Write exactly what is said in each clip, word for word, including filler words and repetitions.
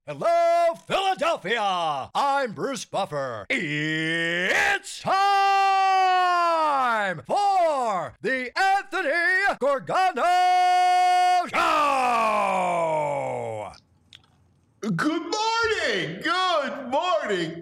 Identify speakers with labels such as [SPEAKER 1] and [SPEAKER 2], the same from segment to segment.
[SPEAKER 1] Hello, Philadelphia! I'm Bruce Buffer. It's time for the Anthony Gorgano Show!
[SPEAKER 2] Good morning! Good morning,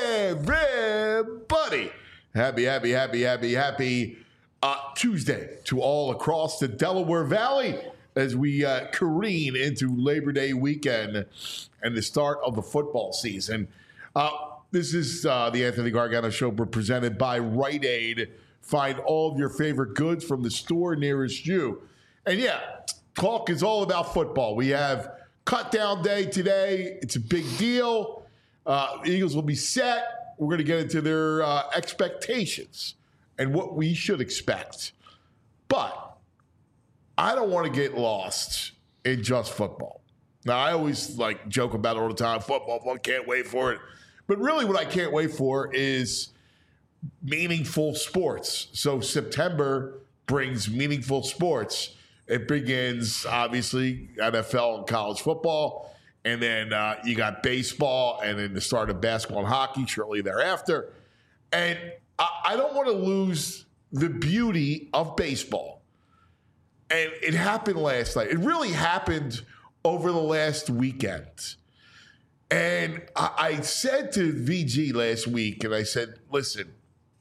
[SPEAKER 2] everybody! Happy, happy, happy, happy, happy uh, Tuesday to all across the Delaware Valley as we uh, careen into Labor Day weekend and the start of the football season. Uh, this is uh, the Anthony Gargano Show presented by Rite Aid. Find all of your favorite goods from the store nearest you. And yeah, talk is all about football. We have cut down day today. It's a big deal. Uh, Eagles will be set. We're going to get into their uh, expectations and what we should expect. But I don't want to get lost in just football. Now, I always like joke about it all the time. Football, I can't wait for it. But really what I can't wait for is meaningful sports. So September brings meaningful sports. It begins, obviously, N F L and college football. And then uh, you got baseball and then the start of basketball and hockey shortly thereafter. And I, I don't want to lose the beauty of baseball. And it happened last night. It really happened over the last weekend. And I, I said to V G last week, and I said, listen,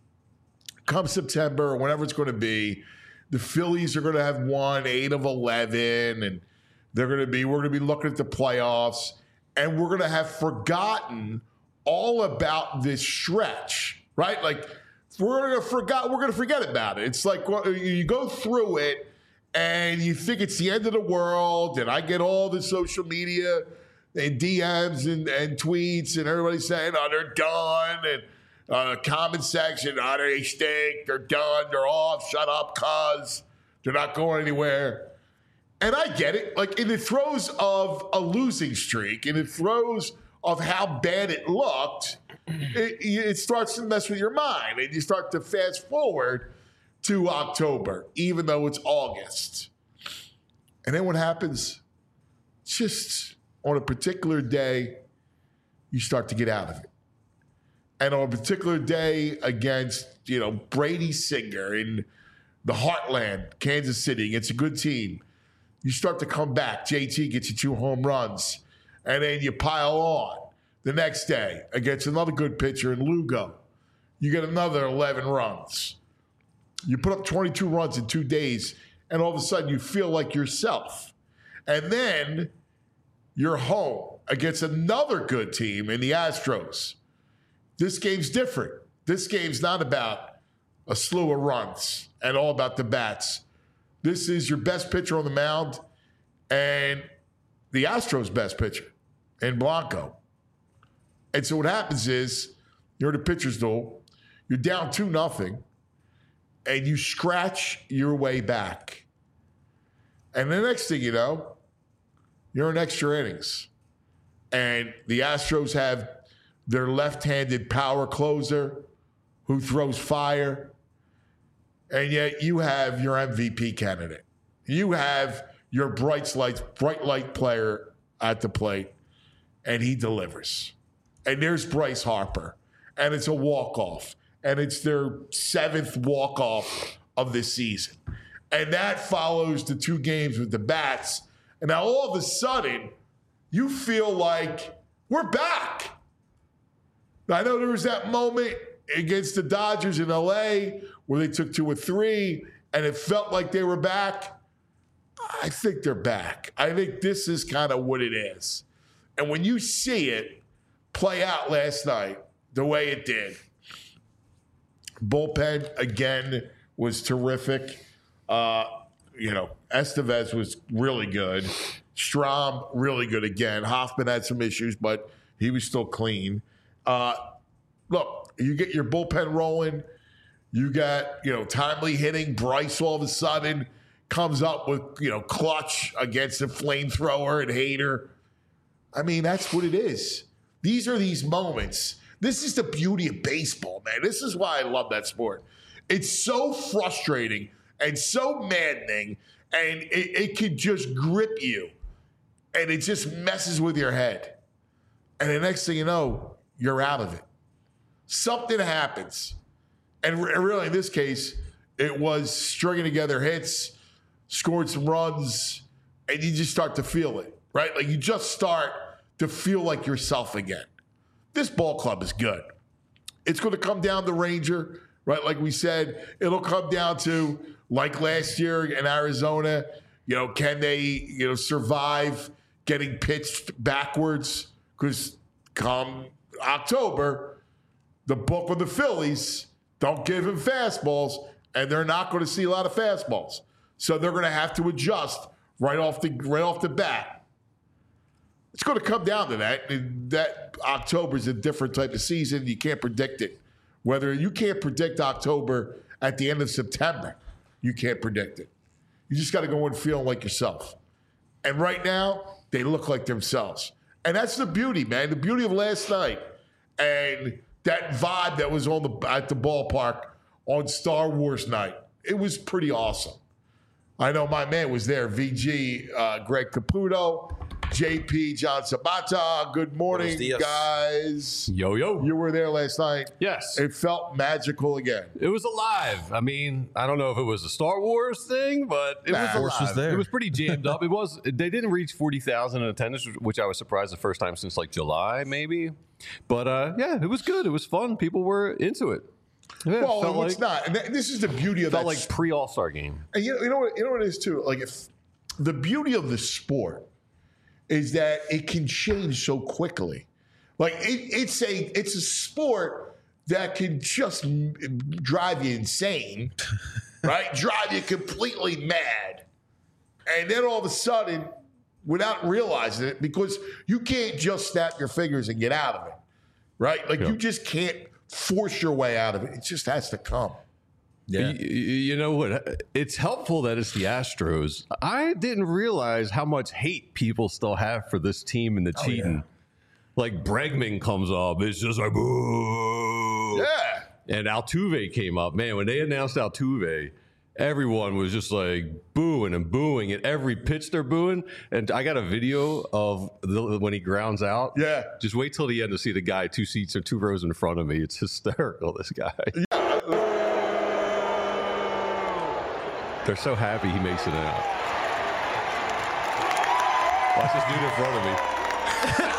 [SPEAKER 2] come September, or whenever it's going to be, the Phillies are going to have won eight of eleven, and they're going to be, we're going to be looking at the playoffs, and we're going to have forgotten all about this stretch, right? Like, we're going to forget, we're going to forget about it. It's like well, you go through it, and you think it's the end of the world, and I get all the social media and D Ms and, and tweets, and everybody saying, oh, they're done, and uh, comment section, oh, they stink, they're done, they're off, shut up, cuz, they're not going anywhere. And I get it. Like, in the throes of a losing streak, in the throes of how bad it looked, it, it starts to mess with your mind, and you start to fast forward to October, even though it's August. And then what happens? Just on a particular day, you start to get out of it. And on a particular day against, you know, Brady Singer in the heartland, Kansas City, against a good team, you start to come back. J T gets you two home runs. And then you pile on the next day against another good pitcher in Lugo. You get another eleven runs. You put up twenty-two runs in two days, and all of a sudden you feel like yourself. And then you're home against another good team in the Astros. This game's different. This game's not about a slew of runs and all about the bats. This is your best pitcher on the mound and the Astros' best pitcher in Blanco. And so what happens is you're in the pitcher's duel. You're down two nothing. And you scratch your way back. And the next thing you know, you're in extra innings. And the Astros have their left-handed power closer who throws fire. And yet you have your M V P candidate. You have your bright light, bright light player at the plate. And he delivers. And there's Bryce Harper. And it's a walk-off. And it's their seventh walk-off of this season. And that follows the two games with the bats. And now all of a sudden, you feel like we're back. I know there was that moment against the Dodgers in L A where they took two or three, and it felt like they were back. I think they're back. I think this is kind of what it is. And when you see it play out last night the way it did, bullpen, again, was terrific. Uh, you know, Estevez was really good. Strahm, really good again. Hoffman had some issues, but he was still clean. Uh, look, you get your bullpen rolling. You got, you know, timely hitting. Bryce all of a sudden comes up with, you know, clutch against a flamethrower and Hader. I mean, that's what it is. These are these moments. This is the beauty of baseball, man. This is why I love that sport. It's so frustrating and so maddening, and it, it can just grip you, and it just messes with your head. And the next thing you know, you're out of it. Something happens. And really, in this case, it was stringing together hits, scored some runs, and you just start to feel it, right? Like you just start to feel like yourself again. This ball club is good. It's going to come down to Ranger, right? Like we said, it'll come down to, like last year in Arizona, you know, can they, you know, survive getting pitched backwards? Because come October, the book of the Phillies don't give him fastballs, and they're not going to see a lot of fastballs. So they're going to have to adjust right off the right off the bat. It's going to come down to that. And that October is a different type of season. You can't predict it. Whether you can't predict October at the end of September, you can't predict it. You just got to go in feeling like yourself. And right now, they look like themselves. And that's the beauty, man. The beauty of last night. And that vibe that was on the at the ballpark on Star Wars night. It was pretty awesome. I know my man was there, V G, uh, Greg Caputo, J P, John Sabata. Good morning, guys.
[SPEAKER 3] Yo, yo.
[SPEAKER 2] You were there last night.
[SPEAKER 3] Yes.
[SPEAKER 2] It felt magical again.
[SPEAKER 3] It was alive. I mean, I don't know if it was a Star Wars thing, but it
[SPEAKER 2] Nah,
[SPEAKER 3] was
[SPEAKER 2] Force
[SPEAKER 3] alive.
[SPEAKER 4] was there.
[SPEAKER 3] It was pretty jammed up. It was. They didn't reach forty thousand in attendance, which I was surprised the first time since like July, maybe. But uh, yeah, it was good. It was fun. People were into it. Yeah,
[SPEAKER 2] Well,
[SPEAKER 3] felt
[SPEAKER 2] no, it's
[SPEAKER 3] like,
[SPEAKER 2] not. And th- this is the beauty of
[SPEAKER 3] felt
[SPEAKER 2] that.
[SPEAKER 3] like pre All Star game.
[SPEAKER 2] And you know, you know what? You know what it is too. Like, if the beauty of the sport is that it can change so quickly. Like, it, it's a it's a sport that can just m- drive you insane, right? Drive you completely mad, and then all of a sudden, without realizing it, because you can't just snap your fingers and get out of it, right? Like,
[SPEAKER 3] Yeah.
[SPEAKER 2] you just can't force your way out of it. It just has to come.
[SPEAKER 4] Yeah.
[SPEAKER 3] You, you know what? It's helpful that it's the Astros. I didn't realize how much hate people still have for this team and the cheating.
[SPEAKER 2] yeah.
[SPEAKER 3] Like Bregman comes up, it's just like boo.
[SPEAKER 2] Yeah.
[SPEAKER 3] And Altuve came up. Man, when they announced Altuve, everyone was just like booing and booing at every pitch they're booing. And I got a video of the, when he grounds out.
[SPEAKER 2] Yeah.
[SPEAKER 3] Just wait till the end to see the guy two seats or two rows in front of me. It's hysterical, this guy. They're so happy he makes it out. Watch this dude in front of me.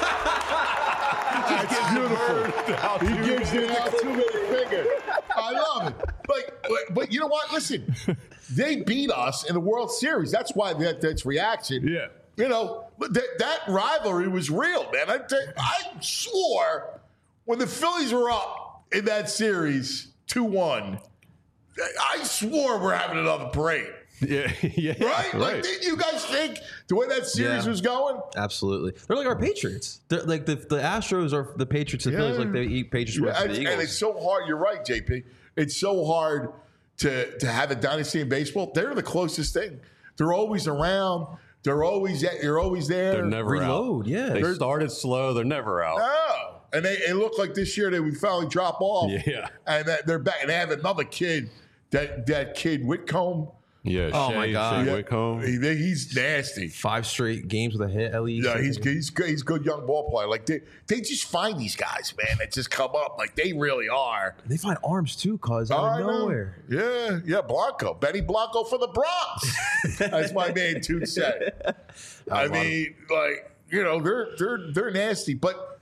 [SPEAKER 2] That's beautiful. He gives you that two-minute finger. I love it. But, but but you know what? Listen, they beat us in the World Series. That's why that, that's reaction.
[SPEAKER 3] Yeah.
[SPEAKER 2] You know, but that, that rivalry was real, man. I, tell you, I swore when the Phillies were up in that series two one, I swore we're having another parade.
[SPEAKER 3] Yeah, yeah,
[SPEAKER 2] Right? Like,
[SPEAKER 3] right.
[SPEAKER 2] didn't you guys think the way that series
[SPEAKER 4] Yeah.
[SPEAKER 2] was going?
[SPEAKER 4] Absolutely. They're like our Patriots. They're like the, the Astros are the Patriots and Phillies,
[SPEAKER 2] Yeah.
[SPEAKER 4] like they eat Patriots
[SPEAKER 2] Yeah,
[SPEAKER 4] were for
[SPEAKER 2] and,
[SPEAKER 4] the
[SPEAKER 2] and
[SPEAKER 4] Eagles.
[SPEAKER 2] it's so hard. You're right, J P. It's so hard to to have a dynasty in baseball. They're the closest thing. They're always around. They're always at, you're always there.
[SPEAKER 3] They're never
[SPEAKER 4] Reload,
[SPEAKER 3] out.
[SPEAKER 4] yeah.
[SPEAKER 3] They
[SPEAKER 4] They're-
[SPEAKER 3] started slow. They're never out.
[SPEAKER 2] No. And they it looked like this year they would finally drop off.
[SPEAKER 3] Yeah.
[SPEAKER 2] And that they're back. And they have another kid, that that kid Whitcomb.
[SPEAKER 3] Yeah.
[SPEAKER 4] Oh,
[SPEAKER 3] Shea,
[SPEAKER 4] my God.
[SPEAKER 3] Shea
[SPEAKER 2] Yeah.
[SPEAKER 3] Whitcomb.
[SPEAKER 2] He, he's nasty.
[SPEAKER 4] Five straight games with a hit at least.
[SPEAKER 2] Yeah, he's he's good. He's a good young ball player. Like they they just find these guys, man, that just come up. Like they really are.
[SPEAKER 4] They find arms too, cause out
[SPEAKER 2] I
[SPEAKER 4] of
[SPEAKER 2] know.
[SPEAKER 4] nowhere.
[SPEAKER 2] Yeah, yeah, Blanco. Benny Blanco for the Bronx. That's my man Toot said. I mean, like, you know, they're they're they're nasty. But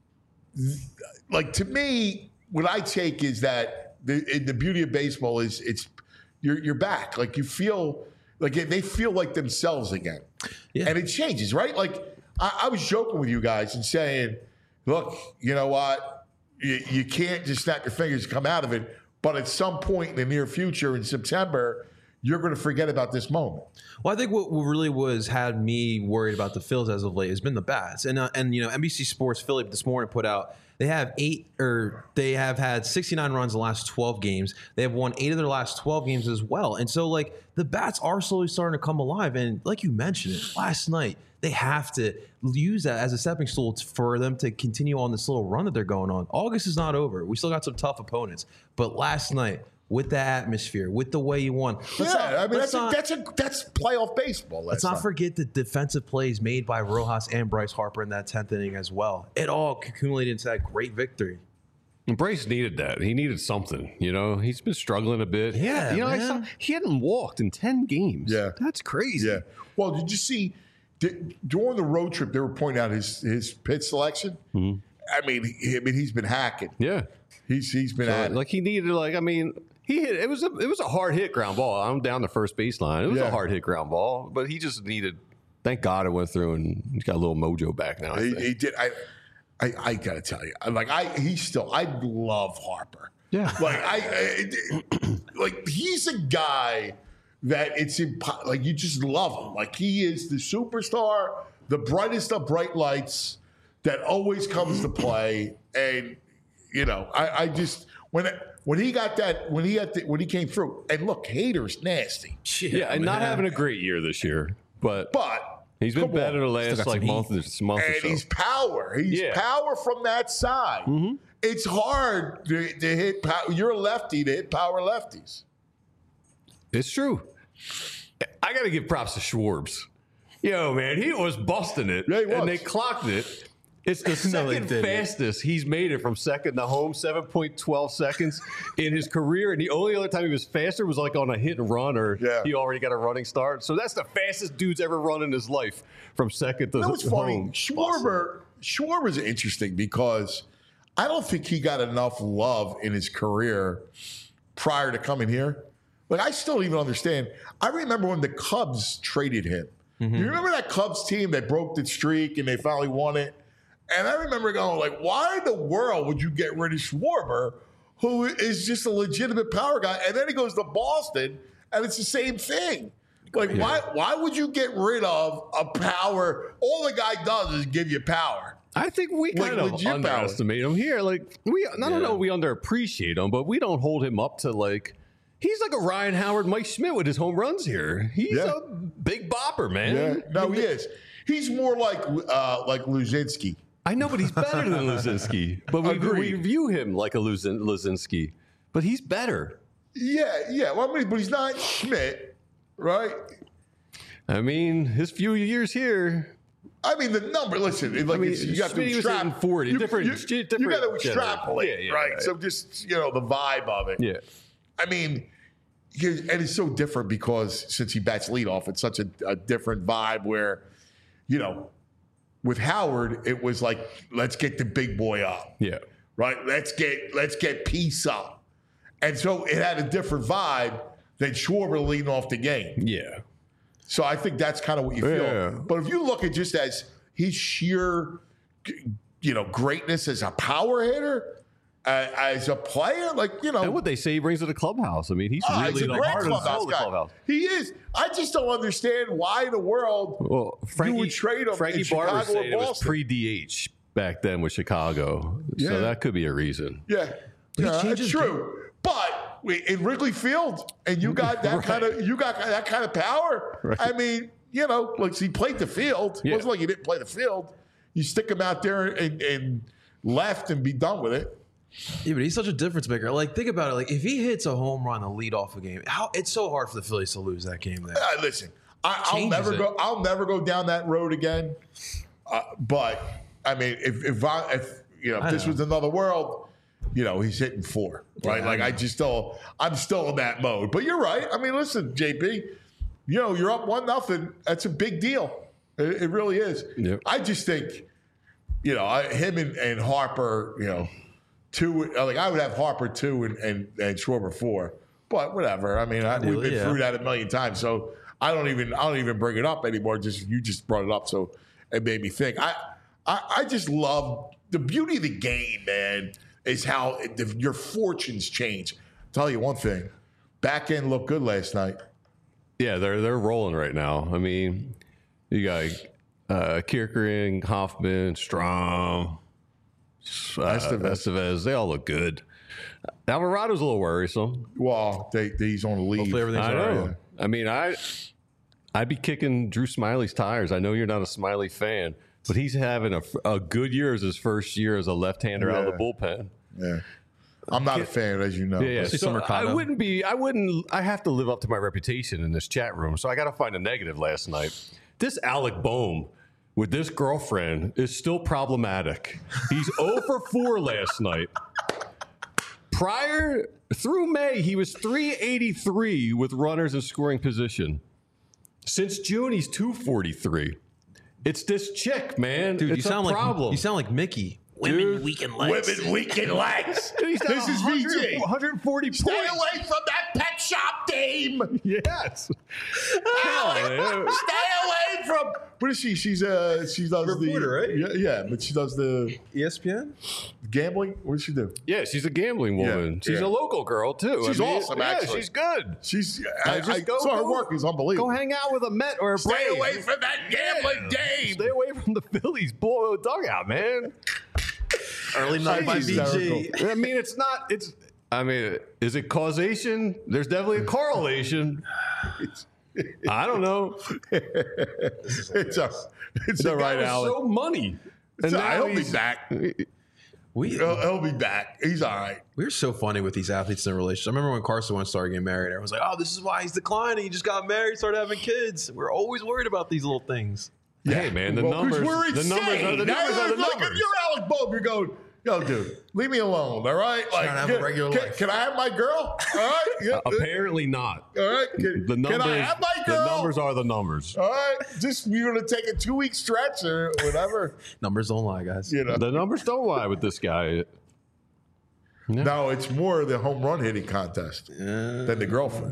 [SPEAKER 2] like to me, what I take is that the the beauty of baseball is it's you're you're back. Like you feel like they feel like themselves again.
[SPEAKER 4] Yeah.
[SPEAKER 2] And it changes, right? Like I, I was joking with you guys and saying, look, you know what? You, you can't just snap your fingers and come out of it. But at some point in the near future, in September, you're going to forget about this moment.
[SPEAKER 4] Well, I think what really was had me worried about the Phils as of late has been the bats, and uh, and you know N B C Sports Philly this morning put out they have eight or they have had sixty-nine runs in the last twelve games. They have won eight of their last twelve games as well, and so like the bats are slowly starting to come alive. And like you mentioned it last night, they have to use that as a stepping stool for them to continue on this little run that they're going on. August is not over. We still got some tough opponents, but last night with the atmosphere, with the way you won. Let's
[SPEAKER 2] yeah,
[SPEAKER 4] not,
[SPEAKER 2] I mean
[SPEAKER 4] let's
[SPEAKER 2] that's
[SPEAKER 4] not,
[SPEAKER 2] a, that's a that's playoff baseball.
[SPEAKER 4] let's not forget the defensive plays made by Rojas and Bryce Harper in that tenth inning as well. It all accumulated into that great victory.
[SPEAKER 3] And Bryce needed that. He needed something. You know, he's been struggling a bit.
[SPEAKER 4] Yeah,
[SPEAKER 3] you know, I
[SPEAKER 4] man.
[SPEAKER 3] saw he hadn't walked in ten games.
[SPEAKER 2] Yeah.
[SPEAKER 3] That's crazy.
[SPEAKER 2] Yeah. Well, did you see did, during the road trip they were pointing out his his pitch selection? Mm-hmm. I mean, he, I mean he's been hacking.
[SPEAKER 3] Yeah.
[SPEAKER 2] He's he's been
[SPEAKER 3] So,
[SPEAKER 2] at it.
[SPEAKER 3] like he needed like I mean he hit it was a it was a hard hit ground ball. I'm down the first baseline. It was
[SPEAKER 2] Yeah.
[SPEAKER 3] a hard hit ground ball, but he just needed. Thank God it went through and he's got a little mojo back now. I
[SPEAKER 2] He,
[SPEAKER 3] think.
[SPEAKER 2] he did. I, I, I gotta tell you, I'm like I, he's still. I love Harper.
[SPEAKER 3] Yeah.
[SPEAKER 2] Like I, I like he's a guy that it's impo- like you just love him. Like he is the superstar, the brightest of bright lights that always comes to play. And you know, I, I just when when he got that when he had the, when he came through. And look, Hader's nasty,
[SPEAKER 3] yeah, and not having a great year this year, but
[SPEAKER 2] but.
[SPEAKER 3] he's been
[SPEAKER 2] come
[SPEAKER 3] better
[SPEAKER 2] on.
[SPEAKER 3] the
[SPEAKER 4] Still
[SPEAKER 3] last
[SPEAKER 4] got
[SPEAKER 3] like
[SPEAKER 4] some
[SPEAKER 3] month, month or
[SPEAKER 2] And
[SPEAKER 3] so.
[SPEAKER 2] he's power. He's
[SPEAKER 3] Yeah.
[SPEAKER 2] power from that side.
[SPEAKER 3] Mm-hmm.
[SPEAKER 2] It's hard to, to hit power. You're a lefty to hit power lefties.
[SPEAKER 3] It's true. I got to give props to Schwartz. Yo, man, he was busting it,
[SPEAKER 2] Yeah, he was.
[SPEAKER 3] and they clocked it. It's the
[SPEAKER 4] No, they
[SPEAKER 3] second
[SPEAKER 4] didn't.
[SPEAKER 3] fastest he's made it from second to home, seven point one two seconds in his career. And the only other time he was faster was like on a hit and run, or
[SPEAKER 2] Yeah.
[SPEAKER 3] he already got a running start. So that's the fastest dude's ever run in his life from second to
[SPEAKER 2] That was funny.
[SPEAKER 3] home.
[SPEAKER 2] Schwarber, Schwarber's interesting because I don't think he got enough love in his career prior to coming here. Like, I still don't even understand. I remember when the Cubs traded him.
[SPEAKER 3] Mm-hmm.
[SPEAKER 2] You remember that Cubs team that broke the streak and they finally won it? And I remember going, like, why in the world would you get rid of Schwarber, who is just a legitimate power guy? And then he goes to Boston, and it's the same thing. Like,
[SPEAKER 3] Yeah.
[SPEAKER 2] why why would you get rid of a power? All the guy does is give you power.
[SPEAKER 3] I think we
[SPEAKER 2] Like
[SPEAKER 3] kind of
[SPEAKER 2] legit power.
[SPEAKER 3] underestimate him here. Like we, I don't
[SPEAKER 4] Yeah.
[SPEAKER 3] know, we underappreciate him, but we don't hold him up to like. He's like a Ryan Howard, Mike Schmidt with his home runs here. He's
[SPEAKER 2] Yeah.
[SPEAKER 3] a big bopper, man.
[SPEAKER 2] Yeah, no, he is. He's more like uh, like Luzinski.
[SPEAKER 3] I know, but he's better than Luzinski. But we, we
[SPEAKER 2] Agreed.
[SPEAKER 3] view him like a Luzin, Luzinski. But he's better.
[SPEAKER 2] Yeah, yeah. Well, I mean, but he's not Schmidt, right?
[SPEAKER 3] I mean, his few years here.
[SPEAKER 2] I mean, the number. Listen, it- like
[SPEAKER 3] I mean,
[SPEAKER 2] it's, you got to
[SPEAKER 3] Schmidt was
[SPEAKER 2] extrapolate.
[SPEAKER 3] hitting forty,
[SPEAKER 2] You,
[SPEAKER 3] different-
[SPEAKER 2] you,
[SPEAKER 3] different
[SPEAKER 2] you got to
[SPEAKER 3] generation.
[SPEAKER 2] extrapolate,
[SPEAKER 3] Yeah, yeah,
[SPEAKER 2] right?
[SPEAKER 3] right.
[SPEAKER 2] So just you know the vibe of it.
[SPEAKER 3] Yeah.
[SPEAKER 2] I mean, he- and it's so different because since he bats leadoff, it's such a, a different vibe. Where, you know, with Howard, it was like, let's get the big boy up.
[SPEAKER 3] Yeah.
[SPEAKER 2] Right? Let's get let's get peace up. And so it had a different vibe than Schwarber leading off the game.
[SPEAKER 3] Yeah.
[SPEAKER 2] So I think that's kind of what you feel.
[SPEAKER 3] Yeah.
[SPEAKER 2] But if you look at just as his sheer, you know, greatness as a power hitter, uh, as a player, like, you know,
[SPEAKER 3] And what they say he brings to the clubhouse. I mean, he's
[SPEAKER 2] ah,
[SPEAKER 3] really
[SPEAKER 2] he's a
[SPEAKER 3] the
[SPEAKER 2] great
[SPEAKER 3] heart and soul
[SPEAKER 2] clubhouse
[SPEAKER 3] of the
[SPEAKER 2] guy.
[SPEAKER 3] clubhouse.
[SPEAKER 2] He is. I just don't understand why in the world
[SPEAKER 3] Well, Frankie,
[SPEAKER 2] would trade him
[SPEAKER 3] Frankie
[SPEAKER 2] in
[SPEAKER 3] Barber
[SPEAKER 2] Chicago or
[SPEAKER 3] saying it was
[SPEAKER 2] Boston.
[SPEAKER 3] pre-D H back then with Chicago.
[SPEAKER 2] Yeah.
[SPEAKER 3] So that could be a reason.
[SPEAKER 2] Yeah,
[SPEAKER 4] he
[SPEAKER 2] yeah,
[SPEAKER 4] changed
[SPEAKER 2] it's
[SPEAKER 4] his
[SPEAKER 2] true. But we- in Wrigley Field, and you got that
[SPEAKER 3] Right.
[SPEAKER 2] kind of you got that kind of power.
[SPEAKER 3] Right.
[SPEAKER 2] I mean, you know, like he played the field. It
[SPEAKER 3] Yeah.
[SPEAKER 2] wasn't like he didn't play the field. You stick him out there and, and left and be done with it.
[SPEAKER 4] Yeah, but he's such a difference maker. Like, think about it. Like, if he hits a home run to lead off a game, how it's so hard for the Phillies to lose that game there.
[SPEAKER 2] Uh, listen, I, I'll
[SPEAKER 4] Changes
[SPEAKER 2] never
[SPEAKER 4] it.
[SPEAKER 2] go. I'll never go down that road again. Uh, but I mean, if if, I, if you know, if
[SPEAKER 4] I
[SPEAKER 2] this
[SPEAKER 4] know.
[SPEAKER 2] was another world, you know, he's hitting four, right?
[SPEAKER 4] Yeah, I
[SPEAKER 2] like I
[SPEAKER 4] know.
[SPEAKER 2] just still, I'm still in that mode. But you're right. I mean, listen, J P, you know, you're up one nothing. That's a big deal. It, it really is.
[SPEAKER 3] Yep.
[SPEAKER 2] I just think, you know, I, him and, and Harper, you know, two. Like I would have Harper two and and, and Schwarber four. But whatever. I mean, I, we've been
[SPEAKER 4] yeah.
[SPEAKER 2] through that a million times, so I don't even I don't even bring it up anymore. Just you just brought it up, so it made me think. I I, I just love the beauty of the game, man. Is how it, the, your fortunes change. I'll tell you one thing, back end looked good last night.
[SPEAKER 3] Yeah, they're they're rolling right now. I mean, you got uh, Kierkegaard, Hoffman, Strom, uh,
[SPEAKER 2] Estevez.
[SPEAKER 3] Estevez. They all look good. Alvarado's a little worrisome.
[SPEAKER 2] Well, they, they, he's on the lead.
[SPEAKER 4] Hopefully everything's
[SPEAKER 3] I
[SPEAKER 4] all right.
[SPEAKER 3] know. I mean, I I'd be kicking Drew Smiley's tires. I know you're not a Smiley fan, but he's having a, a good year as his first year as a left-hander out of the
[SPEAKER 2] Yeah.
[SPEAKER 3] bullpen.
[SPEAKER 2] Yeah. I'm not a fan, as you know.
[SPEAKER 3] Yeah, yeah.
[SPEAKER 4] Let's see
[SPEAKER 3] So
[SPEAKER 4] some Mercado.
[SPEAKER 3] I wouldn't be. I wouldn't. I have to live up to my reputation in this chat room, so I got to find a negative. Last night, this Alec Boehm with this girlfriend is still problematic. He's zero for four last night. Prior through May, he was three eighty-three with runners in scoring position. Since June, he's two forty-three. It's this chick, man.
[SPEAKER 4] Dude,
[SPEAKER 3] it's
[SPEAKER 4] you sound
[SPEAKER 3] a problem.
[SPEAKER 4] like you sound like Mickey.
[SPEAKER 3] Dude,
[SPEAKER 4] weaken legs.
[SPEAKER 2] Women weaken legs.
[SPEAKER 3] He's got
[SPEAKER 2] This is V G.
[SPEAKER 3] one hundred forty
[SPEAKER 2] Stay
[SPEAKER 3] points.
[SPEAKER 2] away from that pet shop dame.
[SPEAKER 3] Yes.
[SPEAKER 2] Alex,
[SPEAKER 3] yeah.
[SPEAKER 2] stay away from. What is she? She's uh, she does
[SPEAKER 4] Reporter,
[SPEAKER 2] the
[SPEAKER 4] right?
[SPEAKER 2] Yeah, yeah, but she does the
[SPEAKER 4] E S P N?
[SPEAKER 2] gambling. What does she do?
[SPEAKER 3] Yeah, she's a gambling woman.
[SPEAKER 2] Yeah,
[SPEAKER 3] she's
[SPEAKER 2] yeah.
[SPEAKER 3] a local girl too.
[SPEAKER 2] She's
[SPEAKER 3] I mean,
[SPEAKER 2] awesome,
[SPEAKER 3] yeah,
[SPEAKER 2] actually.
[SPEAKER 3] she's good.
[SPEAKER 2] She's.
[SPEAKER 3] I
[SPEAKER 2] I,
[SPEAKER 3] just
[SPEAKER 2] I,
[SPEAKER 3] go-
[SPEAKER 2] so her
[SPEAKER 3] go-
[SPEAKER 2] work is unbelievable.
[SPEAKER 3] Go hang out with a Met or a
[SPEAKER 2] Stay
[SPEAKER 3] Braves.
[SPEAKER 2] away from that gambling dame.
[SPEAKER 3] Stay away from the Phillies bull dugout, man.
[SPEAKER 4] Early night by
[SPEAKER 2] She's
[SPEAKER 4] V G.
[SPEAKER 2] hysterical.
[SPEAKER 3] I mean, it's not. It's. I mean, is it causation? There's definitely a correlation. I don't know.
[SPEAKER 2] It's a. It's
[SPEAKER 3] The
[SPEAKER 2] a
[SPEAKER 3] guy
[SPEAKER 2] right,
[SPEAKER 3] was
[SPEAKER 2] Alex.
[SPEAKER 3] so money. And
[SPEAKER 2] So
[SPEAKER 3] now
[SPEAKER 2] he'll be
[SPEAKER 3] he's-
[SPEAKER 2] back.
[SPEAKER 4] We
[SPEAKER 2] He'll, he'll be back. He's all right.
[SPEAKER 4] we're so funny with these athletes in relationships. I remember when Carson Wentz started getting married, everyone was like, "Oh, this is why he's declining. He just got married, started having kids." We're always worried about these little things.
[SPEAKER 3] Hey, man, the
[SPEAKER 2] Well, 'cause
[SPEAKER 3] numbers.
[SPEAKER 2] We're
[SPEAKER 3] the
[SPEAKER 2] insane.
[SPEAKER 3] numbers are the
[SPEAKER 2] Now,
[SPEAKER 3] numbers. Are the
[SPEAKER 2] look, if
[SPEAKER 3] numbers.
[SPEAKER 2] you're Alec Boehm, you're going, yo, dude, leave me alone, all right? Like,
[SPEAKER 4] to have a
[SPEAKER 2] can,
[SPEAKER 4] regular
[SPEAKER 2] can,
[SPEAKER 4] life.
[SPEAKER 2] can I have my girl? All right? Yeah,
[SPEAKER 3] Apparently not.
[SPEAKER 2] all right. Can,
[SPEAKER 3] The numbers.
[SPEAKER 2] can I have my
[SPEAKER 3] the
[SPEAKER 2] girl?
[SPEAKER 3] numbers are the numbers.
[SPEAKER 2] All right. Just, you're going to take a two week stretch or whatever.
[SPEAKER 4] Numbers don't lie, guys.
[SPEAKER 2] You know.
[SPEAKER 3] The numbers don't lie with this guy.
[SPEAKER 2] No, it's more the home run hitting contest than the girlfriend.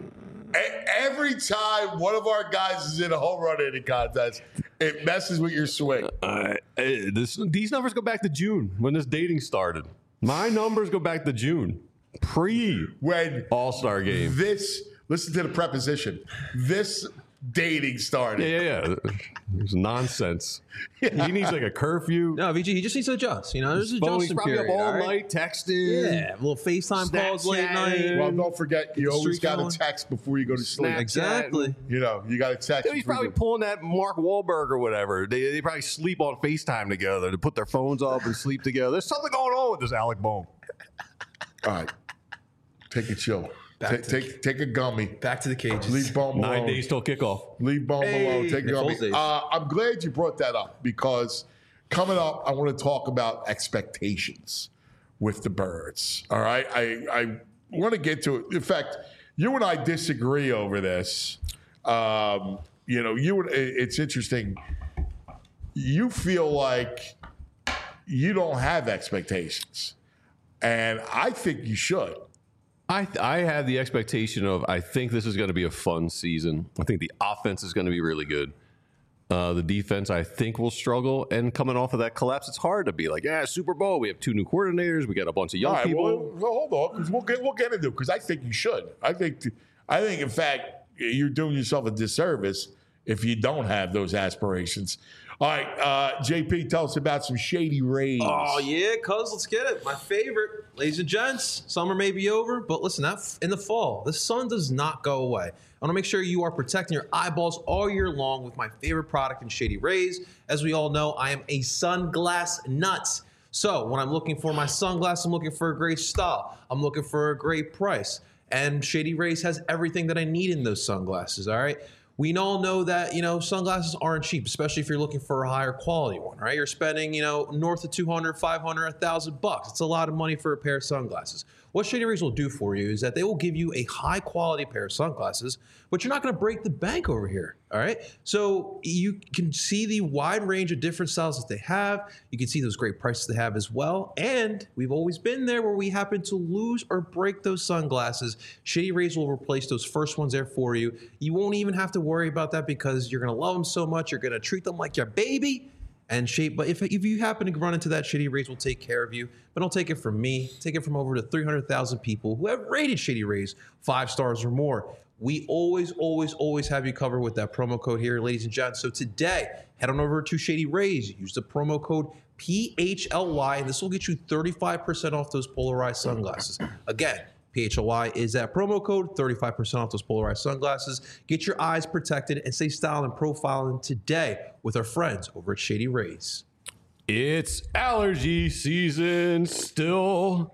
[SPEAKER 2] E- Every time one of our guys is in a home run hitting contest, it messes with your swing.
[SPEAKER 3] Uh, eh, this, these numbers go back to June when this dating started. My numbers go back to June, pre
[SPEAKER 2] When
[SPEAKER 3] All Star game.
[SPEAKER 2] this, listen to the preposition, this dating started.
[SPEAKER 3] Yeah, yeah, yeah. It's nonsense. He needs like a curfew.
[SPEAKER 4] No, V G, he just needs to adjust. You know, there's an
[SPEAKER 3] Phone, he's
[SPEAKER 4] adjustment
[SPEAKER 3] probably
[SPEAKER 4] period.
[SPEAKER 3] up all
[SPEAKER 4] all right?
[SPEAKER 3] night texting.
[SPEAKER 4] Yeah, little FaceTime calls late
[SPEAKER 3] Snapchatting.
[SPEAKER 4] night.
[SPEAKER 2] Well, don't forget, you
[SPEAKER 4] the
[SPEAKER 2] always
[SPEAKER 4] streak
[SPEAKER 2] got
[SPEAKER 4] going.
[SPEAKER 2] to text before you go to sleep.
[SPEAKER 3] Snap.
[SPEAKER 4] Exactly.
[SPEAKER 2] You know, you got to text.
[SPEAKER 3] Dude, he's
[SPEAKER 2] before
[SPEAKER 3] probably
[SPEAKER 2] you-
[SPEAKER 3] pulling that Mark Wahlberg or whatever. They, they probably sleep on FaceTime together to put their phones up and sleep together. There's something going on with this Alec Boehm.
[SPEAKER 2] All right, take a chill.
[SPEAKER 4] Back
[SPEAKER 2] Take,
[SPEAKER 4] to-
[SPEAKER 2] take take a gummy.
[SPEAKER 4] Back to the cages.
[SPEAKER 2] Leave Boehm
[SPEAKER 3] Nine
[SPEAKER 2] alone.
[SPEAKER 3] days till kickoff.
[SPEAKER 2] Leave Boehm
[SPEAKER 4] Hey,
[SPEAKER 2] alone. Take a
[SPEAKER 4] Nick
[SPEAKER 2] gummy.
[SPEAKER 4] Foles days.
[SPEAKER 2] Uh, I'm glad you brought that up because coming up, I want to talk about expectations with the Birds. All right, I I want to get to it. In fact, you and I disagree over this. Um, you know, you and it's interesting. You feel like you don't have expectations, and I think you should.
[SPEAKER 3] I I have the expectation of I think this is going to be a fun season. I think the offense is going to be really good. Uh, the defense, I think, will struggle. And coming off of that collapse, it's hard to be like, yeah, Super Bowl. We have two new coordinators. We got a bunch of young
[SPEAKER 2] All right,
[SPEAKER 3] people.
[SPEAKER 2] well, well, hold on, 'cause we'll get we'll get into it because I think you should. I think I think in fact you're doing yourself a disservice if you don't have those aspirations. All right, uh, J P, tell us about some Shady Rays.
[SPEAKER 4] Oh yeah, cuz let's get it. My favorite, ladies and gents. Summer may be over, but listen, that in the fall, the sun does not go away. I want to make sure you are protecting your eyeballs all year long with my favorite product in Shady Rays. As we all know, I am a sunglass nut. So when I'm looking for my sunglasses, I'm looking for a great style. I'm looking for a great price. And Shady Rays has everything that I need in those sunglasses, all right? We all know that, you know, sunglasses aren't cheap, especially if you're looking for a higher quality one, right? You're spending, you know, north of two hundred, five hundred, one thousand bucks. It's a lot of money for a pair of sunglasses. What Shady Rays will do for you is that they will give you a high quality pair of sunglasses, but you're not going to break the bank over here, all right? So you can see the wide range of different styles that they have. You can see those great prices they have as well. And we've always been there where we happen to lose or break those sunglasses. Shady Rays will replace those first ones there for you. You won't even have to worry about that because you're going to love them so much. You're going to treat them like your baby. And shape, but if, if you happen to run into that, Shady Rays will take care of you. But don't take it from me. Take it from over to three hundred thousand people who have rated Shady Rays five stars or more. We always, always, always have you covered with that promo code here, ladies and gents. So today, head on over to Shady Rays. Use the promo code P H L Y, and this will get you thirty-five percent off those polarized sunglasses. Again, P H L Y is that promo code, thirty-five percent off those polarized sunglasses. Get your eyes protected and stay styling and profiling today with our friends over at Shady Rays.
[SPEAKER 3] It's allergy season still.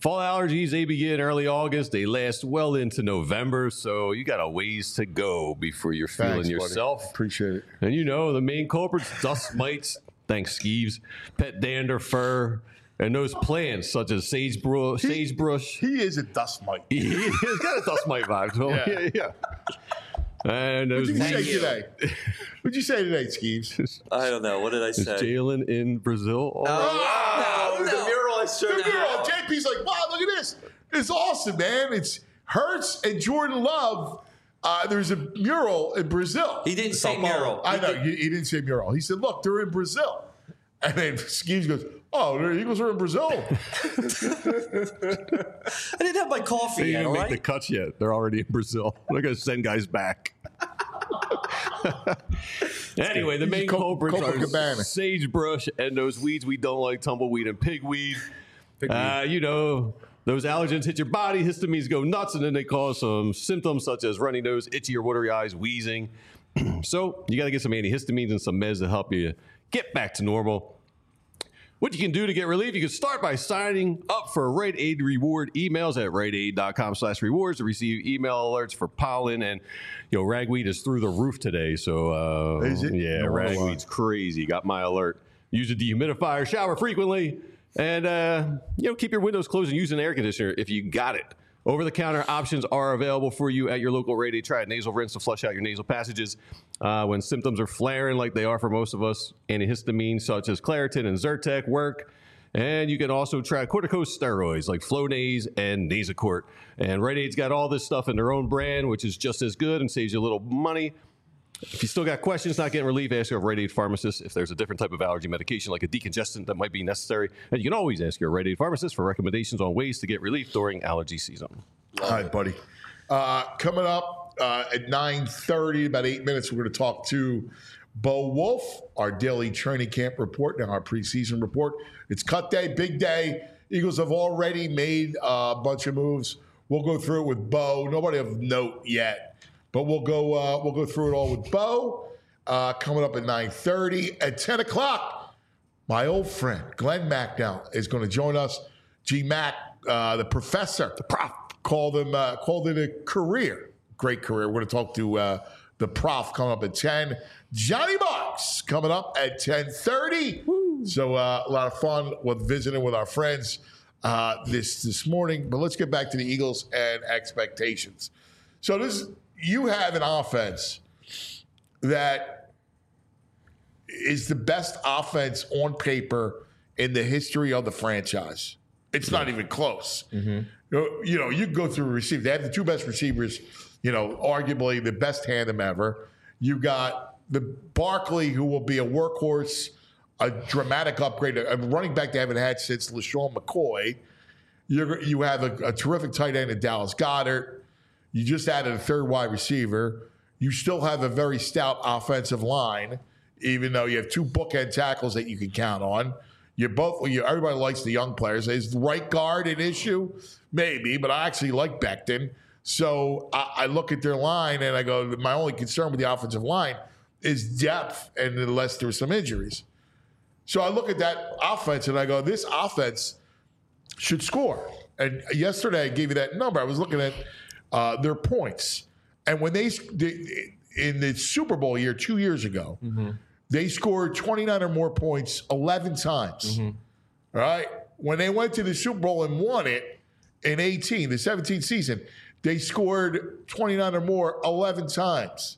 [SPEAKER 3] Fall allergies, they begin early August. They last well into November, so you got a ways to go before you're feeling
[SPEAKER 2] Thanks,
[SPEAKER 3] yourself.
[SPEAKER 2] buddy. Appreciate it.
[SPEAKER 3] And you know, the main culprits, dust mites, thanks, Skeeves, pet dander, fur, and those plants such as sagebrush. sagebrush.
[SPEAKER 2] He is a dust mite.
[SPEAKER 3] He's got a dust mite vibe to him.
[SPEAKER 2] Yeah.
[SPEAKER 3] Yeah, yeah. And those
[SPEAKER 2] What did you say
[SPEAKER 3] weeds-
[SPEAKER 2] today? What did you say today, Skeeves?
[SPEAKER 5] I don't know. What did I
[SPEAKER 3] Is
[SPEAKER 5] say?
[SPEAKER 3] Jalen in Brazil? Oh,
[SPEAKER 2] Oh,
[SPEAKER 4] no, the mural I showed
[SPEAKER 2] The
[SPEAKER 4] you.
[SPEAKER 2] mural. J P's like, wow, look at this. It's awesome, man. It's Hurts and Jordan Love. Uh, there's a mural in Brazil.
[SPEAKER 5] He didn't say mural.
[SPEAKER 2] I
[SPEAKER 5] He
[SPEAKER 2] know.
[SPEAKER 5] did-
[SPEAKER 2] He, he didn't say mural. He said, look, they're in Brazil. And then Skeeves goes, oh, the Eagles are in Brazil.
[SPEAKER 5] I didn't have my coffee
[SPEAKER 3] They
[SPEAKER 5] yet,
[SPEAKER 3] didn't
[SPEAKER 5] all
[SPEAKER 3] make
[SPEAKER 5] right?
[SPEAKER 3] the cuts yet. They're already in Brazil. They're going to send guys back. Anyway, the main
[SPEAKER 2] Co-
[SPEAKER 3] culprits are
[SPEAKER 2] Copacabana.
[SPEAKER 3] sagebrush and those weeds we don't like, tumbleweed and pigweed. Uh, you know, those allergens hit your body, histamines go nuts, and then they cause some symptoms such as runny nose, itchy or watery eyes, wheezing. So you got to get some antihistamines and some meds to help you get back to normal. What you can do to get relief, you can start by signing up for Rite Aid Reward emails at riteaid.com slash rewards to receive email alerts for pollen. And, you know, ragweed is through the roof today. So, uh,
[SPEAKER 2] Is it?
[SPEAKER 3] yeah,
[SPEAKER 2] No,
[SPEAKER 3] ragweed's crazy. Got my alert. Use a dehumidifier, shower frequently, and, uh, you know, keep your windows closed and use an air conditioner if you got it. Over-the-counter options are available for you at your local Rite Aid. Try a nasal rinse to flush out your nasal passages. Uh, when symptoms are flaring like they are for most of us, antihistamines such as Claritin and Zyrtec work. And you can also try corticosteroids like Flonase and Nasacort. And Rite Aid's got all this stuff in their own brand, which is just as good and saves you a little money. If you still got questions, not getting relief, ask your Rite Aid pharmacist if there's a different type of allergy medication like a decongestant that might be necessary. And you can always ask your Rite Aid pharmacist for recommendations on ways to get relief during allergy season.
[SPEAKER 2] All right, buddy. Uh, coming up uh, at nine thirty, about eight minutes, we're going to talk to Bo Wolf, our daily training camp report and our preseason report. It's cut day, big day. Eagles have already made a bunch of moves. We'll go through it with Bo. Nobody of note yet, but we'll go. Uh, we'll go through it all with Bo. Uh, coming up at nine thirty. At ten o'clock, my old friend Glenn Macnow is going to join us. G Mac, uh, the professor, the prof, called him uh, called it a career, great career. We're going to talk to uh, the prof coming up at ten. Johnny Marks coming up at ten thirty. So uh, a lot of fun with visiting with our friends uh, this this morning. But let's get back to the Eagles and expectations. So this you have an offense that is the best offense on paper in the history of the franchise. It's not even close. You know, you know, you can go through a receiver. They have the two best receivers, you know, arguably the best tandem ever. You got the Barkley, who will be a workhorse, a dramatic upgrade, a running back they haven't had since LaShawn McCoy. You're, you have a, a terrific tight end in Dallas Goedert. You just added a third wide receiver. You still have a very stout offensive line, even though you have two bookend tackles that you can count on. You're both. You, everybody likes the young players. Is the right guard an issue? Maybe, but I actually like Becton. So I, I look at their line and I go, my only concern with the offensive line is depth, and unless there's some injuries. So I look at that offense and I go, this offense should score. And yesterday I gave you that number. I was looking at uh, their points, and when they, they in the Super Bowl year two years ago. Mm-hmm. They scored twenty-nine or more points eleven times. Mm-hmm. All right? When they went to the Super Bowl and won it in eighteen, the seventeenth season, they scored twenty-nine or more eleven times.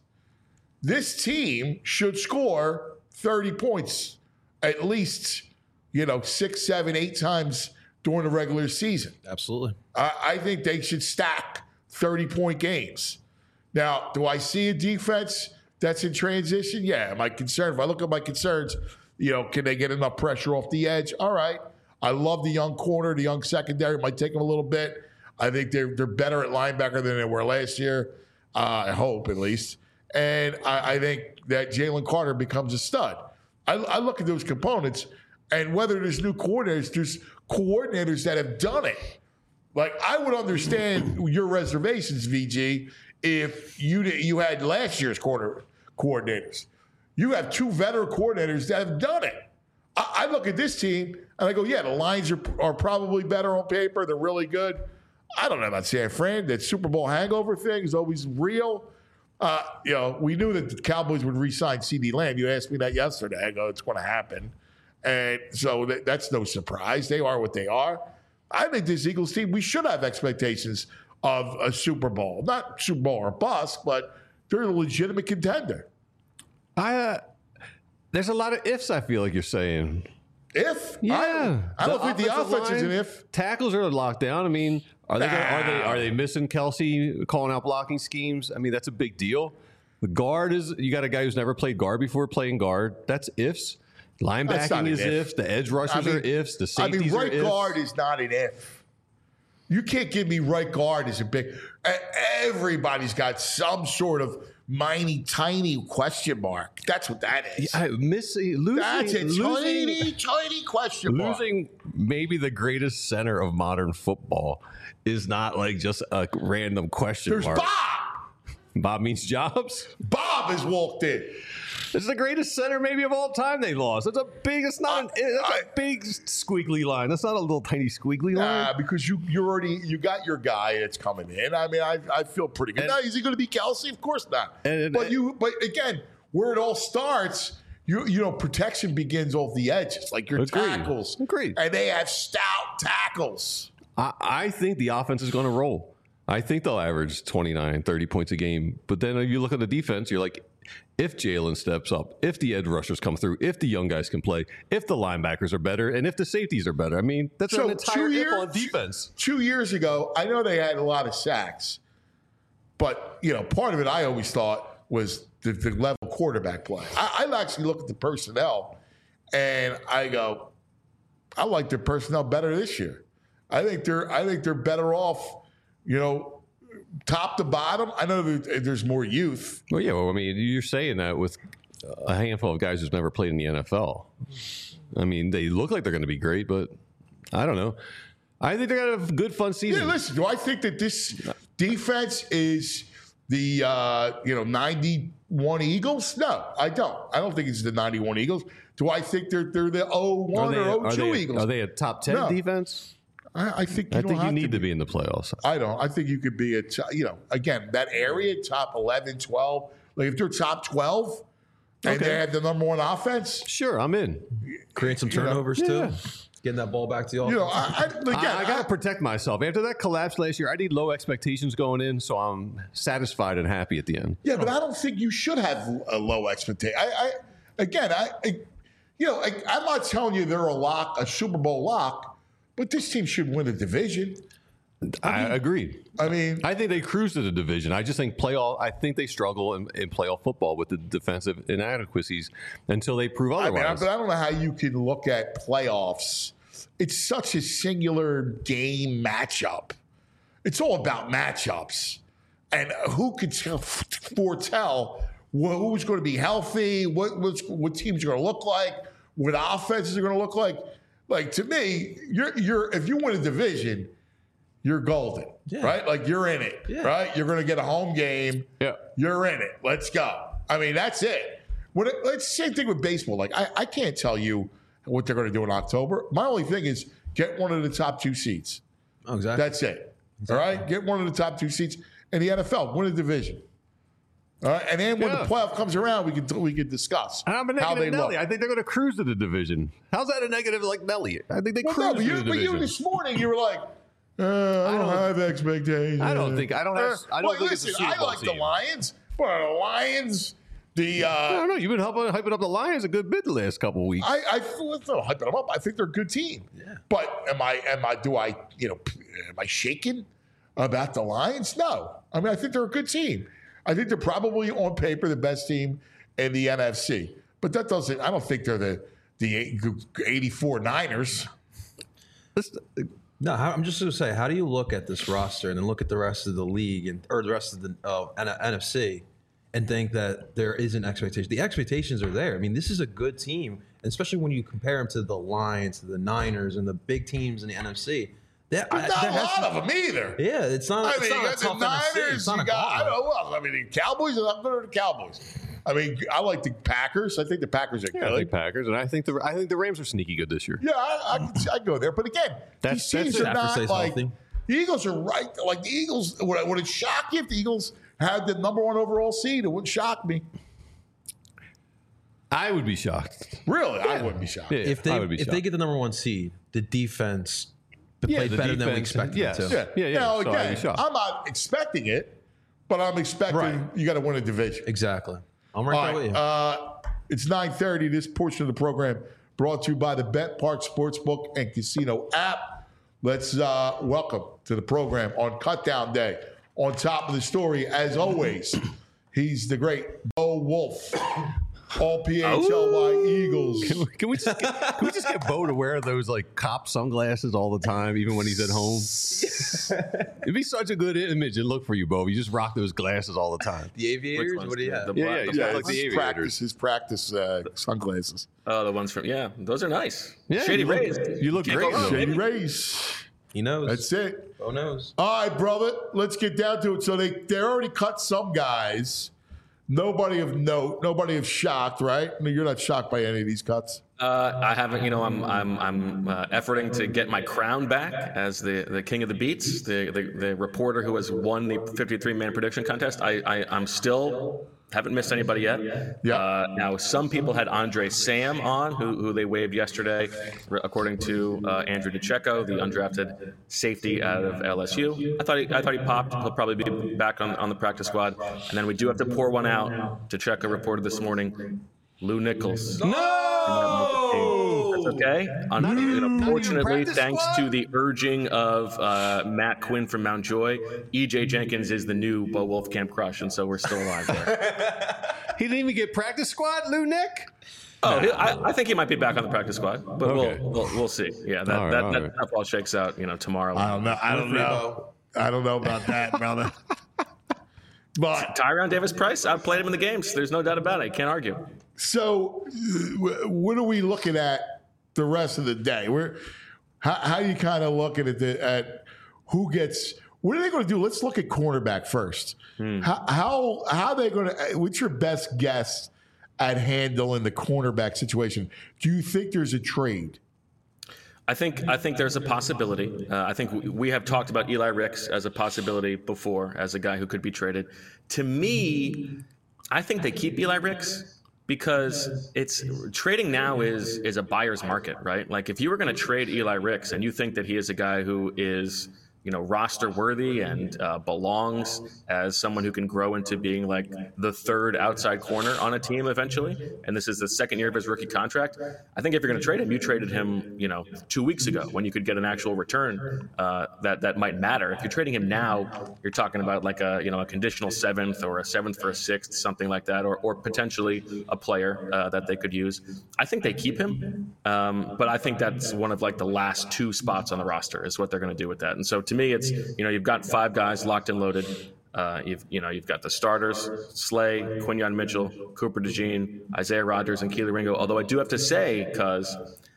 [SPEAKER 2] This team should score thirty points at least, you know, six, seven, eight times during the regular season.
[SPEAKER 4] Absolutely.
[SPEAKER 2] I, I think they should stack thirty-point games. Now, do I see a defense that's in transition? Yeah. Am I concerned? If I look at my concerns, you know, can they get enough pressure off the edge? All right. I love the young corner, the young secondary. It might take them a little bit. I think they're they're better at linebacker than they were last year. Uh, I hope, at least. And I, I think that Jalen Carter becomes a stud. I, I look at those components, and whether there's new coordinators, there's coordinators that have done it. Like, I would understand your reservations, V G, if you you had last year's quarter coordinators. You have two veteran coordinators that have done it. I, I look at this team and I go, yeah, the Lions are, are probably better on paper. They're really good. I don't know about San Fran. That Super Bowl hangover thing is always real. Uh, you know, we knew that the Cowboys would re-sign CeeDee Lamb. You asked me that yesterday. I go, it's going to happen. And so that, that's no surprise. They are what they are. I think this Eagles team, we should have expectations of a Super Bowl. Not Super Bowl or bust, but they're a legitimate contender.
[SPEAKER 3] I uh, there's a lot of ifs, I feel like you're saying.
[SPEAKER 2] If?
[SPEAKER 3] Yeah.
[SPEAKER 2] I, I don't think the
[SPEAKER 3] offensive
[SPEAKER 2] offense is an
[SPEAKER 3] line,
[SPEAKER 2] if.
[SPEAKER 3] Tackles are locked down. I mean, are they, gonna, are they
[SPEAKER 2] Nah.
[SPEAKER 3] are they missing Kelsey calling out blocking schemes? I mean, that's a big deal. The guard is, you got a guy who's never played guard before playing guard. That's ifs.
[SPEAKER 2] That's not
[SPEAKER 3] Linebacking
[SPEAKER 2] an
[SPEAKER 3] is
[SPEAKER 2] if.
[SPEAKER 3] ifs. The edge rushers
[SPEAKER 2] I mean-
[SPEAKER 3] are ifs. The
[SPEAKER 2] I
[SPEAKER 3] safeties
[SPEAKER 2] mean, right
[SPEAKER 3] are ifs.
[SPEAKER 2] guard is not an if. You can't give me right guard as a big. e- Everybody's got some sort of miney, tiny question mark. That's what that is.
[SPEAKER 3] I miss losing.
[SPEAKER 2] That's a
[SPEAKER 3] losing,
[SPEAKER 2] tiny, tiny question mark.
[SPEAKER 3] losing maybe the greatest center of modern football is not like just a random question
[SPEAKER 2] There's
[SPEAKER 3] mark.
[SPEAKER 2] Bob.
[SPEAKER 3] Bob means Jobs.
[SPEAKER 2] Bob has walked in.
[SPEAKER 3] This is the greatest center maybe of all time they lost. That's a big, it's not an, that's
[SPEAKER 2] I-
[SPEAKER 3] a big squiggly line. That's not a little tiny squiggly line.
[SPEAKER 2] Uh, because you you already you got your guy that's coming in. I mean, I I feel pretty good.
[SPEAKER 3] And-
[SPEAKER 2] now, is he going to be Kelsey? Of course not.
[SPEAKER 3] And-
[SPEAKER 2] but you but again, where it all starts, you you know, protection begins off the edges, like your
[SPEAKER 3] Agreed.
[SPEAKER 2] tackles.
[SPEAKER 3] Agreed.
[SPEAKER 2] And they have stout tackles.
[SPEAKER 3] I, I think the offense is going to roll. I think they'll average twenty-nine, thirty points a game. But then you look at the defense, you're like, if Jalen steps up, if the edge rushers come through, if the young guys can play, if the linebackers are better, and if the safeties are better. I mean, that's
[SPEAKER 2] So
[SPEAKER 3] an entire
[SPEAKER 2] two
[SPEAKER 3] if
[SPEAKER 2] years-
[SPEAKER 3] on defense.
[SPEAKER 2] Two years ago, I know they had a lot of sacks, but you know, part of it I always thought was the, the level quarterback play. I, I actually look at the personnel, and I go, I like their personnel better this year. I think they're I think they're better off, you know, top to bottom. I know that there's more youth.
[SPEAKER 3] Well, yeah, well, I mean, you're saying that with a handful of guys who's never played in the N F L. I mean, they look like they're going to be great, but I don't know. I think they're going to have a good, fun season.
[SPEAKER 2] Yeah, listen, do I think that this defense is the uh, you know ninety-one Eagles? No, I don't. I don't think it's the ninety-one Eagles. Do I think they're they're the oh
[SPEAKER 3] Are
[SPEAKER 2] one
[SPEAKER 3] they,
[SPEAKER 2] or oh
[SPEAKER 3] are,
[SPEAKER 2] two
[SPEAKER 3] they,
[SPEAKER 2] Eagles?
[SPEAKER 3] are they a top ten
[SPEAKER 2] No.
[SPEAKER 3] defense?
[SPEAKER 2] I, I think you
[SPEAKER 3] I
[SPEAKER 2] don't
[SPEAKER 3] think you
[SPEAKER 2] have
[SPEAKER 3] need
[SPEAKER 2] to
[SPEAKER 3] to be in the playoffs.
[SPEAKER 2] I don't. I think you could be a t- you know again that area top eleven, twelve. Like if they're top twelve and
[SPEAKER 3] Okay.
[SPEAKER 2] they have the number one offense,
[SPEAKER 3] Sure, I'm in.
[SPEAKER 4] Create some
[SPEAKER 2] You know,
[SPEAKER 4] turnovers
[SPEAKER 3] yeah.
[SPEAKER 4] too. Getting that ball back to the offense.
[SPEAKER 2] you know I, I, again,
[SPEAKER 3] I, I got
[SPEAKER 2] I-
[SPEAKER 3] to protect myself. After that collapse last year, I need low expectations going in, so I'm satisfied and happy at the end.
[SPEAKER 2] Yeah, but I don't think you should have a low expectation. I, I again, I, I you know, I, I'm not telling you they're a lock, a Super Bowl lock, but this team should win a division.
[SPEAKER 3] I, agree.
[SPEAKER 2] I mean,
[SPEAKER 3] I think they cruise to the division. I just think playoff. I think they struggle in, in playoff football with the defensive inadequacies until they prove
[SPEAKER 2] I mean, I,
[SPEAKER 3] otherwise.
[SPEAKER 2] but I don't know how you can look at playoffs. It's such a singular game matchup. It's all about matchups, and who could tell, foretell wh- who's going to be healthy, what what's, what teams are going to look like, what offenses are going to look like. Like to me, you're you're if you win a division, you're golden,
[SPEAKER 4] Yeah.
[SPEAKER 2] right? Like you're in it,
[SPEAKER 4] Yeah.
[SPEAKER 2] right? You're going to get a home game.
[SPEAKER 3] Yeah.
[SPEAKER 2] You're in it. Let's go. I mean, that's it. When it, it's the same thing with baseball. Like I, I can't tell you what they're going to do in October. My only thing is get one of the top two seats.
[SPEAKER 4] Oh, exactly.
[SPEAKER 2] That's it. All right, get one of the top two seats in the N F L. Win a division. All right, and then when
[SPEAKER 3] Yeah.
[SPEAKER 2] the playoff comes around, we can we can discuss
[SPEAKER 3] And I'm a
[SPEAKER 2] how they
[SPEAKER 3] negative
[SPEAKER 2] look.
[SPEAKER 3] Nelly. I think they're going to cruise to the division. How's that a negative like Nelly? I think they
[SPEAKER 2] Well,
[SPEAKER 3] cruise
[SPEAKER 2] no, but
[SPEAKER 3] to
[SPEAKER 2] you,
[SPEAKER 3] the
[SPEAKER 2] but you
[SPEAKER 3] division.
[SPEAKER 2] this morning you were like, uh, I, don't
[SPEAKER 3] don't-
[SPEAKER 2] have expectations.
[SPEAKER 3] I don't think- I don't have- I don't
[SPEAKER 2] well,
[SPEAKER 3] think it's a
[SPEAKER 2] listen,
[SPEAKER 3] Super
[SPEAKER 2] I
[SPEAKER 3] Bowl
[SPEAKER 2] like the
[SPEAKER 3] team.
[SPEAKER 2] Lions, but the Lions, the uh,
[SPEAKER 3] I don't know. You've been helping, hyping up the Lions a good bit the last couple of weeks.
[SPEAKER 2] I, I feel it's not hyping them up. I think they're a good team.
[SPEAKER 4] Yeah.
[SPEAKER 2] But am I, am I, do I, you know, am I shaken about the Lions? No. I mean, I think they're a good team. I think they're probably on paper the best team in the N F C. But that doesn't, I don't think they're the, the eighty-four Niners.
[SPEAKER 3] This-
[SPEAKER 4] No, how, I'm just going to say, how do you look at this roster and then look at the rest of the league and or the rest of the uh, N- NFC and think that there is an expectation? The expectations are there. I mean, this is a good team, and especially when you compare them to the Lions, to the Niners, and the big teams in the N F C. That, I,
[SPEAKER 2] But not
[SPEAKER 4] there
[SPEAKER 2] a
[SPEAKER 4] has
[SPEAKER 2] lot
[SPEAKER 4] to-
[SPEAKER 2] of them either.
[SPEAKER 4] Yeah, it's not.
[SPEAKER 2] I
[SPEAKER 4] it's
[SPEAKER 2] mean, you
[SPEAKER 4] not a
[SPEAKER 2] got the
[SPEAKER 4] tough N F C.
[SPEAKER 2] Niners,
[SPEAKER 4] It's not
[SPEAKER 2] you
[SPEAKER 4] a
[SPEAKER 2] got, I
[SPEAKER 4] gauntlet.
[SPEAKER 2] don't know who else. I mean, the Cowboys, I'm going to the Cowboys. I mean, I like the Packers. I think the Packers are
[SPEAKER 3] Yeah,
[SPEAKER 2] good.
[SPEAKER 3] I think Packers, and I think the I think the Rams are sneaky good this year.
[SPEAKER 2] Yeah, I, I, can see- I go there. But again,
[SPEAKER 3] That's-
[SPEAKER 2] these teams
[SPEAKER 3] that's
[SPEAKER 2] are
[SPEAKER 3] it.
[SPEAKER 2] not
[SPEAKER 4] Stafford stays
[SPEAKER 2] like
[SPEAKER 4] healthy.
[SPEAKER 2] the Eagles are right. Like the Eagles, would, it- would it shock you if the Eagles had the number one overall seed? It wouldn't shock me.
[SPEAKER 3] I would be shocked.
[SPEAKER 2] Really, I wouldn't be shocked.
[SPEAKER 3] Yeah,
[SPEAKER 4] If they
[SPEAKER 3] I would be
[SPEAKER 4] if
[SPEAKER 3] shocked.
[SPEAKER 4] they get the number one seed, the defense
[SPEAKER 3] Yeah,
[SPEAKER 4] played
[SPEAKER 3] the
[SPEAKER 4] better than we
[SPEAKER 3] defense,
[SPEAKER 4] expected
[SPEAKER 3] yes.
[SPEAKER 4] it to.
[SPEAKER 2] Yeah,
[SPEAKER 3] Yeah, yeah,
[SPEAKER 2] Now,
[SPEAKER 3] so I'd be
[SPEAKER 2] again,
[SPEAKER 3] shocked.
[SPEAKER 2] I'm not expecting it, but I'm expecting
[SPEAKER 4] Right.
[SPEAKER 2] you got to win a division.
[SPEAKER 4] Exactly. I'm right
[SPEAKER 2] All
[SPEAKER 4] there with
[SPEAKER 2] right,
[SPEAKER 4] you.
[SPEAKER 2] uh, it's nine thirty. This portion of the program brought to you by the Bet Park Sportsbook and Casino app. Let's uh, welcome to the program on Cutdown Day. On top of the story, as always, he's the great Bo Wolf, all P H L Y Eagles.
[SPEAKER 3] Can we, can we just get, can we just get Bo to wear those like cop sunglasses all the time, even when he's at home? It'd be such a good image and look for you, Bo. You just rock those glasses all the time.
[SPEAKER 4] The Aviators.
[SPEAKER 5] ones?
[SPEAKER 4] What do you
[SPEAKER 5] The-
[SPEAKER 4] have?
[SPEAKER 5] the
[SPEAKER 3] Yeah,
[SPEAKER 5] black-
[SPEAKER 3] yeah,
[SPEAKER 5] the
[SPEAKER 3] he's
[SPEAKER 2] Yeah,
[SPEAKER 3] got, like
[SPEAKER 2] it's
[SPEAKER 3] the
[SPEAKER 2] his
[SPEAKER 3] aviators.
[SPEAKER 2] practice, his practice uh, sunglasses.
[SPEAKER 5] Oh, the ones from yeah, those are nice.
[SPEAKER 3] Yeah,
[SPEAKER 5] Shady
[SPEAKER 3] you look-
[SPEAKER 5] Rays.
[SPEAKER 3] you look
[SPEAKER 5] Can't
[SPEAKER 3] great
[SPEAKER 5] go wrong,
[SPEAKER 3] in them.
[SPEAKER 2] Shady
[SPEAKER 5] baby.
[SPEAKER 2] Rays.
[SPEAKER 4] He knows.
[SPEAKER 2] That's it.
[SPEAKER 4] Bo knows.
[SPEAKER 2] All right, brother. Let's get down to it. So they they already cut some guys. Nobody of note. Nobody of shocked, right? I mean, you're not shocked by any of these cuts.
[SPEAKER 5] Uh, I haven't, you know, I'm I'm I'm uh, efforting to get my crown back as the, the king of the beats, the, the the reporter who has won the fifty-three man prediction contest. I, I I'm still haven't missed anybody yet.
[SPEAKER 2] Yeah.
[SPEAKER 5] Uh, now some people had Andre Sam on, who who they waived yesterday, r- according to uh, Andrew DeCecco, the undrafted safety out of L S U. I thought he I thought he popped. He'll probably be back on on the practice squad. And then we do have to pour one out. DeCecco reported this morning. Lou Nichols.
[SPEAKER 4] No.
[SPEAKER 5] That's okay. Un-
[SPEAKER 3] Not even-
[SPEAKER 5] you know,
[SPEAKER 3] not even
[SPEAKER 5] fortunately,
[SPEAKER 3] practice
[SPEAKER 5] thanks
[SPEAKER 3] squad?
[SPEAKER 5] to the urging of uh, Matt Quinn from Mount Joy, E J Jenkins is the new Bo Wolf Camp Crush, and so we're still alive there.
[SPEAKER 3] He didn't even get practice squad, Lou Nick.
[SPEAKER 5] oh, he, I, I think he might be back on the practice squad, but
[SPEAKER 3] Okay.
[SPEAKER 5] we'll, we'll we'll see. Yeah, that
[SPEAKER 3] All right,
[SPEAKER 5] that,
[SPEAKER 3] all
[SPEAKER 5] that
[SPEAKER 3] right.
[SPEAKER 5] stuff all shakes out, you know, tomorrow.
[SPEAKER 2] I don't know. I don't know. I don't know about that, brother. But
[SPEAKER 5] Tyron Davis Price, I played him in the games. There's no doubt about it. Can't argue.
[SPEAKER 2] so, uh, what are we looking at the rest of the day? We're how, how are you kind of looking at the at who gets? What are they going to do? Let's look at cornerback first. How how how are they going to? What's your best guess at handling the cornerback situation? Do you think there's a trade?
[SPEAKER 5] I think I think there's a possibility. Uh, I think we, we have talked about Eli Ricks as a possibility before, as a guy who could be traded. To me, I think they keep Eli Ricks because it's trading now is is a buyer's market, right? Like if you were going to trade Eli Ricks and you think that he is a guy who is, you know, roster worthy and uh, belongs as someone who can grow into being like the third outside corner on a team eventually, and this is the second year of his rookie contract, I think if you're going to trade him, you traded him, you know, two weeks ago when you could get an actual return uh, that that might matter. If you're trading him now, you're talking about like a, you know, a conditional seventh or a seventh for a sixth, something like that, or or potentially a player uh, that they could use. I think they keep him, um, but I think that's one of like the last two spots on the roster is what they're going to do with that. And so to me, it's, you know, you've got five guys locked and loaded. Uh, you've you know you've got the starters: Slay, Quinyon Mitchell, Cooper DeJean, Isaiah Rodgers, and Keely Ringo. Although I do have to say, because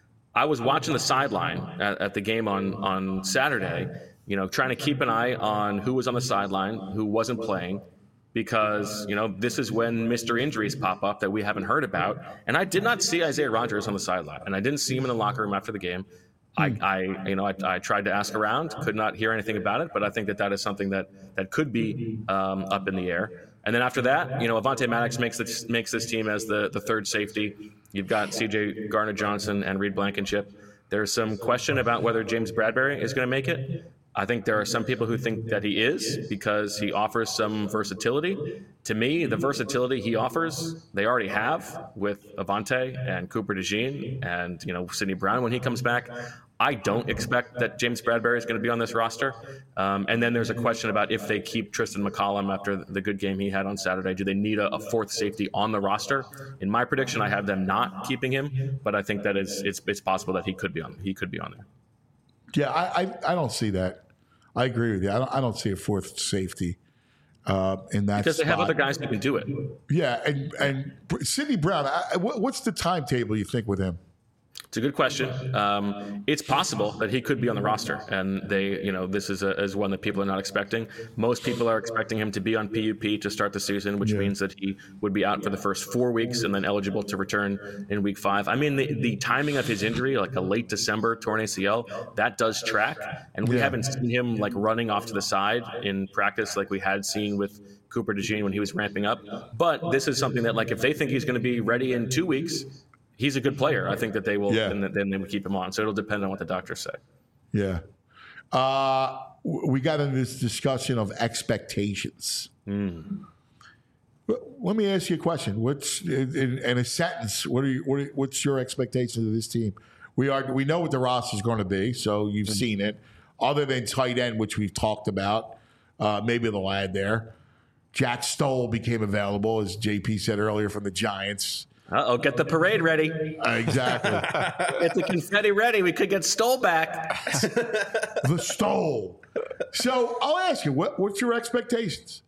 [SPEAKER 5] I was watching the sideline at, at the game on on Saturday, you know, trying to keep an eye on who was on the sideline, who wasn't playing, because you know this is when mystery injuries pop up that we haven't heard about. And I did not see Isaiah Rodgers on the sideline, and I didn't see him in the locker room after the game. I, I, you know, I, I tried to ask around, could not hear anything about it, but I think that that is something that that could be um, up in the air. And then after that, you know, Avonte Maddox makes this makes this team as the the third safety. You've got C J Gardner-Johnson and Reed Blankenship. There's some question about whether James Bradbury is going to make it. I think there are some people who think that he is because he offers some versatility. To me, the versatility he offers, they already have with Avonte and Cooper DeJean and, you know, Sidney Brown when he comes back. I don't expect that James Bradbury is going to be on this roster. Um, and then there's a question about if they keep Tristan McCollum after the good game he had on Saturday. Do they need a, a fourth safety on the roster? In my prediction, I have them not keeping him, but I think that is it's it's possible that he could be on he could be on there.
[SPEAKER 2] Yeah, I, I, I don't see that. I agree with you. I don't, I don't see a fourth safety uh, in that
[SPEAKER 5] Because they
[SPEAKER 2] spot.
[SPEAKER 5] have other guys who can do it.
[SPEAKER 2] Yeah, and and Sidney Brown. I, what, what's the timetable you think with him?
[SPEAKER 5] It's a good question. Um, it's possible that he could be on the roster, and they, you know, this is, a, is one that people are not expecting. Most people are expecting him to be on P U P to start the season, which yeah. means that he would be out for the first four weeks and then eligible to return in week five. I mean, the, the timing of his injury, like a late December torn A C L, that does track, and we yeah. haven't seen him like running off to the side in practice like we had seen with Cooper DeJean when he was ramping up. But this is something that, like, if they think he's going to be ready in two weeks, he's a good player. I think that they will, yeah. then, then they will keep him on. So it'll depend on what the doctors say.
[SPEAKER 2] Yeah. Uh, we got into this discussion of expectations. Mm. Let me ask you a question. What's in, in a sentence? What are you? What are, what's your expectations of this team? We are. We know what the roster is going to be, so you've mm-hmm. seen it. Other than tight end, which we've talked about, uh, maybe the lad there. Jack Stoll became available, as J P said earlier, from the Giants.
[SPEAKER 5] Uh-oh, get the parade ready.
[SPEAKER 2] Uh, exactly.
[SPEAKER 5] Get the confetti ready. We could get Stoll back.
[SPEAKER 2] The Stoll. So I'll ask you, what, what's your expectations?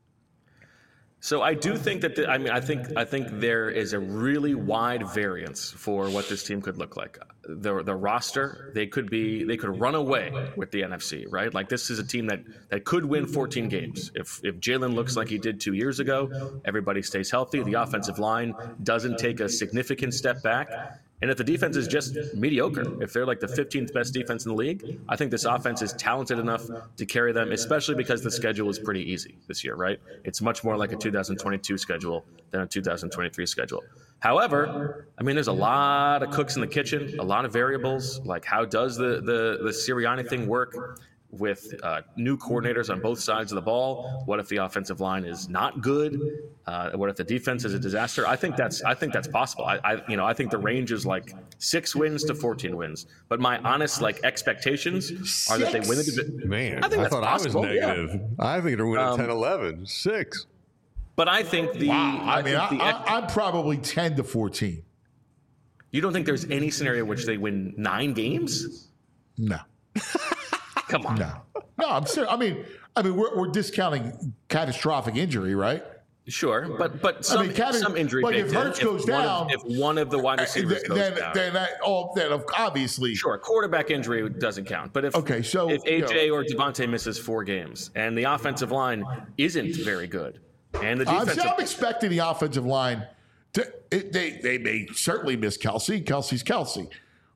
[SPEAKER 5] So I do think that the, I mean I think I think there is a really wide variance for what this team could look like. The the roster, they could be they could run away with the N F C, right? Like, this is a team that, that could win fourteen games. If if Jalen looks like he did two years ago, everybody stays healthy, the offensive line doesn't take a significant step back. And if the defense is just mediocre, if they're like the fifteenth best defense in the league, I think this offense is talented enough to carry them, especially because the schedule is pretty easy this year, right? It's much more like a two thousand twenty-two schedule than a two thousand twenty-three schedule. However, I mean, there's a lot of cooks in the kitchen, a lot of variables. Like, how does the the, the Sirianni thing work with uh, new coordinators on both sides of the ball? What if the offensive line is not good? Uh, what if the defense is a disaster? I think that's I think that's possible. I, I you know I think the range is like six wins to fourteen wins. But my honest like expectations six? are that they win the division.
[SPEAKER 3] Man, I, think I thought possible. I was negative. Yeah. I think they're winning um, ten eleven. Six.
[SPEAKER 5] But I think the
[SPEAKER 2] wow. I, I mean
[SPEAKER 5] I,
[SPEAKER 2] the, I, I'm probably ten to fourteen.
[SPEAKER 5] You don't think there's any scenario in which they win nine games?
[SPEAKER 2] No.
[SPEAKER 5] Come on.
[SPEAKER 2] No, no, I'm serious. I mean, I mean, we're, we're discounting catastrophic injury, right?
[SPEAKER 5] Sure, but but some, I mean, cata- some injury.
[SPEAKER 2] Like if Hurts goes down,
[SPEAKER 5] of, if one of the wide receivers goes
[SPEAKER 2] then,
[SPEAKER 5] down,
[SPEAKER 2] then, that, oh, then obviously,
[SPEAKER 5] sure, quarterback injury doesn't count. But if
[SPEAKER 2] okay, so
[SPEAKER 5] if A J
[SPEAKER 2] you know,
[SPEAKER 5] or Devontae misses four games and the offensive line isn't very good, and the defensive,
[SPEAKER 2] I'm, I'm expecting the offensive line to it, they they may certainly miss Kelsey. Kelsey's Kelsey,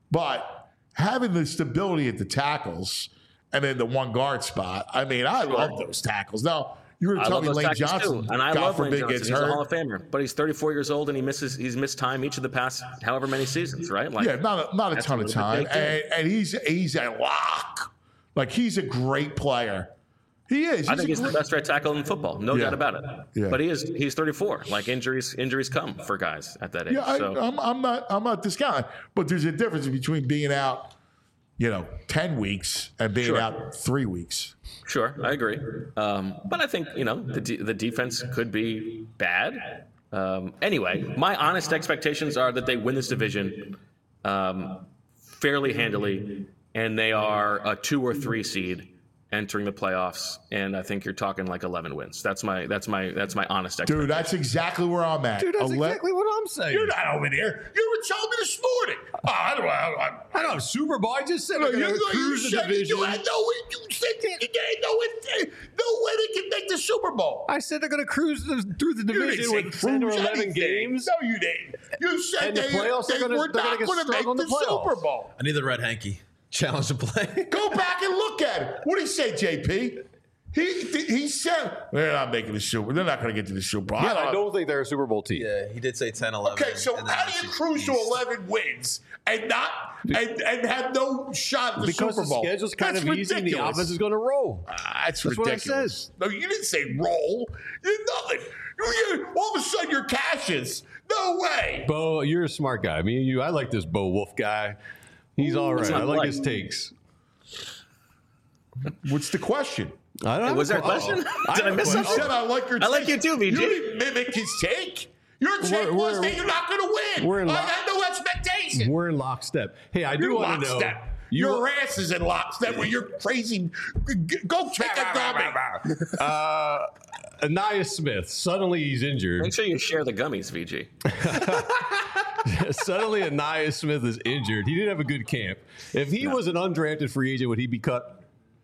[SPEAKER 2] but having the stability at the tackles. And then the one guard spot. I mean, I sure. love those tackles. Now, you were telling me Lane Johnson,
[SPEAKER 5] too. and I
[SPEAKER 2] God
[SPEAKER 5] love
[SPEAKER 2] forbid,
[SPEAKER 5] Lane Johnson.
[SPEAKER 2] Gets
[SPEAKER 5] he's
[SPEAKER 2] hurt.
[SPEAKER 5] a Hall of Famer, but he's thirty-four years old and he misses. He's missed time each of the past however many seasons, right? Like,
[SPEAKER 2] yeah, not a, not a ton of time, and, and he's he's a lock. Like, he's a great player. He is. He's
[SPEAKER 5] I think he's
[SPEAKER 2] great...
[SPEAKER 5] the best right tackle in football, no yeah. doubt about it.
[SPEAKER 2] Yeah.
[SPEAKER 5] But he is. He's thirty-four. Like, injuries injuries come for guys at that age.
[SPEAKER 2] Yeah, I,
[SPEAKER 5] so.
[SPEAKER 2] I'm, I'm not I'm not discounting, but there's a difference between being out, you know, ten weeks and being
[SPEAKER 5] sure.
[SPEAKER 2] out three weeks.
[SPEAKER 5] Sure, I agree. Um, but I think, you know, the de- the defense could be bad. Um, anyway, my honest expectations are that they win this division um, fairly handily, and they are a two or three seed entering the playoffs, and I think you're talking like eleven wins. That's my that's my that's my honest expectation.
[SPEAKER 2] Dude, that's exactly where I'm at.
[SPEAKER 3] Dude, that's
[SPEAKER 2] Ele-
[SPEAKER 3] exactly what I'm saying.
[SPEAKER 2] You're not over there. You were telling me this morning. Oh, I don't know. I,
[SPEAKER 3] I don't know. Super Bowl. I just said
[SPEAKER 2] no,
[SPEAKER 3] they're going to cruise
[SPEAKER 2] you
[SPEAKER 3] the
[SPEAKER 2] said
[SPEAKER 3] division.
[SPEAKER 2] You had no, you said you had no, no way they can make the Super Bowl.
[SPEAKER 3] I said they're going to cruise the, through the division with ten or eleven
[SPEAKER 2] anything.
[SPEAKER 3] games.
[SPEAKER 2] No, you didn't. You said
[SPEAKER 3] and
[SPEAKER 2] they,
[SPEAKER 3] the playoffs
[SPEAKER 2] they
[SPEAKER 3] are gonna,
[SPEAKER 2] were
[SPEAKER 3] they're
[SPEAKER 2] not going to make the, the Super Bowl.
[SPEAKER 4] I need the red hanky. Challenge to play.
[SPEAKER 2] Go back and look at it. What did he say, J P? He he said they're not making the Super. They're not going to get to the Super Bowl.
[SPEAKER 3] Yeah, I don't, I don't think they're a Super Bowl team.
[SPEAKER 4] Yeah, he did say ten eleven.
[SPEAKER 2] Okay, so how do you cruise to eleven wins and not and, and have no shot at the
[SPEAKER 3] because
[SPEAKER 2] Super Bowl?
[SPEAKER 3] Because the schedule's kind
[SPEAKER 2] that's
[SPEAKER 3] of
[SPEAKER 2] ridiculous.
[SPEAKER 3] easy and the offense is going to roll.
[SPEAKER 2] Uh, that's,
[SPEAKER 3] that's
[SPEAKER 2] ridiculous.
[SPEAKER 3] What I
[SPEAKER 2] said. No, you didn't say roll. You did nothing. You, you, all of a sudden, you're cashes. No way.
[SPEAKER 3] Bo, you're a smart guy. Me and you, I like this Bo Wolf guy. He's all right. I like, like his takes.
[SPEAKER 2] What's the question?
[SPEAKER 3] I don't
[SPEAKER 5] hey, was there a question?
[SPEAKER 3] Oh,
[SPEAKER 5] Did I, I miss something?
[SPEAKER 2] You said I like your
[SPEAKER 5] I like you too, V J.
[SPEAKER 2] You didn't mimic his take. Your take
[SPEAKER 3] we're,
[SPEAKER 2] was
[SPEAKER 3] we're,
[SPEAKER 2] that you're not going to win.
[SPEAKER 3] We're in
[SPEAKER 2] I
[SPEAKER 3] lock,
[SPEAKER 2] had no expectation.
[SPEAKER 3] We're in lockstep. Hey, I do want to know.
[SPEAKER 2] You, your ass is in lockstep with your crazy. Go kick a gummy.
[SPEAKER 3] uh, Anaya Smith. Suddenly he's injured.
[SPEAKER 5] Make sure you share the gummies, V G.
[SPEAKER 3] Suddenly, Ainias Smith is injured. He didn't have a good camp. If he no. was an undrafted free agent, would he be cut?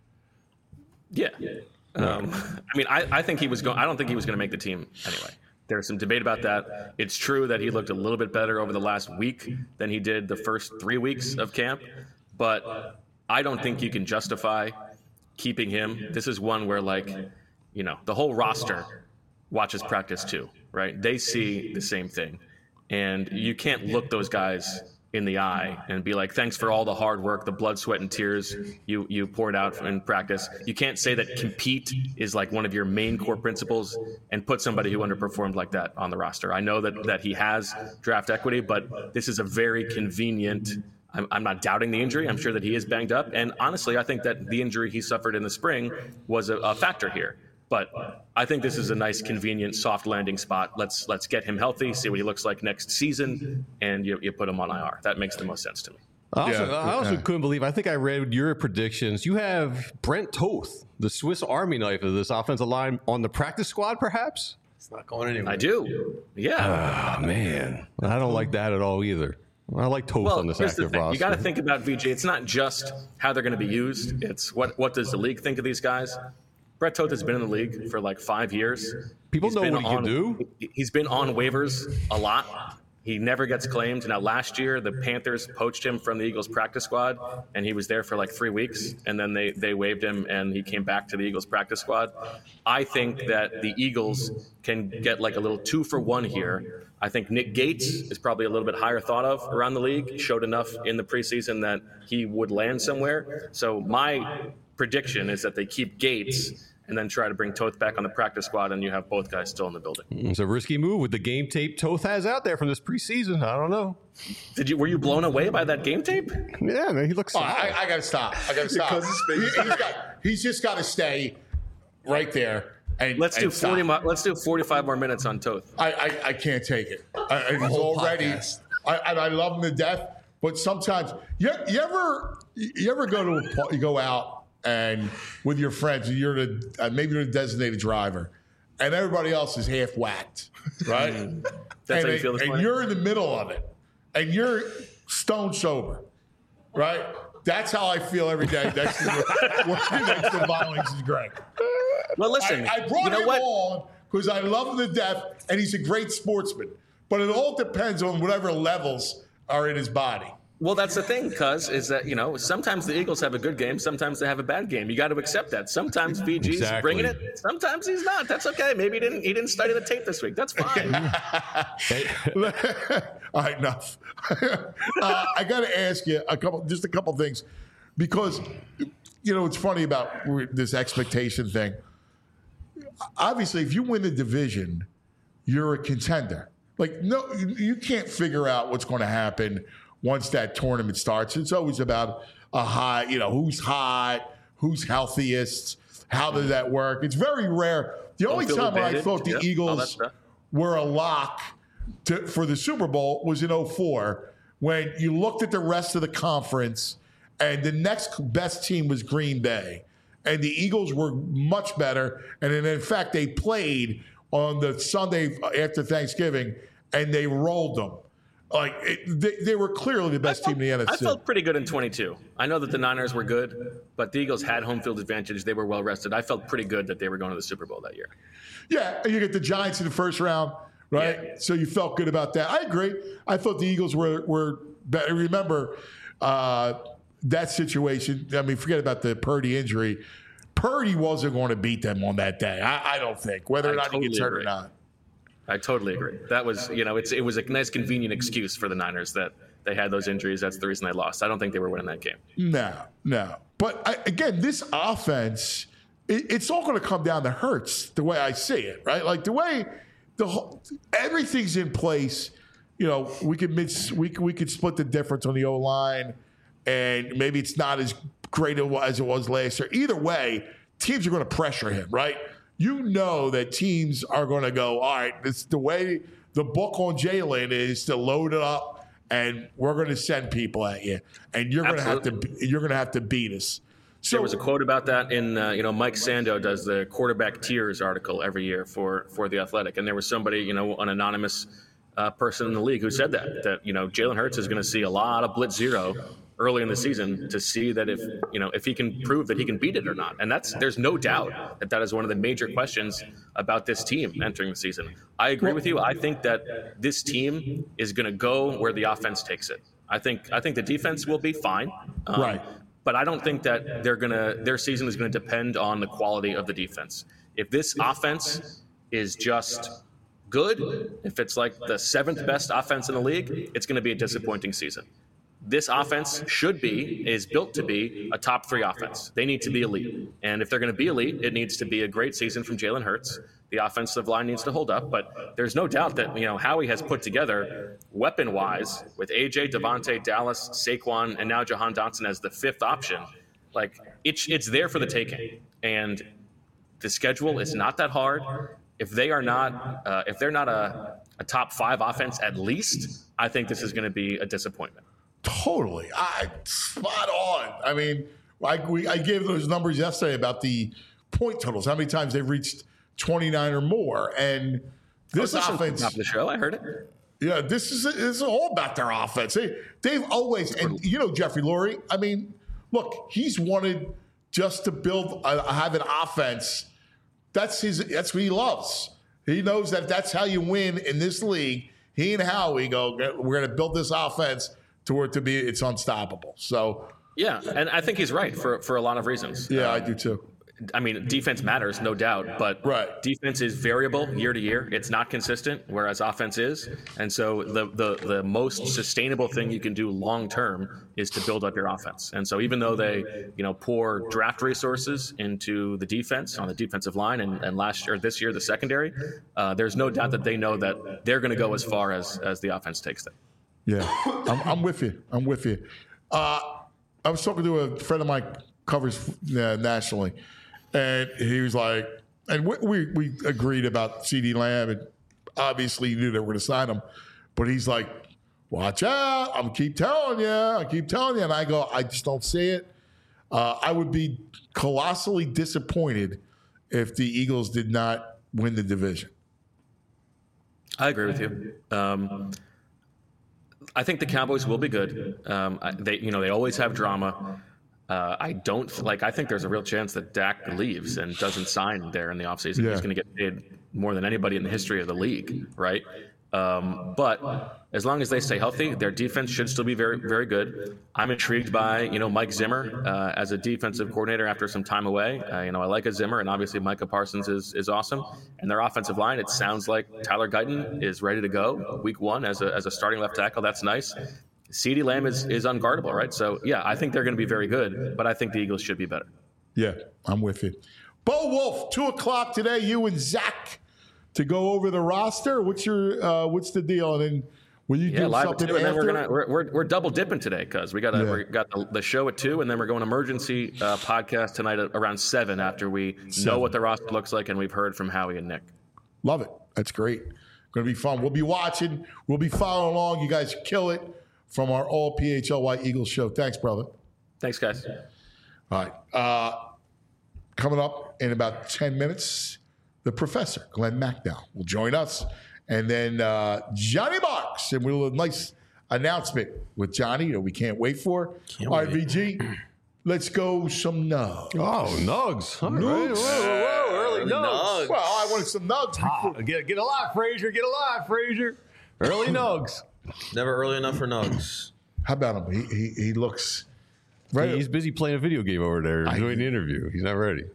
[SPEAKER 5] Yeah. Um, I mean, I, I think he was going. I don't think he was going to make the team anyway. There's some debate about that. It's true that he looked a little bit better over the last week than he did the first three weeks of camp, but I don't think you can justify keeping him. This is one where, like, you know, the whole roster watches practice too, right? They see the same thing, and you can't look those guys in the eye and be like, thanks for all the hard work, the blood, sweat, and tears you you poured out in practice. You can't say that compete is like one of your main core principles and put somebody who underperformed like that on the roster. I know that that he has draft equity, but this is a very convenient. I'm, I'm not doubting the injury. I'm sure that he is banged up. And honestly, I think that the injury he suffered in the spring was a, a factor here. But I think this is a nice, convenient, soft landing spot. Let's let's get him healthy, see what he looks like next season, and you, you put him on I R. That makes the most sense to me.
[SPEAKER 3] I also,
[SPEAKER 2] Yeah,
[SPEAKER 3] I also
[SPEAKER 2] yeah.
[SPEAKER 3] couldn't believe, I think I read your predictions. You have Brent Toth, the Swiss Army knife of this offensive line, on the practice squad, perhaps?
[SPEAKER 4] It's not going anywhere.
[SPEAKER 5] I do. Yeah.
[SPEAKER 3] Oh, man. I don't like that at all either. I like Toth
[SPEAKER 5] Well,
[SPEAKER 3] on this
[SPEAKER 5] here's the
[SPEAKER 3] active
[SPEAKER 5] thing.
[SPEAKER 3] roster.
[SPEAKER 5] You got to think about V J. It's not just how they're going to be used. It's what what does the league think of these guys? Brett Toth has been in the league for like five years.
[SPEAKER 3] People
[SPEAKER 5] He's
[SPEAKER 3] know
[SPEAKER 5] been
[SPEAKER 3] what he can
[SPEAKER 5] on-
[SPEAKER 3] do.
[SPEAKER 5] He's been on waivers a lot. He never gets claimed. Now, last year, the Panthers poached him from the Eagles practice squad, and he was there for like three weeks, and then they, they waived him, and he came back to the Eagles practice squad. I think that the Eagles can get like a little two for one here. I think Nick Gates is probably a little bit higher thought of around the league. Showed enough in the preseason that he would land somewhere. So my prediction is that they keep Gates and then try to bring Toth back on the practice squad, and you have both guys still in the building.
[SPEAKER 3] It's a risky move with the game tape Toth has out there from this preseason. I don't know.
[SPEAKER 5] Did you were you blown away by that game tape?
[SPEAKER 3] Yeah, man, he looks
[SPEAKER 2] Oh,
[SPEAKER 3] solid.
[SPEAKER 2] I, I got to stop. I got to stop.
[SPEAKER 4] Because his face-
[SPEAKER 2] He, has got, he's just got to stay right there. And,
[SPEAKER 5] Let's do
[SPEAKER 2] and stop.
[SPEAKER 5] forty. Mo- let's do forty-five more minutes on Toth.
[SPEAKER 2] I, I, I can't take it. I, I- he's
[SPEAKER 4] whole
[SPEAKER 2] already.
[SPEAKER 4] podcast.
[SPEAKER 2] I, I, I love him to death, but sometimes you, you ever you ever go to a, pa- you go out and with your friends, and you're the uh, maybe you're the designated driver, and everybody else is half whacked, right?
[SPEAKER 5] That's
[SPEAKER 2] and
[SPEAKER 5] how you
[SPEAKER 2] they-
[SPEAKER 5] feel this
[SPEAKER 2] and
[SPEAKER 5] morning?
[SPEAKER 2] you're in the middle of it, and you're stone sober, right? That's how I feel every day next to the, working next to Violence is Greg.
[SPEAKER 5] Well, listen.
[SPEAKER 2] I, I brought
[SPEAKER 5] you know
[SPEAKER 2] him
[SPEAKER 5] what?
[SPEAKER 2] on because I love him to death, and he's a great sportsman. But it all depends on whatever levels are in his body.
[SPEAKER 5] Well, that's the thing, cuz, is that, you know, sometimes the Eagles have a good game, sometimes they have a bad game. You got to accept that. Sometimes V G's
[SPEAKER 3] Exactly.
[SPEAKER 5] bringing it, sometimes he's not. That's okay. Maybe he didn't he didn't study the tape this week. That's fine.
[SPEAKER 2] All right, enough. uh, I got to ask you a couple, just a couple things, because you know it's funny about this expectation thing. Obviously, if you win the division, you're a contender. Like, no, you can't figure out what's going to happen once that tournament starts. It's always about a high, you know, who's hot, who's healthiest, how does that work? It's very rare. The only
[SPEAKER 5] field
[SPEAKER 2] time when I
[SPEAKER 5] advantage,
[SPEAKER 2] thought the
[SPEAKER 5] yeah, all that
[SPEAKER 2] Eagles
[SPEAKER 5] stuff.
[SPEAKER 2] were a lock to, for the Super Bowl was in oh four, when you looked at the rest of the conference and the next best team was Green Bay. And the Eagles were much better. And then, in fact, they played on the Sunday after Thanksgiving, and they rolled them. Like, it, they, they were clearly the best team in the N F C.
[SPEAKER 5] I felt pretty good in twenty-two. I know that the Niners were good, but the Eagles had home field advantage. They were well rested. I felt pretty good that they were going to the Super Bowl that year.
[SPEAKER 2] Yeah, and you get the Giants in the first round, right?
[SPEAKER 5] Yeah.
[SPEAKER 2] So you felt good about that. I agree. I thought the Eagles were were better. Remember uh, that situation. I mean, forget about the Purdy injury. Purdy wasn't going to beat them on that day. I, I don't think, whether or
[SPEAKER 5] I
[SPEAKER 2] not
[SPEAKER 5] totally
[SPEAKER 2] he gets hurt
[SPEAKER 5] agree.
[SPEAKER 2] or not.
[SPEAKER 5] I totally agree. That was, you know, it's it was a nice, convenient excuse for the Niners that they had those injuries. That's the reason they lost. I don't think they were winning that game.
[SPEAKER 2] No, no. But I, again, this offense, it, it's all going to come down to Hurts, the way I see it, right? Like the way the whole, everything's in place. You know, we could mix, we could, we could split the difference on the O line, and maybe it's not as great as it was last year. Either way, teams are going to pressure him, right? You know that teams are going to go, all right, this the way the book on Jalen is to load it up, and we're going to send people at you, and you're going to have to you're going to have to beat us. So
[SPEAKER 5] There was a quote about that in, uh, you know, Mike Sando does the quarterback tiers article every year for for the Athletic, and there was somebody, you know, an anonymous uh, person in the league who said that, that, you know, Jalen Hurts is going to see a lot of blitz zero early in the season to see that if, you know, if he can prove that he can beat it or not. And that's, there's no doubt that that is one of the major questions about this team entering the season. I agree with you. I think that this team is going to go where the offense takes it. I think, I think the defense will be fine. Um,
[SPEAKER 2] Right.
[SPEAKER 5] But I don't think that they're going to, their season is going to depend on the quality of the defense. If this offense is just good, if it's like the seventh best offense in the league, it's going to be a disappointing season. This offense should be, is built to be a top three offense. They need to be elite. And if they're going to be elite, it needs to be a great season from Jalen Hurts. The offensive line needs to hold up, but there's no doubt that, you know, Howie has put together weapon-wise with A J, Devontae, Dallas, Saquon, and now Jahan Dotson as the fifth option. Like, it's, it's there for the taking. And the schedule is not that hard. If they are not, uh, if they're not a, a top five offense at least, I think this is going to be a disappointment.
[SPEAKER 2] Totally. I spot on. I mean, I, we, I gave those numbers yesterday about the point totals, how many times they've reached twenty-nine or more. And this offense.
[SPEAKER 5] Top of the show, I heard it.
[SPEAKER 2] Yeah, this is, this is all about their offense. They, they've always, and you know, Jeffrey Lurie, I mean, look, he's wanted just to build, a, have an offense. That's his, that's what he loves. He knows that if that's how you win in this league, he and Howie go, we're going to build this offense to where to be it's unstoppable. So
[SPEAKER 5] yeah, and I think he's right for for a lot of reasons.
[SPEAKER 2] Yeah,
[SPEAKER 5] um,
[SPEAKER 2] I do too.
[SPEAKER 5] I mean, defense matters, no doubt, but
[SPEAKER 2] right.
[SPEAKER 5] defense is variable year to year. It's not consistent, whereas offense is. And so the the the most sustainable thing you can do long term is to build up your offense. And so even though they, you know, pour draft resources into the defense on the defensive line and, and last year, this year, the secondary, uh, there's no doubt that they know that they're going to go as far as as the offense takes them.
[SPEAKER 2] Yeah, I'm, I'm with you. I'm with you. Uh, I was talking to a friend of mine covers uh, nationally, and he was like, and we, we, we agreed about CeeDee Lamb, and obviously he knew they were going to sign him, but he's like, watch out. I'm keep telling you. I keep telling you. And I go, I just don't see it. Uh, I would be colossally disappointed if the Eagles did not win the division.
[SPEAKER 5] I agree with you. Um, I think the Cowboys will be good. Um, they, you know, they always have drama. Uh, I don't like. I think there's a real chance that Dak leaves and doesn't sign there in the offseason.
[SPEAKER 2] Yeah.
[SPEAKER 5] He's going to get paid more than anybody in the history of the league, right? Um, but as long as they stay healthy, their defense should still be very, very good. I'm intrigued by, you know, Mike Zimmer uh, as a defensive coordinator after some time away. Uh, you know, I like a Zimmer, and obviously Micah Parsons is is awesome. And their offensive line, it sounds like Tyler Guyton is ready to go week one as a as a starting left tackle. That's nice. CeeDee Lamb is is unguardable, right? So yeah, I think they're going to be very good, but I think the Eagles should be better.
[SPEAKER 2] Yeah, I'm with you. Bo Wolf, two o'clock today. You and Zach to go over the roster. What's your uh, what's the deal? And then will you
[SPEAKER 5] Yeah,
[SPEAKER 2] do
[SPEAKER 5] live at
[SPEAKER 2] something
[SPEAKER 5] two, and then
[SPEAKER 2] after?
[SPEAKER 5] we're gonna we're, we're, we're double dipping today because we got a,
[SPEAKER 2] Yeah.
[SPEAKER 5] we got the, the show at two, and then we're going emergency uh, podcast tonight at around seven after we
[SPEAKER 2] Seven.
[SPEAKER 5] know what the roster looks like and we've heard from Howie and Nick.
[SPEAKER 2] Love it. That's great. Going to be fun. We'll be watching. We'll be following along. You guys kill it from our all P H L Y Eagles show. Thanks, brother.
[SPEAKER 5] Thanks, guys.
[SPEAKER 2] All right. Uh, coming up in about ten minutes, the professor, Glenn McDowell, will join us. And then uh, Johnny Marks. And we'll have a nice announcement with Johnny that we can't wait for.
[SPEAKER 4] Can't
[SPEAKER 2] All right,
[SPEAKER 4] wait.
[SPEAKER 2] V G, let's go some nugs.
[SPEAKER 3] Oh, nugs. All right.
[SPEAKER 2] Nugs.
[SPEAKER 3] Whoa, whoa, early nugs.
[SPEAKER 2] Well, I wanted some nugs.
[SPEAKER 3] Ah, get, get alive, Frazier. Get alive, Frazier. Early nugs.
[SPEAKER 4] Never early enough for nugs.
[SPEAKER 2] How about him? He, he, he looks right.
[SPEAKER 3] He's busy playing a video game over there,
[SPEAKER 2] I-
[SPEAKER 3] doing the interview. He's not ready.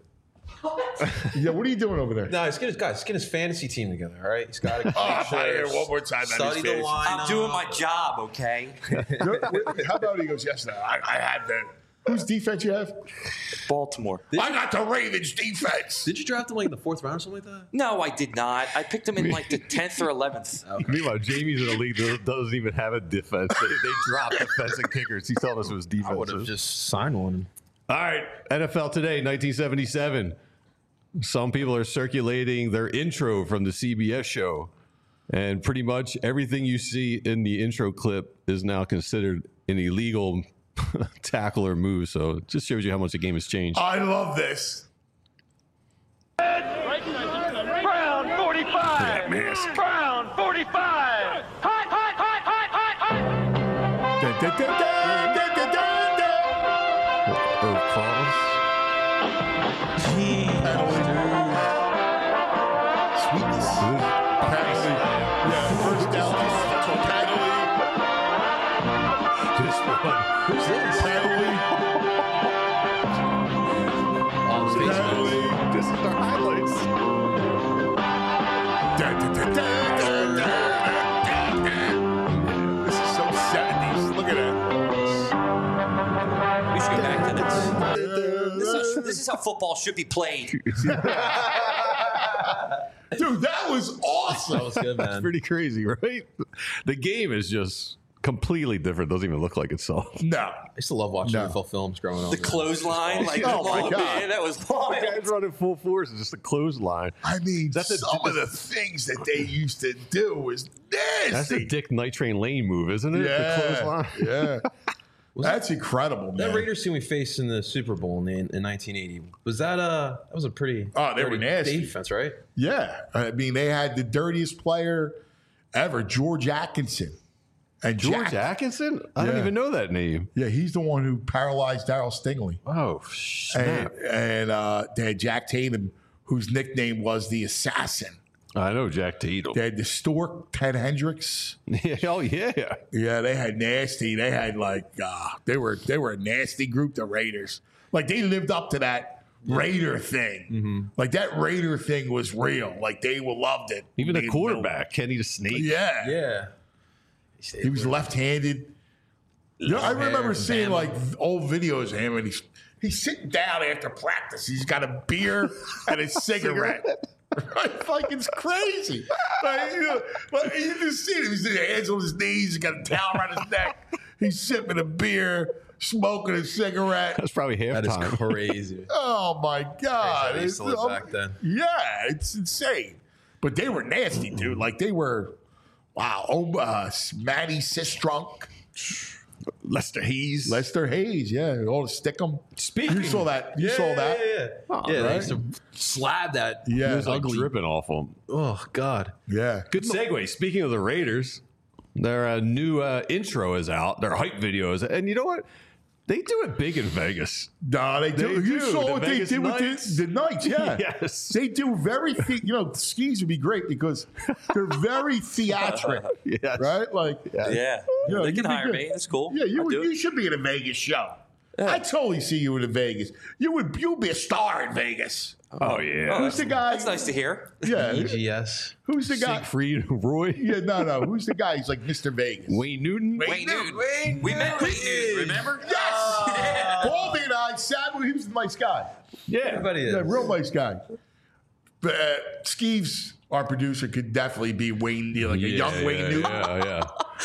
[SPEAKER 2] Yeah, what are you doing over there?
[SPEAKER 4] No, he's getting his guys. He's getting his fantasy team together. All right, he's got to
[SPEAKER 2] Oh, if I hear one more time, that
[SPEAKER 4] study
[SPEAKER 2] is
[SPEAKER 4] the
[SPEAKER 2] fantasy.
[SPEAKER 4] line.
[SPEAKER 6] I'm doing my job, okay?
[SPEAKER 2] How about he goes, yes, no, I, I had that. Whose defense you have?
[SPEAKER 6] Baltimore.
[SPEAKER 2] I got the Ravens defense.
[SPEAKER 4] Did you draft him like in the fourth round or something like that?
[SPEAKER 6] No, I did not. I picked him in like the tenth or eleventh.
[SPEAKER 3] Meanwhile, Jamie's in a league that doesn't even have a defense. They, they drop defensive kickers. He's telling us it was
[SPEAKER 4] I would have
[SPEAKER 3] defensive.
[SPEAKER 4] just signed one.
[SPEAKER 3] All right, N F L Today, nineteen seventy-seven. Some people are circulating their intro from the C B S show, and pretty much everything you see in the intro clip is now considered an illegal tackle or move. So it just shows you how much the game has changed.
[SPEAKER 2] I love this.
[SPEAKER 7] Brown forty-five. Brown forty-five.
[SPEAKER 2] da, da, da, da, da, da, da.
[SPEAKER 3] Herb Cross.
[SPEAKER 2] Sweetness. Penalty. Yeah, first down. Penalty.
[SPEAKER 3] This one.
[SPEAKER 2] Who's this? Penalty.
[SPEAKER 3] All the
[SPEAKER 2] Penalty.
[SPEAKER 3] This is our highlights.
[SPEAKER 2] Da, da, da, da, da, da, da. This is so seventies. Look at that.
[SPEAKER 6] We should go back to this. This is, this is how football should be played.
[SPEAKER 2] Dude, that was awesome.
[SPEAKER 4] That was good, man.
[SPEAKER 3] Pretty crazy, right? The game is just completely different. Doesn't even look like itself.
[SPEAKER 2] No.
[SPEAKER 4] I used to love watching
[SPEAKER 2] No.
[SPEAKER 4] N F L films growing up.
[SPEAKER 6] The clothesline, like,
[SPEAKER 2] Oh, my
[SPEAKER 6] oh,
[SPEAKER 2] God.
[SPEAKER 6] man, that was wild.
[SPEAKER 3] Guys running full force. It's just a clothesline.
[SPEAKER 2] I mean,
[SPEAKER 3] That's a-
[SPEAKER 2] some of the things that they used to do was nasty.
[SPEAKER 3] That's the Dick Night Train Lane move, isn't it? The
[SPEAKER 2] yeah,
[SPEAKER 3] clothesline.
[SPEAKER 2] yeah. That's incredible,
[SPEAKER 4] That
[SPEAKER 2] man.
[SPEAKER 4] Raiders team we faced in the Super Bowl in, in nineteen eighty, was that a that was a pretty
[SPEAKER 2] Oh, they were
[SPEAKER 4] dirty
[SPEAKER 2] nasty.
[SPEAKER 4] defense, right?
[SPEAKER 2] Yeah, I mean, they had the dirtiest player ever, George Atkinson. And
[SPEAKER 3] George
[SPEAKER 2] Jack-
[SPEAKER 3] Atkinson? I don't
[SPEAKER 2] Yeah.
[SPEAKER 3] even know that name.
[SPEAKER 2] Yeah, he's the one who paralyzed Darryl Stingley.
[SPEAKER 3] Oh,
[SPEAKER 2] And,
[SPEAKER 3] snap.
[SPEAKER 2] and uh, they had Jack Tatum, whose nickname was the Assassin.
[SPEAKER 3] I know Jack Tatum.
[SPEAKER 2] They had the Stork, Ted Hendricks.
[SPEAKER 3] Oh, yeah.
[SPEAKER 2] Yeah, they had nasty. They had like uh, they were they were a nasty group, the Raiders. Like they lived up to that Raider thing.
[SPEAKER 3] Mm-hmm.
[SPEAKER 2] Like that Raider thing was real. Like they loved it.
[SPEAKER 3] Even the
[SPEAKER 2] They-
[SPEAKER 3] quarterback, Kenny the Snake.
[SPEAKER 2] Yeah,
[SPEAKER 4] Yeah.
[SPEAKER 2] he was left-handed. You know, I remember
[SPEAKER 4] hair,
[SPEAKER 2] seeing
[SPEAKER 4] Bama.
[SPEAKER 2] like old videos of him, and he's he's sitting down after practice. He's got a beer and a cigarette. Right? Like it's crazy. Like, you know, like, you just see him. He's got his hands on his knees. He's got a towel around his neck. He's sipping a beer, smoking a cigarette.
[SPEAKER 3] That's probably
[SPEAKER 4] That is
[SPEAKER 3] halftime.
[SPEAKER 4] crazy.
[SPEAKER 2] Oh my God!
[SPEAKER 4] I used to live
[SPEAKER 2] It's-
[SPEAKER 4] back then.
[SPEAKER 2] Yeah, it's insane. But they were nasty, dude. Like they were. Wow. Oh, uh, Matty Sistrunk.
[SPEAKER 3] Lester Hayes.
[SPEAKER 2] Lester Hayes, yeah, all to stick 'em.
[SPEAKER 3] Speaking-
[SPEAKER 2] you saw that. You
[SPEAKER 4] yeah,
[SPEAKER 2] saw that.
[SPEAKER 4] Yeah, yeah.
[SPEAKER 3] Oh,
[SPEAKER 4] yeah, they
[SPEAKER 3] right.
[SPEAKER 4] used to slab that.
[SPEAKER 2] Yeah,
[SPEAKER 3] It was like
[SPEAKER 4] ugly.
[SPEAKER 3] dripping off him.
[SPEAKER 4] Oh God.
[SPEAKER 2] Yeah.
[SPEAKER 3] Good segue. Speaking of the Raiders, their uh, new uh, intro is out. Their hype videos, and you know what? They do it big in Vegas.
[SPEAKER 2] No, they do.
[SPEAKER 3] They
[SPEAKER 2] you
[SPEAKER 3] do.
[SPEAKER 2] saw
[SPEAKER 3] The
[SPEAKER 2] what
[SPEAKER 3] Vegas
[SPEAKER 2] they did
[SPEAKER 3] Knights.
[SPEAKER 2] with the, the Knights, yeah.
[SPEAKER 3] Yes.
[SPEAKER 2] They do very, the, you know, skis would be great because they're very theatric,
[SPEAKER 3] Yes.
[SPEAKER 2] right? Like,
[SPEAKER 6] Yeah.
[SPEAKER 2] Yeah,
[SPEAKER 6] they
[SPEAKER 2] you'd
[SPEAKER 6] can
[SPEAKER 2] be
[SPEAKER 6] hire
[SPEAKER 2] good.
[SPEAKER 6] me. That's cool.
[SPEAKER 2] yeah, you
[SPEAKER 6] I'll
[SPEAKER 2] would,
[SPEAKER 6] do
[SPEAKER 2] you
[SPEAKER 6] it.
[SPEAKER 2] should be in a Vegas show. I totally see you in Vegas. You would, you'd be a star in Vegas.
[SPEAKER 3] Oh yeah.
[SPEAKER 2] Who's the guy?
[SPEAKER 6] That's nice to hear.
[SPEAKER 2] Yeah,
[SPEAKER 4] E G S.
[SPEAKER 2] who's the guy?
[SPEAKER 3] Siegfried Roy.
[SPEAKER 2] Yeah, no, no. Who's the guy? He's like Mister Vegas.
[SPEAKER 3] Wayne Newton.
[SPEAKER 6] Wayne Newton. We met Wayne Newton, remember?
[SPEAKER 2] Yes. Baldy and I sat with. He was a nice guy.
[SPEAKER 3] Yeah.
[SPEAKER 4] Everybody is.
[SPEAKER 2] Yeah, real nice guy. But uh, Skeeves, our producer, could definitely be Wayne, like a young
[SPEAKER 3] yeah,
[SPEAKER 2] Wayne
[SPEAKER 3] yeah,
[SPEAKER 2] Newton.
[SPEAKER 3] Yeah, yeah.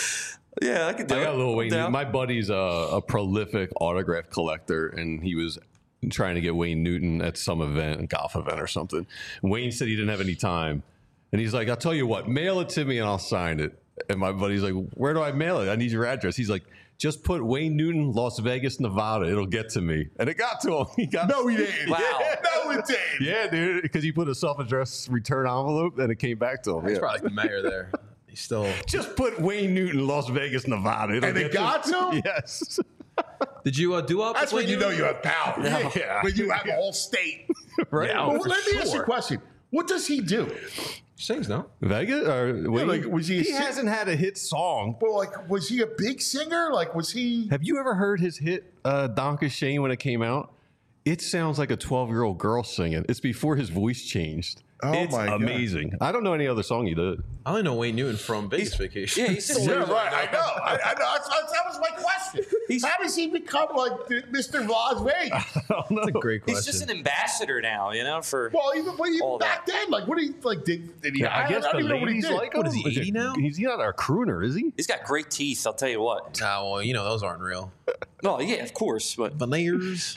[SPEAKER 6] Yeah, I could do
[SPEAKER 3] I
[SPEAKER 6] it.
[SPEAKER 3] got a little Wayne.
[SPEAKER 6] Down.
[SPEAKER 3] Newton. My buddy's a, a prolific autograph collector, and he was trying to get Wayne Newton at some event, a golf event or something. Wayne said he didn't have any time, and he's like, "I'll tell you what, mail it to me and I'll sign it." And my buddy's like, "Where do I mail it? I need your address." He's like, "Just put Wayne Newton, Las Vegas, Nevada. It'll get to me." And it got to him. He got
[SPEAKER 2] No, he didn't.
[SPEAKER 6] Wow.
[SPEAKER 2] No, it didn't.
[SPEAKER 3] Yeah, dude, because he put a self-addressed return envelope, and it came back to him.
[SPEAKER 4] He's
[SPEAKER 3] Yeah.
[SPEAKER 4] probably like the mayor there. He's still.
[SPEAKER 3] Just put Wayne Newton, Las Vegas, Nevada. It'll
[SPEAKER 2] And it
[SPEAKER 3] get
[SPEAKER 2] got to him?
[SPEAKER 3] Yes.
[SPEAKER 4] Did you uh, do up?
[SPEAKER 2] That's
[SPEAKER 4] with
[SPEAKER 2] when you
[SPEAKER 4] Wayne
[SPEAKER 2] know you
[SPEAKER 4] Newton?
[SPEAKER 2] have power.
[SPEAKER 3] Yeah.
[SPEAKER 2] When you have a whole state.
[SPEAKER 3] Right.
[SPEAKER 4] Yeah,
[SPEAKER 2] Well,
[SPEAKER 4] for
[SPEAKER 2] let me ask you a
[SPEAKER 4] sure.
[SPEAKER 2] question. What does he do?
[SPEAKER 4] Sings no.
[SPEAKER 3] Vegas or Wayne?
[SPEAKER 2] like, was he a
[SPEAKER 3] he
[SPEAKER 2] sing-
[SPEAKER 3] hasn't had a hit song.
[SPEAKER 2] Well, like, was he a big singer? Like, was he?
[SPEAKER 3] Have you ever heard his hit uh, Donka Shane when it came out? It sounds like a twelve-year-old girl singing. It's before his voice changed.
[SPEAKER 2] Oh,
[SPEAKER 3] it's
[SPEAKER 2] my God.
[SPEAKER 3] amazing. I don't know any other song he did.
[SPEAKER 4] I only know Wayne Newton from Vegas Vacation.
[SPEAKER 6] Yeah, he's just
[SPEAKER 2] Yeah, right. I know. I, I know. That's, that's, that was my question.
[SPEAKER 6] He's-
[SPEAKER 2] How does he become like the Mister Las Vegas?
[SPEAKER 3] I don't know.
[SPEAKER 4] That's a great question.
[SPEAKER 6] he's just an ambassador now, you know, for
[SPEAKER 2] Well, even, but even
[SPEAKER 6] All
[SPEAKER 2] back then, like, what did he like? Did, did he?
[SPEAKER 3] Yeah, I guess
[SPEAKER 2] don't
[SPEAKER 3] the
[SPEAKER 2] even know what he
[SPEAKER 3] ladies
[SPEAKER 2] did.
[SPEAKER 3] like
[SPEAKER 4] What
[SPEAKER 3] him.
[SPEAKER 4] is he, eighty now?
[SPEAKER 3] He's not a crooner, is he?
[SPEAKER 6] he's got great teeth, I'll tell you what.
[SPEAKER 4] Ah, well, you know those aren't real.
[SPEAKER 6] Well, yeah, of course, but
[SPEAKER 4] Veneers.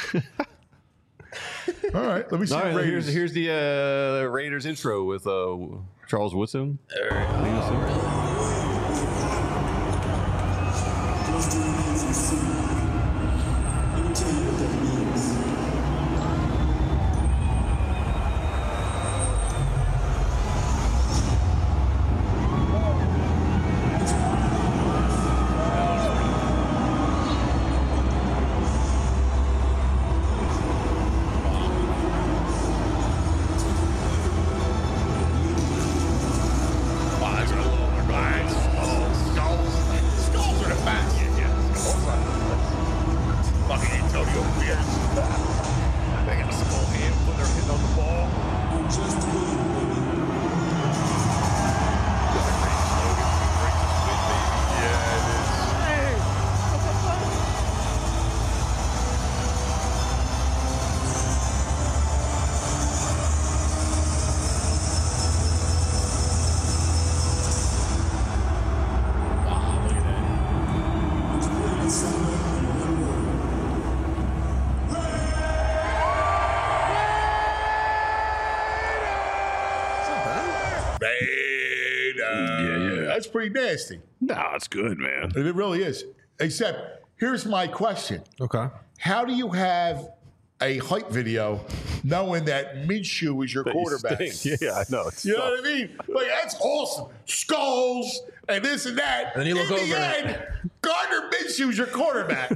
[SPEAKER 2] All right, let me see.
[SPEAKER 3] All
[SPEAKER 2] the
[SPEAKER 3] right, here's,
[SPEAKER 2] Raiders.
[SPEAKER 3] here's the uh, Raiders intro with uh, Charles Woodson.
[SPEAKER 2] It's pretty nasty.
[SPEAKER 3] Nah, it's good, man.
[SPEAKER 2] And it really is. Except, here's my question.
[SPEAKER 4] Okay.
[SPEAKER 2] How do you have a hype video knowing that Minshew is your
[SPEAKER 3] That you
[SPEAKER 2] quarterback?
[SPEAKER 3] stink. Yeah, I know. It's
[SPEAKER 2] You know
[SPEAKER 3] tough.
[SPEAKER 2] what I mean? Like, that's awesome. Skulls and this and that.
[SPEAKER 4] And then you look
[SPEAKER 2] In
[SPEAKER 4] over
[SPEAKER 2] the
[SPEAKER 4] and-
[SPEAKER 2] end, Gardner Minshew's your quarterback.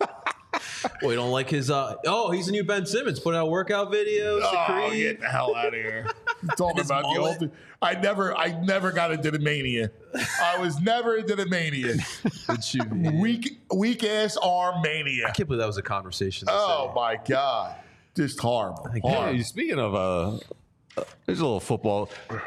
[SPEAKER 4] Well, you don't like his. Uh, oh, he's the new Ben Simmons. Put out workout videos.
[SPEAKER 2] Oh,
[SPEAKER 4] the Creed.
[SPEAKER 2] get the hell out of here. Talking
[SPEAKER 4] his
[SPEAKER 2] about the
[SPEAKER 4] mullet.
[SPEAKER 2] old. I never, I never got into the mania. I was never into the mania.
[SPEAKER 4] Did you, man?
[SPEAKER 2] Weak, weak ass arm mania.
[SPEAKER 4] I can't believe that was a conversation. to
[SPEAKER 2] Oh
[SPEAKER 4] say.
[SPEAKER 2] my god, just horrible. horrible.
[SPEAKER 3] Hey, speaking of, uh, uh, there's a little football.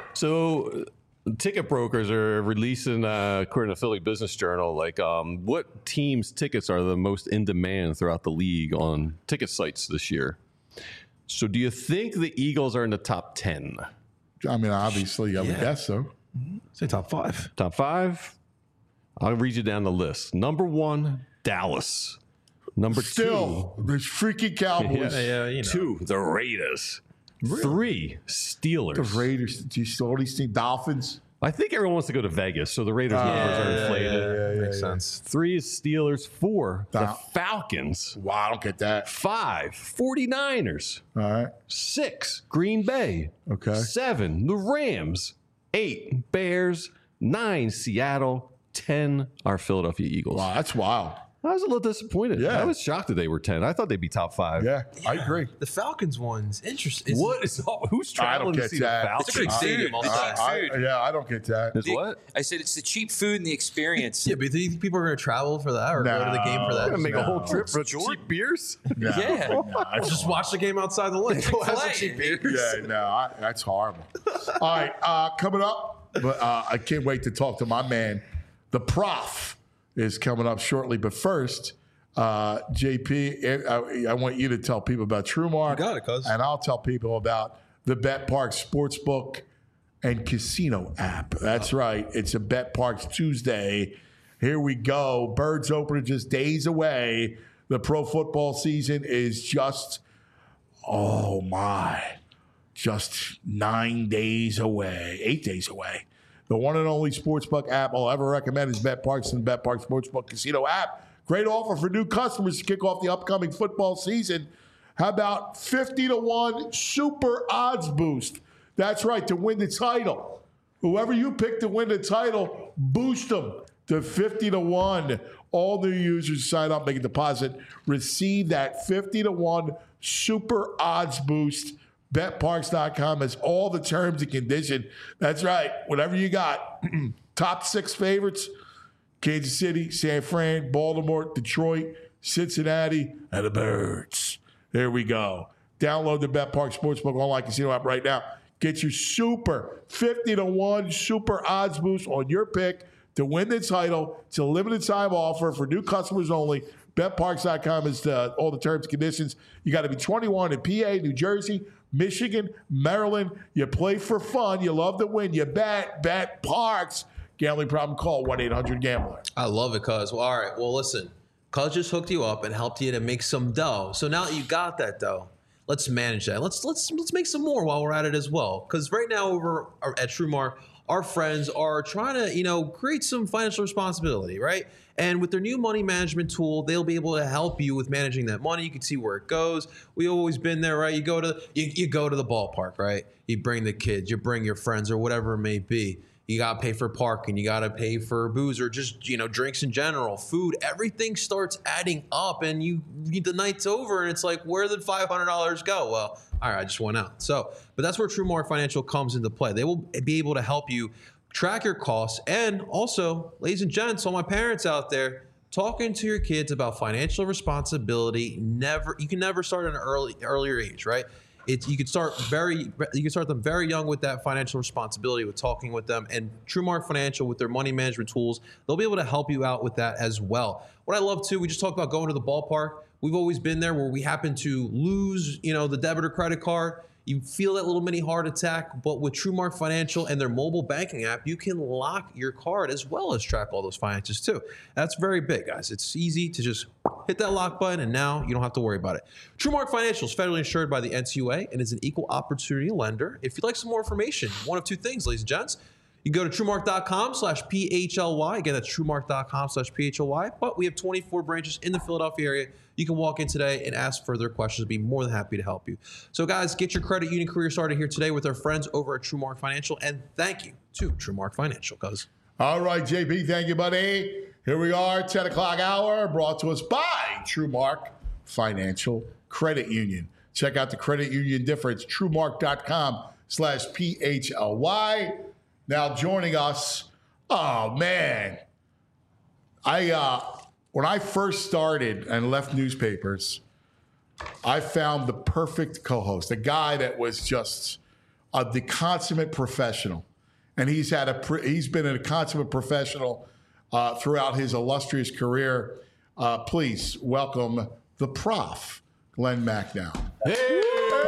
[SPEAKER 3] So, uh, ticket brokers are releasing, uh, according to Philly Business Journal, like um, what teams' tickets are the most in demand throughout the league on ticket sites this year. So, do you think the Eagles are in the top ten?
[SPEAKER 2] I mean, obviously, I would
[SPEAKER 4] Yeah.
[SPEAKER 2] guess so.
[SPEAKER 4] Say top five.
[SPEAKER 3] Top five? I'll read you down the list. Number one, Dallas. Number
[SPEAKER 2] Still, there's freaking Cowboys.
[SPEAKER 3] two,
[SPEAKER 4] Yeah, you know.
[SPEAKER 3] two, the Raiders. Three, Steelers.
[SPEAKER 2] The Raiders. Do you still these things? Dolphins.
[SPEAKER 3] I think everyone wants to go to Vegas, so the Raiders numbers are inflated.
[SPEAKER 2] yeah,
[SPEAKER 4] Makes sense.
[SPEAKER 3] Three is Steelers. Four, the
[SPEAKER 2] Dol-
[SPEAKER 3] Falcons.
[SPEAKER 2] Wow, I don't get that.
[SPEAKER 3] Five, 49ers.
[SPEAKER 2] All right.
[SPEAKER 3] Six, Green Bay.
[SPEAKER 2] Okay.
[SPEAKER 3] Seven, the Rams. Eight, Bears. Nine, Seattle. Ten are Philadelphia Eagles.
[SPEAKER 2] Wow, that's wild.
[SPEAKER 3] I was a little disappointed.
[SPEAKER 2] Yeah.
[SPEAKER 3] I was shocked that they were ten. I thought they'd be top five.
[SPEAKER 2] Yeah, I agree.
[SPEAKER 4] The Falcons one's interesting.
[SPEAKER 3] What is who's
[SPEAKER 2] I don't
[SPEAKER 3] traveling to
[SPEAKER 2] get
[SPEAKER 3] see
[SPEAKER 2] that.
[SPEAKER 3] the
[SPEAKER 6] It's a
[SPEAKER 3] Falcons?
[SPEAKER 6] big stadium.
[SPEAKER 2] I,
[SPEAKER 6] It's like
[SPEAKER 2] I-
[SPEAKER 6] food.
[SPEAKER 2] yeah, I don't get that.
[SPEAKER 3] Is
[SPEAKER 6] The-
[SPEAKER 3] what?
[SPEAKER 6] I said it's the cheap food and the experience.
[SPEAKER 4] Yeah, but do you think people are going to travel for that or go to the game for that?
[SPEAKER 3] I'm gonna make a whole
[SPEAKER 2] No.
[SPEAKER 3] trip for cheap beers.
[SPEAKER 2] No,
[SPEAKER 6] Yeah.
[SPEAKER 2] no, that's
[SPEAKER 4] Just watch the game outside the lake. Go have some
[SPEAKER 6] Chick-fil-A.
[SPEAKER 4] cheap beers.
[SPEAKER 2] Yeah, no, I, that's horrible. All right, uh, coming up, but uh, I can't wait to talk to my man, the Prof, is coming up shortly. But first, uh, J P, I, I want you to tell people about TrueMark.
[SPEAKER 4] You got it, cuz.
[SPEAKER 2] And I'll tell people about the Bet Parks Sportsbook and Casino app. That's right. It's a Bet Parks Tuesday. Here we go. Birds open are just days away. The pro football season is just, oh my, just nine days away, eight days away. The one and only sportsbook app I'll ever recommend is Bet Parks and Bet Parks Sportsbook Casino app. Great offer for new customers to kick off the upcoming football season. How about fifty to one super odds boost? That's right, to win the title. Whoever you pick to win the title, boost them to fifty to one. All new users sign up, make a deposit, receive that fifty to one super odds boost. Bet Parks dot com has all the terms and conditions. That's right, whatever you got. Top six favorites: Kansas City, San Fran, Baltimore, Detroit, Cincinnati, and the Birds. There we go. Download the Bet Parks Sportsbook online casino app right now. Get your super fifty to one super odds boost on your pick to win the title. It's a limited time offer for new customers only. Bet Parks dot com is the, all the terms and conditions. You got to be twenty-one in P A, New Jersey, Michigan, Maryland. You play for fun. You love to win. You bet. Bet Parks. Gambling problem? Call one eight hundred gambler.
[SPEAKER 4] I love it, cuz. Well, all right. Well, listen. Cuz just hooked you up and helped you to make some dough. So now that you got that dough, let's manage that. Let's let's let's make some more while we're at it as well. Because right now over at TrueMark, our friends are trying to, you know, create some financial responsibility, right? And with their new money management tool, they'll be able to help you with managing that money. You can see where it goes. We've always been there, right? You go to you, you go to the ballpark, right? You bring the kids, you bring your friends or whatever it may be. You got to pay for parking. You got to pay for booze or just, you know, drinks in general, food. Everything starts adding up and you, the night's over and it's like, where did five hundred dollars go? Well, all right, I just went out. So, but that's where TrueMark Financial comes into play. They will be able to help you track your costs. And also, ladies and gents, all my parents out there, talking to your kids about financial responsibility, never, you can never start at an early, earlier age, right? It's, you can start very, you can start them very young with that financial responsibility, with talking with them. And TrueMark Financial, with their money management tools, they'll be able to help you out with that as well. What I love too, we just talked about going to the ballpark. We've always been there where we happen to lose, you know, the debit or credit card. You feel that little mini heart attack, but with TrueMark Financial and their mobile banking app, you can lock your card as well as track all those finances too. That's very big, guys. It's easy to just hit that lock button and now you don't have to worry about it. TrueMark Financial is federally insured by the N C U A and is an equal opportunity lender. If you'd like some more information, one of two things, ladies and gents. You can go to truemark.com slash P H L Y. Again, that's truemark.com slash P H L Y. But we have twenty-four branches in the Philadelphia area. You can walk in today and ask further questions. We'd be more than happy to help you. So, guys, get your credit union career started here today with our friends over at TrueMark Financial. And thank you to TrueMark Financial, cuz.
[SPEAKER 2] All right, J P, thank you, buddy. Here we are, ten o'clock hour, brought to us by TrueMark Financial Credit Union. Check out the credit union difference, truemark.com slash P H L Y. Now joining us, oh, man. I uh, when I first started and left newspapers, I found the perfect co-host, a guy that was just uh, the consummate professional. And he's had a he's been a consummate professional uh, throughout his illustrious career. Uh, please welcome the Prof, Glenn Macnow.
[SPEAKER 7] Hey!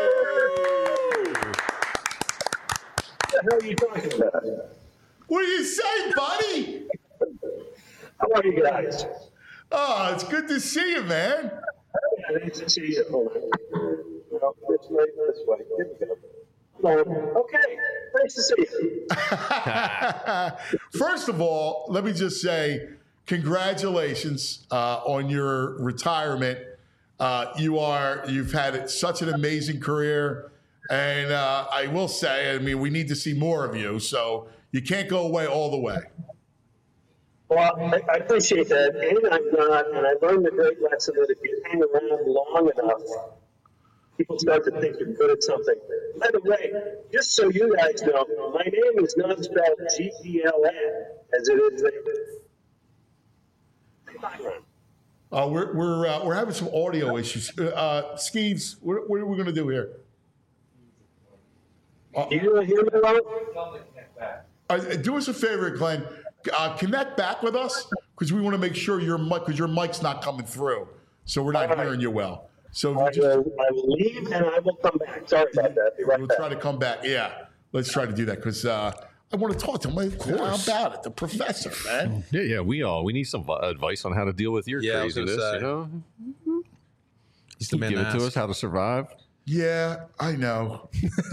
[SPEAKER 7] What the hell are you talking about?
[SPEAKER 2] What do you say, buddy?
[SPEAKER 7] How are you guys?
[SPEAKER 2] Oh, it's good to see you, man.
[SPEAKER 7] Yeah, nice to see you. Hold on. Well, this way, this way. Here we go. Okay, nice to see you.
[SPEAKER 2] First of all, let me just say congratulations uh, on your retirement. Uh, you are you've had such an amazing career, and uh, I will say, I mean, we need to see more of you. So you can't go away all the way.
[SPEAKER 7] Well, I, I appreciate that, and I'm not, and I learned the great lesson that if you hang around long enough, people start to think you're good at something. By the way, just so you guys know, my name is not spelled G E L N as it is there.
[SPEAKER 2] Uh, we're we're uh, we're having some audio issues. Uh, Skeeves, what, what are we going to do here?
[SPEAKER 7] Uh, you hear me well?
[SPEAKER 2] Uh, do us a favor, Glenn. Uh, connect back with us because we want to make sure your mic because your mic's not coming through, so we're not
[SPEAKER 7] right.
[SPEAKER 2] hearing you well. So
[SPEAKER 7] I,
[SPEAKER 2] just,
[SPEAKER 7] will, I will leave and I will come back. Sorry about that. Be right
[SPEAKER 2] we'll
[SPEAKER 7] back.
[SPEAKER 2] try to come back. Yeah, let's try to do that because uh, I want to talk to him about it. The professor, man.
[SPEAKER 3] Yeah, yeah, we all we need some advice on how to deal with your
[SPEAKER 4] Yeah, I was gonna
[SPEAKER 3] craziness.
[SPEAKER 4] say.
[SPEAKER 3] You know,
[SPEAKER 4] He's the man
[SPEAKER 3] give
[SPEAKER 4] to
[SPEAKER 3] it to
[SPEAKER 4] ask.
[SPEAKER 3] us how to survive.
[SPEAKER 2] Yeah, I know.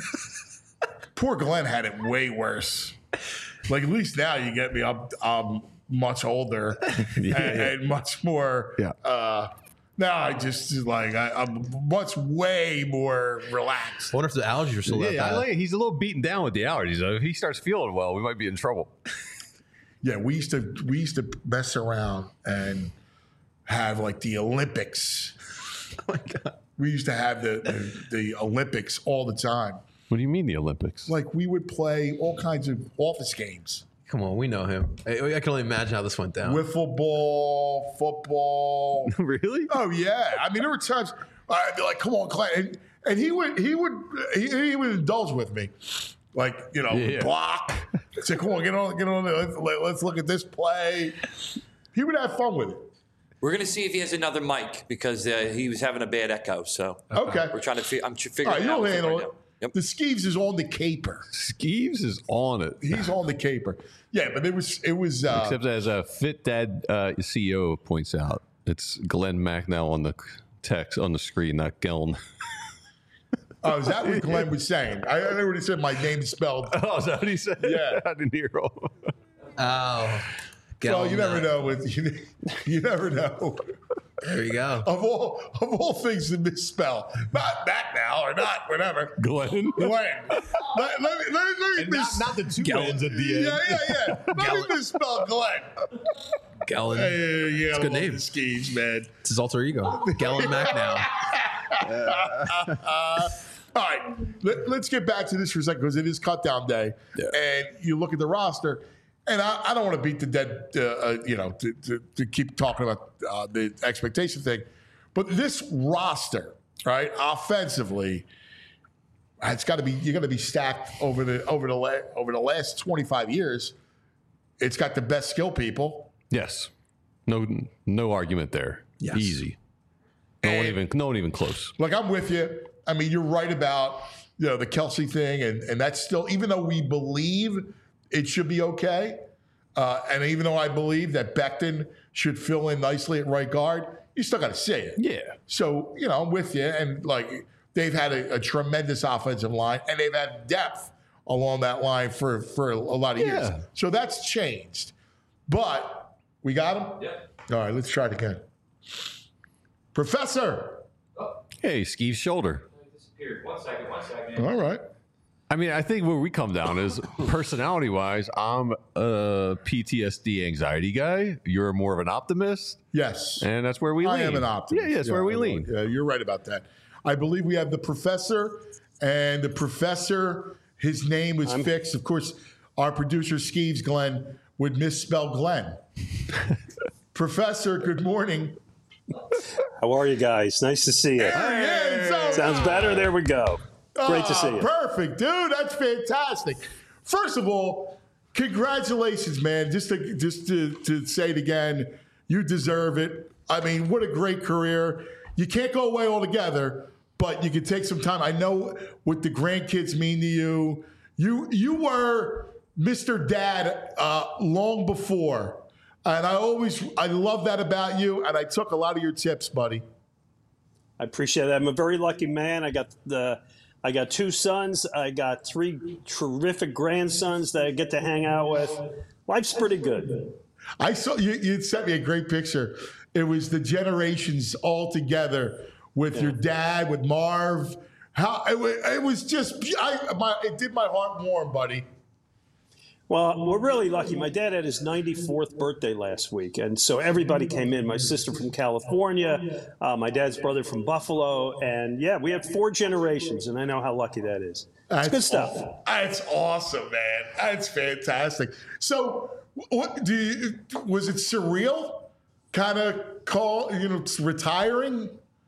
[SPEAKER 2] Poor Glenn had it way worse. Like at least now you get me. I'm, I'm much older
[SPEAKER 3] Yeah.
[SPEAKER 2] and, and much more.
[SPEAKER 3] Yeah.
[SPEAKER 2] Uh, now I just like I, I'm much way more relaxed.
[SPEAKER 4] I wonder if the allergies are still that
[SPEAKER 3] Yeah, I
[SPEAKER 4] bad.
[SPEAKER 3] like it. He's a little beaten down with the allergies. Though. If he starts feeling well, we might be in trouble.
[SPEAKER 2] Yeah, we used to we used to mess around and have like the Olympics.
[SPEAKER 4] Oh my God.
[SPEAKER 2] We used to have the, the the Olympics all the time.
[SPEAKER 3] What do you mean the Olympics?
[SPEAKER 2] Like we would play all kinds of office games.
[SPEAKER 4] Come on, we know him. I, I can only imagine how this went down.
[SPEAKER 2] Wiffle ball, football.
[SPEAKER 3] Really?
[SPEAKER 2] Oh yeah. I mean, there were times I'd be like, "Come on, Clint," and, and he would he would he, he would indulge with me, like you know,
[SPEAKER 3] Yeah.
[SPEAKER 2] block. Say, "Come on, get on, get on. Let's, let's look at this play." He would have fun with it.
[SPEAKER 6] We're going to see if he has another mic because uh, he was having a bad echo. So
[SPEAKER 2] Okay.
[SPEAKER 6] we're trying to fi- I'm tr-
[SPEAKER 2] All
[SPEAKER 6] figuring
[SPEAKER 2] right,
[SPEAKER 6] it out
[SPEAKER 2] you'll
[SPEAKER 6] with him
[SPEAKER 2] handle
[SPEAKER 6] right
[SPEAKER 2] it.
[SPEAKER 6] now. Yep.
[SPEAKER 2] The Skeeves is on the caper.
[SPEAKER 3] Skeeves is on it.
[SPEAKER 2] He's on the caper. Yeah, but it was it was. Uh,
[SPEAKER 3] Except as a Fit Dad uh, C E O points out, it's Glenn Macnow on the text on the screen, not Gelln.
[SPEAKER 2] oh, is that what Glenn was saying? I, I already said my name is spelled.
[SPEAKER 3] Oh, is that what he said?
[SPEAKER 2] Yeah.
[SPEAKER 3] I didn't hear all.
[SPEAKER 4] Oh.
[SPEAKER 2] Well, you
[SPEAKER 4] Gelln,
[SPEAKER 2] never
[SPEAKER 4] uh,
[SPEAKER 2] know. With you, you never know.
[SPEAKER 4] There you go.
[SPEAKER 2] Of all of all things to misspell, not that now or not whatever.
[SPEAKER 3] Glenn.
[SPEAKER 2] Glenn. Let, let me let me, let me mis-
[SPEAKER 3] the two Glens at the
[SPEAKER 2] Yeah, yeah, yeah. Let me misspell Glenn.
[SPEAKER 4] Gellin.
[SPEAKER 2] Hey, yeah,
[SPEAKER 4] It's a
[SPEAKER 2] I
[SPEAKER 4] good
[SPEAKER 2] love
[SPEAKER 4] name.
[SPEAKER 2] the Skeeves, man.
[SPEAKER 4] It's his alter ego. Gellin Macnow.
[SPEAKER 2] Uh, all right, let, let's get back to this for a second because it is cut down day,
[SPEAKER 3] Yeah.
[SPEAKER 2] and you look at the roster, and I, I don't want to beat the dead, uh, uh, you know, to, to, to keep talking about uh, the expectation thing, but this roster, right, offensively, it's got to be you got to be stacked over the over the la- over the last twenty-five years. It's got the best skill people.
[SPEAKER 3] Yes. No no argument there.
[SPEAKER 4] Yes.
[SPEAKER 3] Easy. No one
[SPEAKER 2] And-
[SPEAKER 3] even no one even close.
[SPEAKER 2] Like I'm with you. I mean, you're right about you know the Kelsey thing, and and that's still even though we believe it should be okay, uh, and even though I believe that Becton should fill in nicely at right guard, you still got to see it.
[SPEAKER 3] Yeah.
[SPEAKER 2] So you know, I'm with you, and like they've had a, a tremendous offensive line, and they've had depth along that line for, for a lot of years.
[SPEAKER 3] Yeah.
[SPEAKER 2] So that's changed. But we got him?
[SPEAKER 6] Yeah.
[SPEAKER 2] All right, let's try it again. Professor.
[SPEAKER 3] Hey, Skeev's shoulder.
[SPEAKER 6] Disappeared. One second. One second.
[SPEAKER 2] All right.
[SPEAKER 3] I mean, I think where we come down is personality-wise, I'm a P T S D anxiety guy. You're more of an optimist,
[SPEAKER 2] Yes.
[SPEAKER 3] and that's where we
[SPEAKER 2] I
[SPEAKER 3] lean.
[SPEAKER 2] am an optimist.
[SPEAKER 3] Yeah, yeah, that's where we
[SPEAKER 2] I
[SPEAKER 3] lean.
[SPEAKER 2] will. Yeah, you're right about that. I believe we have the professor, and the professor, his name was fixed. Of course, our producer, Skeeves Glenn, would misspell Glenn. Professor, good morning.
[SPEAKER 8] How are you guys? Nice to see you.
[SPEAKER 2] Hey, so-
[SPEAKER 8] Sounds better. There we go. Great to see you.
[SPEAKER 2] Perfect, dude. That's fantastic. First of all, congratulations, man. Just to just to, to say it again, you deserve it. I mean, what a great career. You can't go away altogether, but you can take some time. I know what the grandkids mean to you. You you were Mister Dad uh, long before. And I always I love that about you, and I took a lot of your tips, buddy.
[SPEAKER 8] I appreciate it. I'm a very lucky man. I got the I got two sons. I got three terrific grandsons that I get to hang out with. Life's pretty good.
[SPEAKER 2] I saw you. You sent me a great picture. It was the generations all together with
[SPEAKER 8] Yeah.
[SPEAKER 2] your dad, with Marv. How it was, it was just. I, my, it did my heart warm, buddy.
[SPEAKER 8] Well, we're really lucky. My dad had his ninety-fourth birthday last week, and so everybody came in. My sister from California, uh, my dad's brother from Buffalo, and yeah, we had four generations, and I know how lucky that is. It's good stuff.
[SPEAKER 2] aw- That's awesome, man. That's fantastic. So, what do you? Was it surreal? Kind of call you know retiring.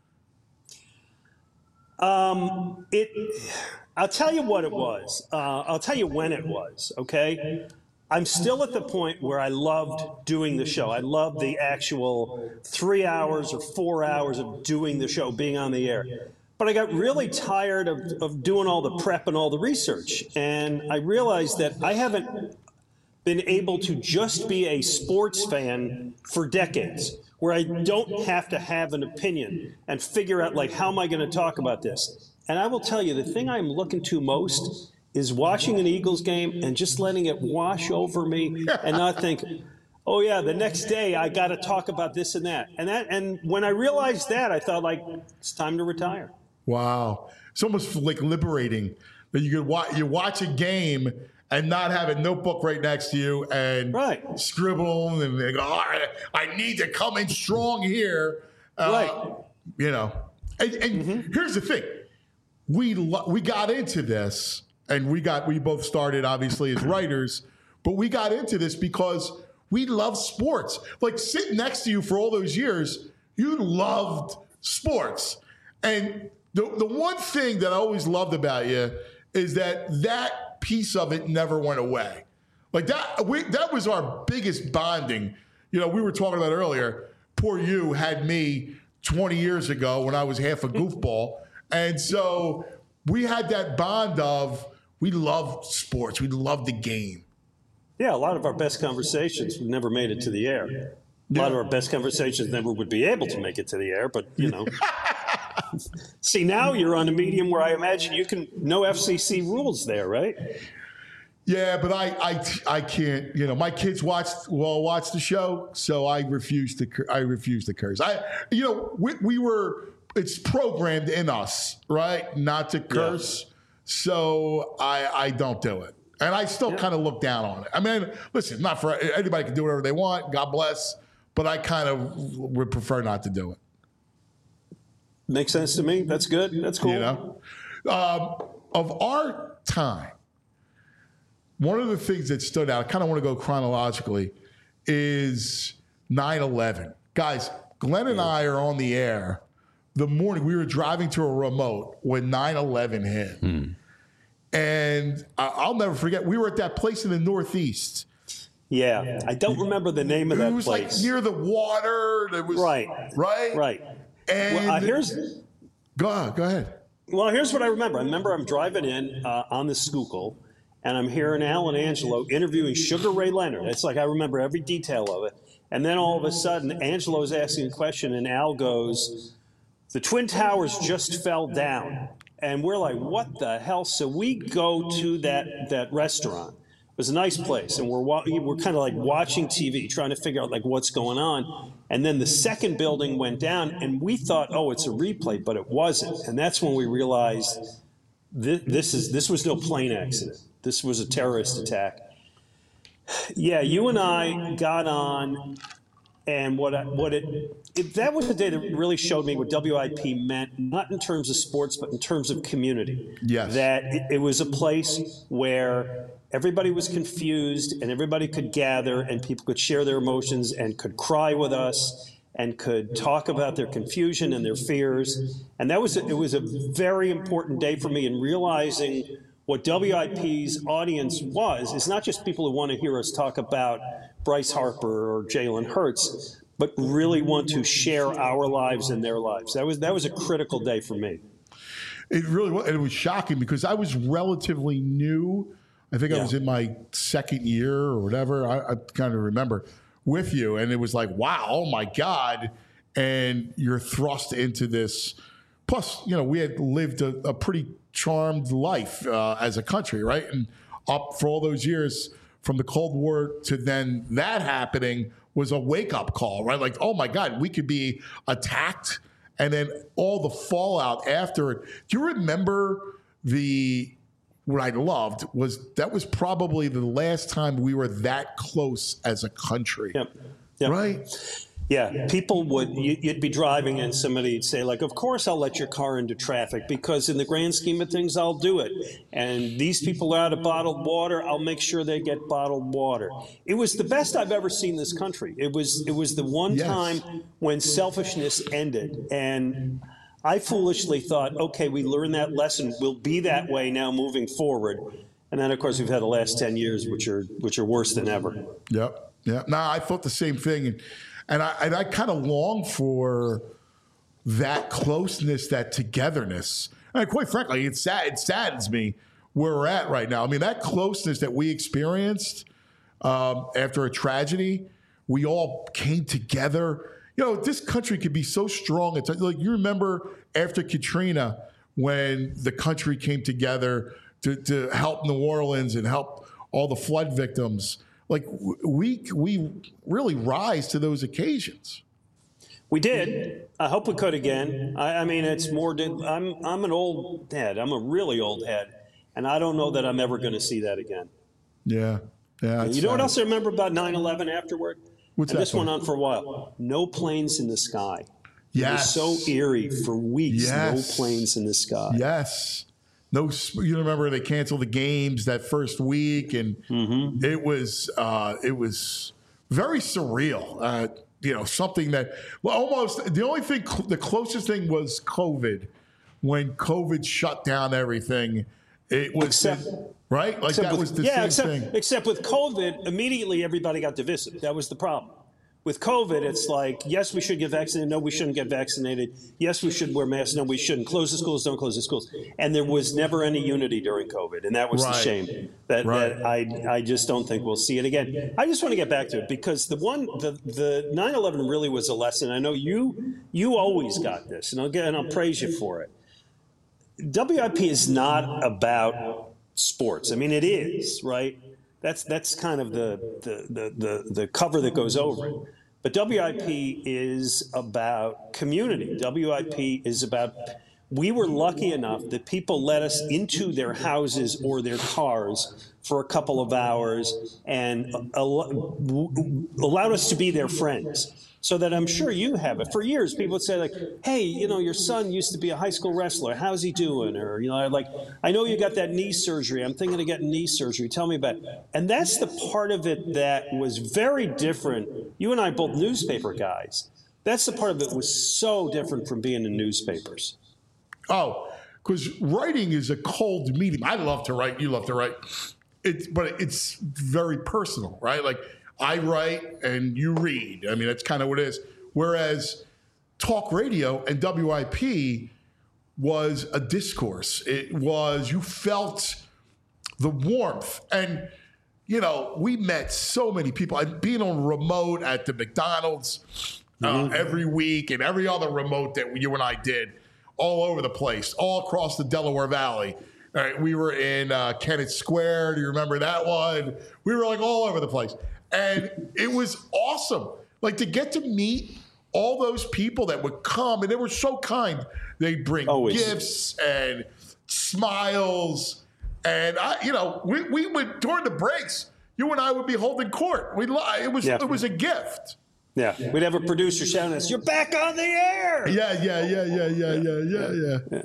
[SPEAKER 8] Um, it. I'll tell you what it was. Uh, I'll tell you when it was. Okay. I'm still at the point where I loved doing the show. I loved the actual three hours or four hours of doing the show, being on the air. But I got really tired of, of doing all the prep and all the research. And I realized that I haven't been able to just be a sports fan for decades, where I don't have to have an opinion and figure out, like, how am I going to talk about this? And I will tell you, the thing I'm looking to most is watching an Eagles game and just letting it wash over me and not think, oh, yeah, the next day I got to talk about this and that. And that, and when I realized that, I thought, like, it's time to retire.
[SPEAKER 2] Wow, it's almost like liberating that you could watch. You watch a game and not have a notebook right next to you and
[SPEAKER 8] Right.
[SPEAKER 2] scribble and they go, oh, I, I need to come in strong here. Uh,
[SPEAKER 8] Right.
[SPEAKER 2] You know, and, and
[SPEAKER 8] Mm-hmm.
[SPEAKER 2] here's the thing: we lo- we got into this, and we got we both started obviously as writers, but we got into this because we love sports. Like sitting next to you for all those years, you loved sports, and the the one thing that I always loved about you is that that piece of it never went away. Like that, we, that was our biggest bonding. You know, we were talking about earlier. Poor you had me twenty years ago when I was half a goofball, and so we had that bond of we loved sports, we loved the game.
[SPEAKER 8] Yeah, a lot of our best conversations never made it to the air. A lot of our best conversations never would be able to make it to the air, but, you know. See, now you're on a medium where I imagine you can, no F C C rules there, right?
[SPEAKER 2] Yeah, but I, I, I can't. You know, my kids watch well watch the show, so I refuse to. cur- I refuse to curse. I, you know, we, we were. It's programmed in us, right, not to curse. So I, I don't do it, and I still kind of look down on it. I mean, listen, not for anybody can do whatever they want. God bless, but I kind of would prefer not to do it.
[SPEAKER 8] Makes sense to me. That's good. That's cool.
[SPEAKER 2] You know, um, of our time, one of the things that stood out, I kind of want to go chronologically, is nine eleven. Guys, Glenn and I are on the air the morning. We were driving to a remote when nine eleven hit. And I- I'll never forget, we were at that place in the Northeast.
[SPEAKER 8] Yeah, I don't remember the name of
[SPEAKER 2] It
[SPEAKER 8] that
[SPEAKER 2] was
[SPEAKER 8] place.
[SPEAKER 2] like near the water. It was,
[SPEAKER 8] Right.
[SPEAKER 2] Right?
[SPEAKER 8] Right.
[SPEAKER 2] And
[SPEAKER 8] Well, uh, here's
[SPEAKER 2] go, ahead, go ahead.
[SPEAKER 8] Well, here's what I remember. I remember I'm driving in uh, on the Schuylkill, and I'm hearing Alan Angelo interviewing Sugar Ray Leonard. It's like I remember every detail of it. And then all of a sudden, Angelo's asking a question, and Al goes, "The Twin Towers just fell down." And we're like, what the hell? So we go to that that restaurant. It was a nice place, and we're wa- we're kind of like watching T V, trying to figure out like what's going on. And then the second building went down, and we thought, oh, it's a replay, but it wasn't. And that's when we realized this, this is this was no plane accident. This was a terrorist attack. Yeah, you and I got on, and what I, what it, it that was the day that really showed me what W I P meant, not in terms of sports, but in terms of community.
[SPEAKER 2] Yes.
[SPEAKER 8] That it, it was a place where everybody was confused and everybody could gather and people could share their emotions and could cry with us and could talk about their confusion and their fears. And that was, a, it was a very important day for me in realizing what W I P's audience was. It's not just people who want to hear us talk about Bryce Harper or Jalen Hurts, but really want to share our lives and their lives. That was, that was a critical day for me.
[SPEAKER 2] It really was. And it was shocking because I was relatively new. I think yeah. I was in my second year or whatever. I, I kind of remember with you. And it was like, wow, oh my God. And you're thrust into this. Plus, you know, we had lived a, a pretty charmed life uh, as a country, right? And up for all those years from the Cold War to then that happening was a wake-up call, right? Like, oh my God, we could be attacked. And then all the fallout after it. Do you remember the... What I loved was that was probably the last time we were that close as a country.
[SPEAKER 8] Yep. Yep.
[SPEAKER 2] Right?
[SPEAKER 8] Yeah. People would, you'd be driving and somebody'd say, like, of course I'll let your car into traffic because in the grand scheme of things, I'll do it. And these people are out of bottled water. I'll make sure they get bottled water. It was the best I've ever seen this country. It was, it was the one
[SPEAKER 2] Yes.
[SPEAKER 8] time when selfishness ended. And I foolishly thought, okay, we learned that lesson. We'll be that way now moving forward. And then, of course, we've had the last ten years, which are which are worse than ever.
[SPEAKER 2] Yep. Yeah. No, I thought the same thing. And, and I, and I kind of long for that closeness, that togetherness. And quite frankly, it, sad, it saddens me where we're at right now. I mean, that closeness that we experienced um, after a tragedy, we all came together. You know, this country could be so strong. It's like you remember after Katrina when the country came together to, to help New Orleans and help all the flood victims. Like we we really rise to those occasions.
[SPEAKER 8] We did. I hope we could again. I, I mean, it's more. I'm I'm an old head. I'm a really old head, and I don't know that I'm ever going to see that again.
[SPEAKER 2] Yeah, yeah.
[SPEAKER 8] You know what else I remember about nine eleven afterward?
[SPEAKER 2] What's
[SPEAKER 8] and
[SPEAKER 2] that
[SPEAKER 8] this went
[SPEAKER 2] one?
[SPEAKER 8] on for a while. No planes in the sky.
[SPEAKER 2] Yes.
[SPEAKER 8] It was so eerie for weeks.
[SPEAKER 2] Yes.
[SPEAKER 8] No planes in the sky.
[SPEAKER 2] Yes. No, you remember they canceled the games that first week, and mm-hmm. it was uh, it was very surreal. Uh, you know, something that well, almost the only thing, the closest thing was COVID. When COVID shut down everything, it was
[SPEAKER 8] Except,
[SPEAKER 2] the, right. Like
[SPEAKER 8] except
[SPEAKER 2] that
[SPEAKER 8] with,
[SPEAKER 2] was the
[SPEAKER 8] yeah,
[SPEAKER 2] same
[SPEAKER 8] except,
[SPEAKER 2] thing.
[SPEAKER 8] Except with COVID, immediately everybody got divisive. That was the problem. With COVID, it's like, yes, we should get vaccinated. No, we shouldn't get vaccinated. Yes, we should wear masks. No, we shouldn't. Close the schools. Don't close the schools. And there was never any unity during COVID, and that was
[SPEAKER 2] Right.
[SPEAKER 8] the shame. That,
[SPEAKER 2] Right.
[SPEAKER 8] that I I just don't think we'll see it again. I just want to get back to it because the one the the nine eleven really was a lesson. I know you you always got this, and I'll get and I'll praise you for it. W I P is not about sports. I mean, it is, right? That's that's kind of the the the the, the cover that goes over it. But W I P is about community. W I P is about, we were lucky enough that people let us into their houses or their cars for a couple of hours and allowed us to be their friends. So that I'm sure you have it. For years, people would say, like, hey, you know, your son used to be a high school wrestler. How's he doing? Or, you know, like, I know you got that knee surgery. I'm thinking of getting knee surgery. Tell me about it. And that's the part of it that was very different. You and I both newspaper guys. That's the part of it was so different from being in newspapers.
[SPEAKER 2] Oh, because writing is a cold medium. I love to write. You love to write. It's, but it's very personal, right? Like, I write and you read. I mean, that's kind of what it is. Whereas talk radio and W I P was a discourse. It was, you felt the warmth. And, you know, we met so many people. I've been on remote at the McDonald's uh, mm-hmm. every week and every other remote that you and I did. all over the place, all across the Delaware Valley. All right, we were in uh, Kennett Square. Do you remember that one? We were like all over the place. And it was awesome. Like to get to meet all those people that would come, and they were so kind. They'd bring
[SPEAKER 8] Always.
[SPEAKER 2] gifts and smiles. And, I, you know, we, we would, during the breaks, you and I would be holding court. We'd, li- it was
[SPEAKER 8] Yeah.
[SPEAKER 2] It was a gift.
[SPEAKER 8] Yeah, we'd have a producer shouting at us, "You're back on the air!"
[SPEAKER 2] Yeah, yeah, yeah, yeah, yeah, yeah, yeah, yeah. yeah.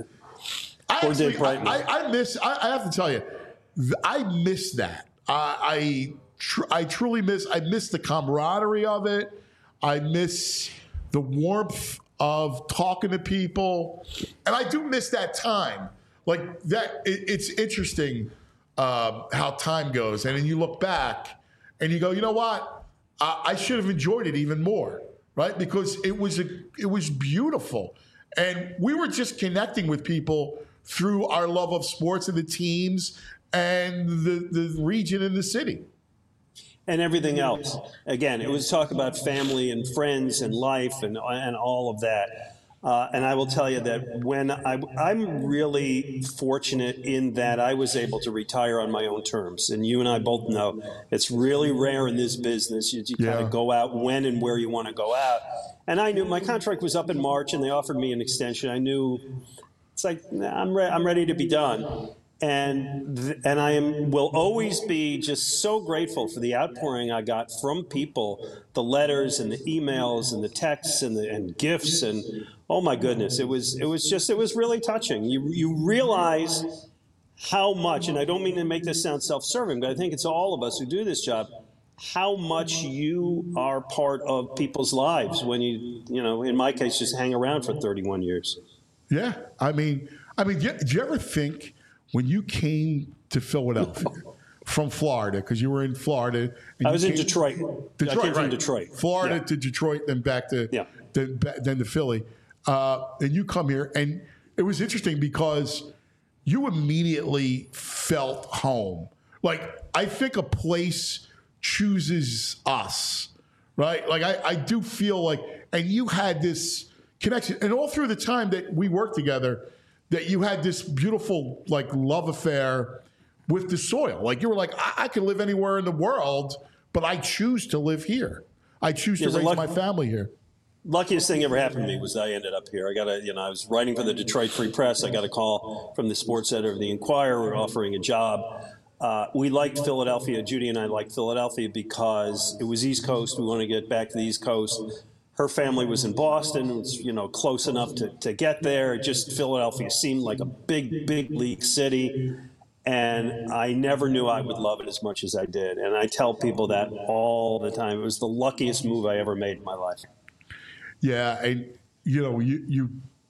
[SPEAKER 2] I,
[SPEAKER 8] Or Dave
[SPEAKER 2] actually,
[SPEAKER 8] Brightman.
[SPEAKER 2] I, I, I miss. I, I have to tell you, th- I miss that. I I, tr- I truly miss. I miss the camaraderie of it. I miss the warmth of talking to people, and I do miss that time. Like that, it, it's interesting uh, how time goes, and then you look back and you go, you know what? I, I should have enjoyed it even more, right? Because it was a, it was beautiful, and we were just connecting with people through our love of sports and the teams and the the region and the city.
[SPEAKER 8] And everything else. Again, it was talk about family and friends and life and and all of that. Uh, and I will tell you that when I, I'm really fortunate in that I was able to retire on my own terms. And you and I both know it's really rare in this business. You, you
[SPEAKER 2] Yeah.
[SPEAKER 8] kind of go out when and where you want to go out. And I knew my contract was up in March, and they offered me an extension. I knew it's like nah, I'm re- I'm ready to be done. And th- and I am will always be just so grateful for the outpouring I got from people, the letters and the emails and the texts and the and gifts and oh my goodness, it was it was just it was really touching. You you realize how much, and I don't mean to make this sound self-serving, but I think it's all of us who do this job, how much you are part of people's lives when you you know in my case just hang around for thirty-one years.
[SPEAKER 2] Yeah, I mean, I mean, did you ever think when you came to Philadelphia from Florida, because you were in Florida? And
[SPEAKER 8] I
[SPEAKER 2] you
[SPEAKER 8] was in
[SPEAKER 2] came-
[SPEAKER 8] Detroit.
[SPEAKER 2] Detroit,
[SPEAKER 8] I came from
[SPEAKER 2] right.
[SPEAKER 8] Detroit.
[SPEAKER 2] Florida
[SPEAKER 8] Yeah.
[SPEAKER 2] to Detroit, then back to
[SPEAKER 8] Yeah.
[SPEAKER 2] then, ba- then to Philly. Uh, and you come here, and it was interesting because you immediately felt home. Like, I think a place chooses us, right? Like, I, I do feel like, and you had this connection, and all through the time that we worked together, that you had this beautiful, like, love affair with the soil. Like, you were like, I, I can live anywhere in the world, but I choose to live here. I choose to
[SPEAKER 8] There's a
[SPEAKER 2] raise
[SPEAKER 8] luck-
[SPEAKER 2] my family here.
[SPEAKER 8] Luckiest thing ever happened to me was I ended up here. I got a, you know, I was writing for the Detroit Free Press. I got a call from the sports editor of the Inquirer offering a job. Uh, we liked Philadelphia. Judy and I liked Philadelphia because it was East Coast. We wanted to get back to the East Coast. Her family was in Boston. It was, you know, close enough to, to get there. Just Philadelphia seemed like a big, big league city. And I never knew I would love it as much as I did. And I tell people that all the time. It was the luckiest move I ever made in my life.
[SPEAKER 2] Yeah, and you know, you you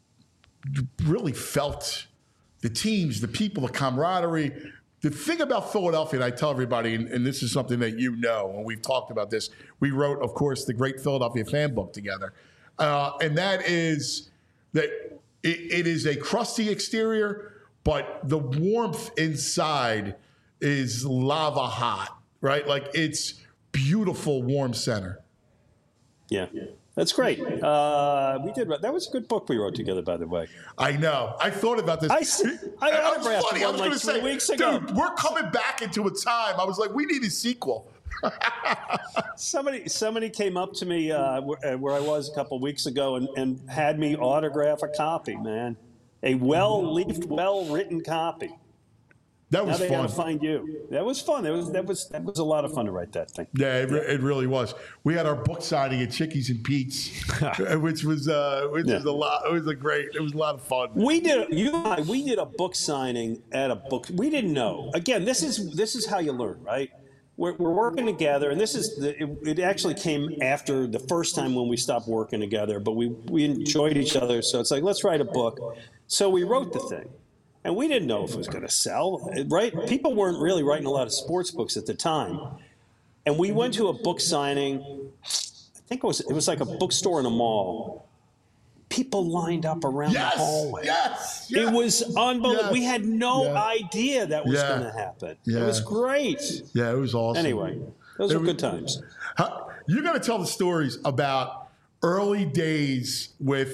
[SPEAKER 2] really felt the teams, the people, the camaraderie. The thing about Philadelphia, and I tell everybody, and, and this is something that you know, and we've talked about this. We wrote, of course, the Great Philadelphia Fan Book together, uh, and that is that it, it is a crusty exterior, but the warmth inside is lava hot, right? Like it's beautiful, warm center.
[SPEAKER 8] Yeah, that's great. Uh, we did. That was a good book we wrote together, by the way.
[SPEAKER 2] I know. I thought about this.
[SPEAKER 8] I s- I
[SPEAKER 2] It was
[SPEAKER 8] autographed
[SPEAKER 2] funny. I
[SPEAKER 8] one
[SPEAKER 2] was
[SPEAKER 8] like
[SPEAKER 2] going to
[SPEAKER 8] three
[SPEAKER 2] say,
[SPEAKER 8] weeks ago.
[SPEAKER 2] dude, we're coming back into a time. I was like, we need a sequel.
[SPEAKER 8] Somebody, somebody came up to me uh, where, where I was a couple weeks ago and, and had me autograph a copy. Man, a well-leafed, well-written copy.
[SPEAKER 2] That
[SPEAKER 8] Now
[SPEAKER 2] was
[SPEAKER 8] they got
[SPEAKER 2] fun.
[SPEAKER 8] to find you. That was fun. That was that was that was a lot of fun to write that thing.
[SPEAKER 2] Yeah, it, re- it really was. We had our book signing at Chickies and Pete's, which was uh, which
[SPEAKER 8] Yeah.
[SPEAKER 2] was a lot. It was a great. It was a lot of fun.
[SPEAKER 8] We did you and I, we did a book signing at a book. We didn't know. Again, this is this is how you learn, right? We're, we're working together, and this is the, it, it actually came after the first time when we stopped working together. But we we enjoyed each other, so it's like let's write a book. So we wrote the thing, and we didn't know if it was going to sell, right? People weren't really writing a lot of sports books at the time, and we went to a book signing. I think it was it was like a bookstore in a mall. People lined up around
[SPEAKER 2] Yes,
[SPEAKER 8] the hallway.
[SPEAKER 2] yes, yes.
[SPEAKER 8] It was unbelievable.
[SPEAKER 2] Yes,
[SPEAKER 8] We had no
[SPEAKER 2] yeah.
[SPEAKER 8] idea that was
[SPEAKER 2] Yeah,
[SPEAKER 8] going to happen.
[SPEAKER 2] yeah.
[SPEAKER 8] It was great.
[SPEAKER 2] Yeah, it was awesome.
[SPEAKER 8] Anyway, those
[SPEAKER 2] It
[SPEAKER 8] were
[SPEAKER 2] was-
[SPEAKER 8] good times.
[SPEAKER 2] How, you got to tell the stories about early days with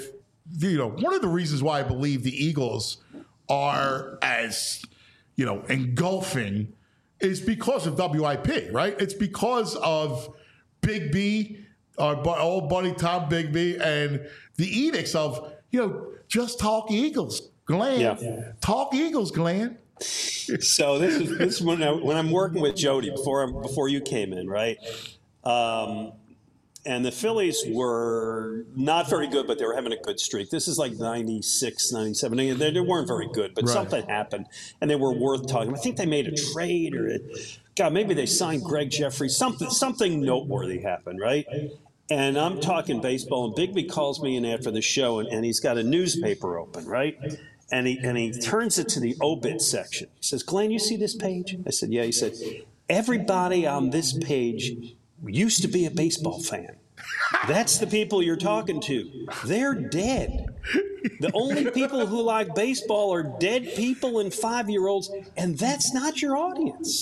[SPEAKER 2] you know, one of the reasons why I believe the Eagles are as, you know, engulfing is because of W I P, right? It's because of Big B, our bu- old buddy Tom Bigby, and the edicts of, you know, just talk Eagles, Glenn.
[SPEAKER 8] Yeah.
[SPEAKER 2] Talk Eagles, Glenn.
[SPEAKER 8] So this is this is when, I, when I'm working with Jody before I'm, before you came in, right? Um, and the Phillies were not very good, but they were having a good streak. This is like ninety-six, ninety-seven. They, they weren't very good, but
[SPEAKER 2] Right.
[SPEAKER 8] something happened, and they were worth talking. I think they made a trade, or a, God, maybe they signed Greg Jeffrey. Something something noteworthy happened, right? And I'm talking baseball, and Bigby calls me in after the show, and, and he's got a newspaper open, right? And he and he turns it to the obit section. He says, "Glenn, you see this page?" I said, "Yeah." He said, "Everybody on this page used to be a baseball fan. That's the people you're talking to. They're dead. The only people who like baseball are dead people and five-year-olds, and that's not your audience."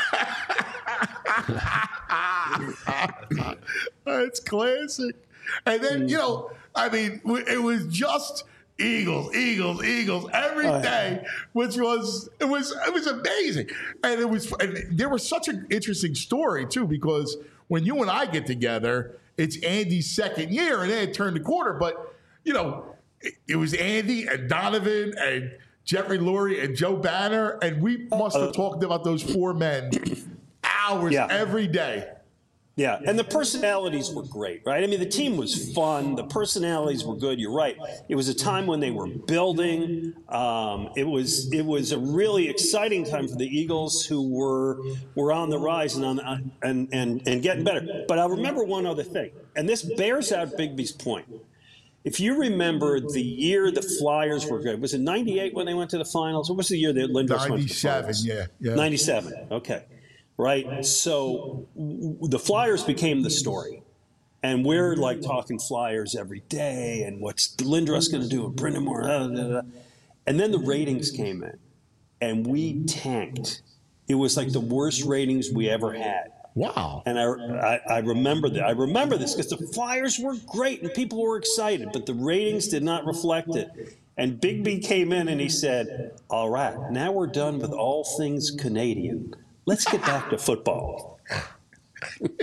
[SPEAKER 2] It's classic. And then, you know, I mean, it was just Eagles, Eagles, Eagles every
[SPEAKER 8] Oh, yeah.
[SPEAKER 2] day, which was it was it was amazing. And it was and there was such an interesting story too, because when you and I get together, it's Andy's second year, and they had turned the corner. But you know, it, it was Andy and Donovan and Jeffrey Lurie and Joe Banner, and we must have talked about those four men hours
[SPEAKER 8] Yeah.
[SPEAKER 2] every day.
[SPEAKER 8] Yeah, and the personalities were great, right? I mean, the team was fun. The personalities were good. You're right. It was a time when they were building. Um, it was it was a really exciting time for the Eagles, who were were on the rise and on and and and getting better. But I'll remember one other thing, and this bears out Bigby's point. If you remember the year the Flyers were good, was it ninety-eight when they went to the finals? What was the year that Lindros went to the
[SPEAKER 2] ninety-seven,
[SPEAKER 8] finals?
[SPEAKER 2] yeah, yeah.
[SPEAKER 8] ninety-seven, okay. Right? So w- the Flyers became the story. And we're like talking Flyers every day, and what's Lindros going to do, and Brendan Moore, blah, blah, blah. And then the ratings came in, and we tanked. It was like the worst ratings we ever had.
[SPEAKER 2] Wow.
[SPEAKER 8] And I, I, I remember that. I remember this because the Flyers were great and people were excited, but the ratings did not reflect it. And Bigby came in and he said, "All right, now we're done with all things Canadian. Let's get back to football."
[SPEAKER 2] But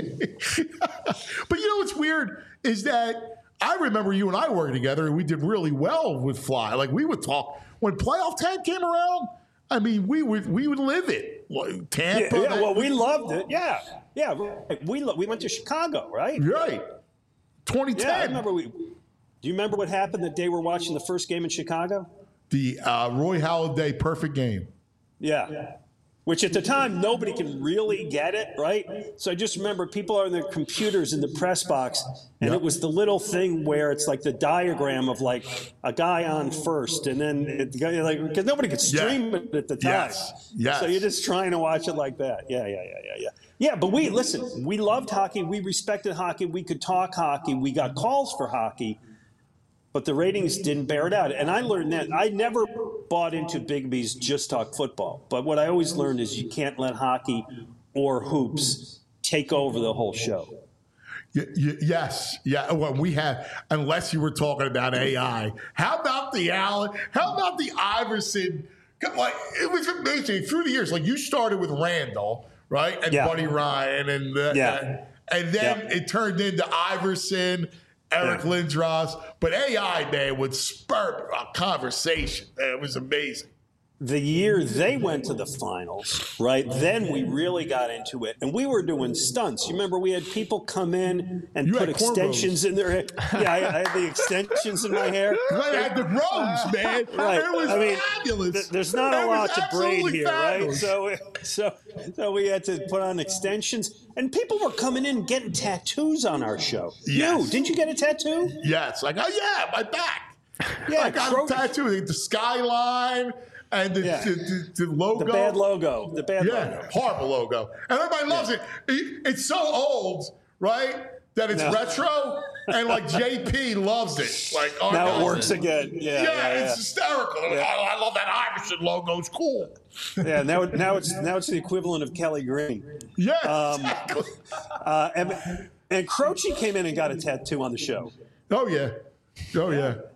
[SPEAKER 2] you know what's weird is that I remember you and I working together, and we did really well with Fly. Like, we would talk when playoff time came around. I mean, we would we would live it. Like, Tampa.
[SPEAKER 8] Yeah, yeah, well, we loved it. Yeah, yeah. Right. We lo- we went to Chicago, right?
[SPEAKER 2] Right. twenty ten.
[SPEAKER 8] Yeah, I remember. We. Do you remember what happened the day we're watching the first game in Chicago?
[SPEAKER 2] The uh, Roy Halladay perfect game.
[SPEAKER 8] Yeah. Which at the time, nobody can really get it, right? So I just remember people are on their computers in the press box, and
[SPEAKER 2] Yep.
[SPEAKER 8] it was the little thing where it's like the diagram of like a guy on first, and then it, like because nobody could stream
[SPEAKER 2] Yeah.
[SPEAKER 8] it at the time.
[SPEAKER 2] Yes. Yes.
[SPEAKER 8] So you're just trying to watch it like that. Yeah, yeah, yeah, yeah, yeah. Yeah, but we listen. We loved hockey. We respected hockey. We could talk hockey. We got calls for hockey. But the ratings didn't bear it out. And I learned that. I never bought into Bigby's just talk football. But what I always learned is you can't let hockey or hoops take over the whole show.
[SPEAKER 2] Y- y- yes. Yeah. Well, we have, unless you were talking about A I. How about the Allen? How about the Iverson? Like, it was amazing through the years. Like, you started with Randall, right? And
[SPEAKER 8] Yeah.
[SPEAKER 2] Buddy Ryan. And, the,
[SPEAKER 8] Yeah.
[SPEAKER 2] and then
[SPEAKER 8] Yeah.
[SPEAKER 2] it turned into Iverson, Eric
[SPEAKER 8] Yeah.
[SPEAKER 2] Lindros. But A I, man, would spur a conversation. Man, it was amazing.
[SPEAKER 8] The year they went to the finals, right, then we really got into it. And we were doing stunts. You remember we had people come in and
[SPEAKER 2] You
[SPEAKER 8] put
[SPEAKER 2] had cornrows.
[SPEAKER 8] extensions in their hair. Yeah, I, I had the extensions in my hair.
[SPEAKER 2] I had the grows, man.
[SPEAKER 8] Right.
[SPEAKER 2] It was
[SPEAKER 8] I mean,
[SPEAKER 2] fabulous.
[SPEAKER 8] th- there's not
[SPEAKER 2] It
[SPEAKER 8] a
[SPEAKER 2] was
[SPEAKER 8] lot to braid
[SPEAKER 2] absolutely
[SPEAKER 8] here,
[SPEAKER 2] fabulous.
[SPEAKER 8] right? So, so, so we had to put on extensions, and people were coming in getting tattoos on our show.
[SPEAKER 2] Yes.
[SPEAKER 8] You didn't you get a tattoo?
[SPEAKER 2] Yes, like, oh yeah, my back.
[SPEAKER 8] Yeah,
[SPEAKER 2] I got
[SPEAKER 8] Cro-
[SPEAKER 2] a tattoo, the skyline and the,
[SPEAKER 8] Yeah.
[SPEAKER 2] the, the, the logo.
[SPEAKER 8] The bad logo. The bad
[SPEAKER 2] Yeah,
[SPEAKER 8] logo.
[SPEAKER 2] horrible logo. And everybody loves it. it. It's so old, right, that it's
[SPEAKER 8] No.
[SPEAKER 2] retro, and like J P loves it. Like, our
[SPEAKER 8] Now
[SPEAKER 2] guys-
[SPEAKER 8] it works again. Yeah,
[SPEAKER 2] Yeah,
[SPEAKER 8] yeah,
[SPEAKER 2] it's
[SPEAKER 8] yeah.
[SPEAKER 2] hysterical. Oh, I love that Iverson logo. It's cool.
[SPEAKER 8] Yeah, now, it- now it's now it's the equivalent of Kelly Green.
[SPEAKER 2] Yeah,
[SPEAKER 8] Um,
[SPEAKER 2] exactly.
[SPEAKER 8] Uh, and and Croce came in and got a tattoo on the show.
[SPEAKER 2] Oh yeah, oh yeah.